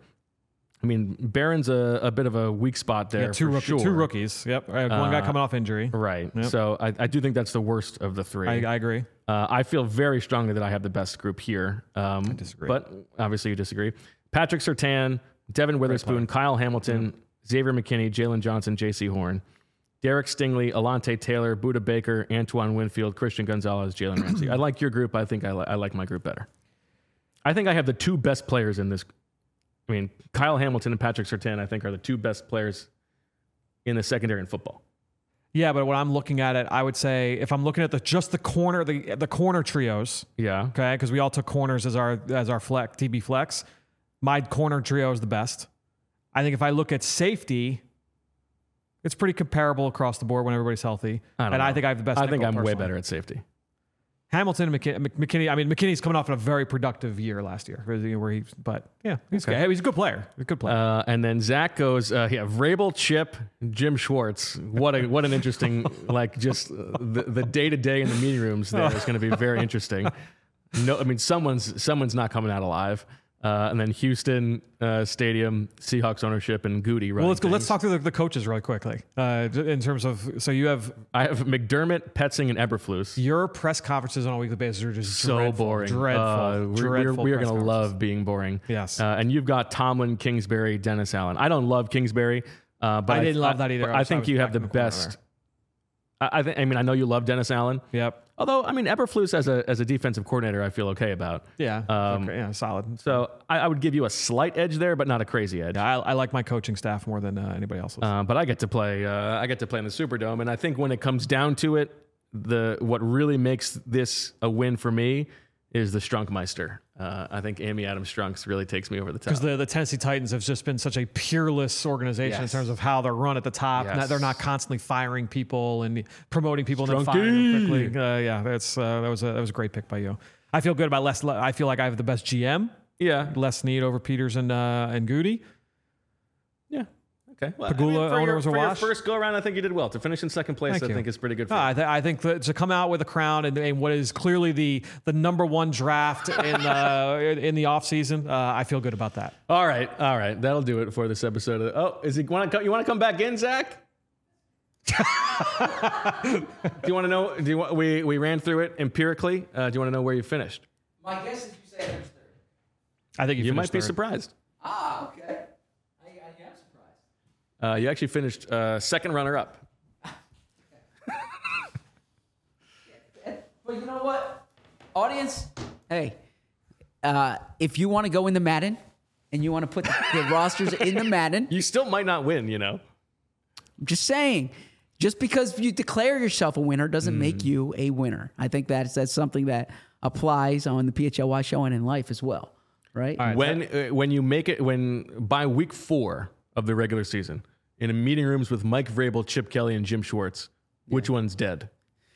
I mean, Barron's a, a bit of a weak spot there. Yeah, two, for rookie, sure. two rookies. Yep. Uh, one guy Uh, coming off injury. Right. Yep. So I, I do think that's the worst of the three. I, I agree. Uh, I feel very strongly that I have the best group here. Um, I disagree. But obviously you disagree. Patrick Surtain, Devin Witherspoon, Kyle Hamilton, yeah. Xavier McKinney, Jalen Johnson, J C Horn, Derek Stingley, Alante Taylor, Budda Baker, Antoine Winfield, Christian Gonzalez, Jalen Ramsey. I like your group. I think I, li- I like my group better. I think I have the two best players in this. I mean, Kyle Hamilton and Patrick Surtain, I think, are the two best players in the secondary in football. Yeah, but when I'm looking at it, I would say if I'm looking at the just the corner, the the corner trios. Yeah. Okay, because we all took corners as our as our flex T B flex. My corner trio is the best. I think if I look at safety, it's pretty comparable across the board when everybody's healthy. I don't and know. I think I have the best. I think I'm personally. way better at safety. Hamilton and McKinney, McKinney. I mean, McKinney's coming off a very productive year last year, where he. But yeah, he's Okay. good. He's a good player. He's a good player. Uh, and then Zach goes, uh, yeah, Vrabel, Chip, Jim Schwartz. What a what an interesting, like just uh, the the day to day in the meeting rooms there is going to be very interesting. No, I mean someone's someone's not coming out alive. Uh, and then Houston uh, Stadium, Seahawks ownership, and Goody. Well, let's go. Things. Let's talk through the, the coaches really quickly. Uh, in terms of, so you have I have McDermott, Petzing, and Eberflus. your press conferences on a weekly basis are just So dreadful, boring. Dreadful. Uh, we're dreadful we're, we're press going to conferences. love being boring. Yes. Uh, and you've got Tomlin, Kingsbury, Dennis Allen. I don't love Kingsbury, uh, but I didn't love that I, either. but I I was- I think was you have back the in the corner best. I, I think. I mean, I know you love Dennis Allen. Yep. Although, I mean, Eberflus as a as a defensive coordinator, I feel okay about. Yeah. Um, okay, yeah. Solid. So I, I would give you a slight edge there, but not a crazy edge. Yeah, I, I like my coaching staff more than uh, anybody else's. Uh, but I get to play. Uh, I get to play in the Superdome, and I think when it comes down to it, the what really makes this a win for me is the Strunkmeister. Uh, I think Amy Adams Strunks really takes me over the top. Because the, the Tennessee Titans have just been such a peerless organization Yes. in terms of how they're run at the top. Yes. Not- they're not constantly firing people and promoting people and then Strunky. firing them quickly. Uh, yeah, that's uh, that was a that was a great pick by you. I feel good about Les. I feel like I have the best G M. Yeah. Les Snead over Peters and uh, and Goody. Yeah. Okay. Well, Pagula for owner your, was a for your wash. first go around, I think you did well. To finish in second place, Thank I you. think is pretty good for No, you. I, th- I think that to come out with a crown and, and what is clearly the the number one draft in uh, in the offseason, uh, I feel good about that. All right. All right. That'll do it for this episode. Of, oh, is he want to? You want to come back in, Zach? do you want to know? Do you want? We we ran through it empirically. Uh, do you want to know where you finished? My guess is you say I finished third. I think you, You finished might be third. surprised. Ah, okay. I, I am surprised. Uh, you actually finished uh, second runner up. But you know what, audience? Hey, uh, if you want to go in the Madden and you want to put the, the rosters in the Madden, You still might not win. You know. I'm just saying, just because you declare yourself a winner doesn't Mm. make you a winner. I think that's that's something that applies on the P H L Y show and in life as well, right? All right. When uh, when you make it when by week four of the regular season in a meeting rooms with Mike Vrabel, Chip Kelly, and Jim Schwartz, which one's dead?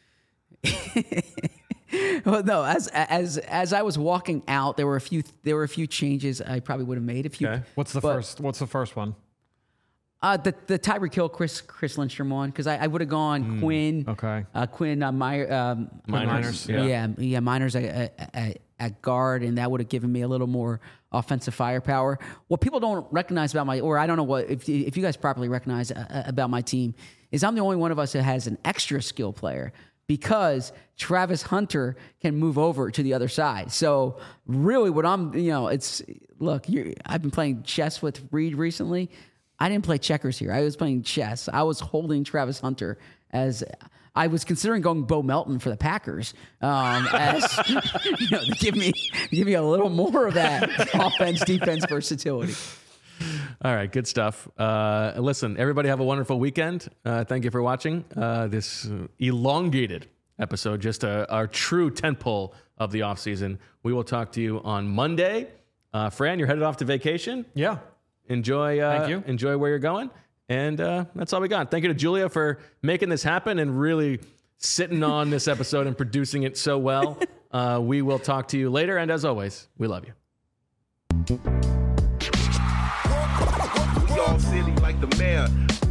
Well, no, as as as I was walking out, there were a few there were a few changes I probably would have made. A few. Okay. What's the But- first? What's the first one? Uh, the the Tyreek Hill, Chris Chris Lindstrom one, because I, I would have gone Quinn. okay. Uh, Quinn uh, Meyer, um, Miners, yeah, yeah. yeah, yeah, Miners at, at, at, at guard, and that would have given me a little more offensive firepower. What people don't recognize about my, or I don't know what if if you guys properly recognize uh, about my team, is I'm the only one of us that has an extra skill player. Because Travis Hunter can move over to the other side. So really what I'm, you know, it's, look, you're, I've been playing chess with Reed recently. I didn't play checkers here. I was playing chess. I was holding Travis Hunter as, I was considering going Bo Melton for the Packers, um, as, you know, to give me, give me a little more of that offense, defense versatility. All right, good stuff. Uh, listen, everybody have a wonderful weekend. Uh, thank you for watching uh, this uh, elongated episode, just a, our true tentpole of the offseason. We will talk to you on Monday. Uh, Fran, you're headed off to vacation. Yeah. Enjoy. Uh, Thank you. Enjoy where you're going. And uh, that's all we got. Thank you to Julia for making this happen and really sitting on this episode and producing it so well. Uh, we will talk to you later. And as always, we love you. We all silly like the mayor.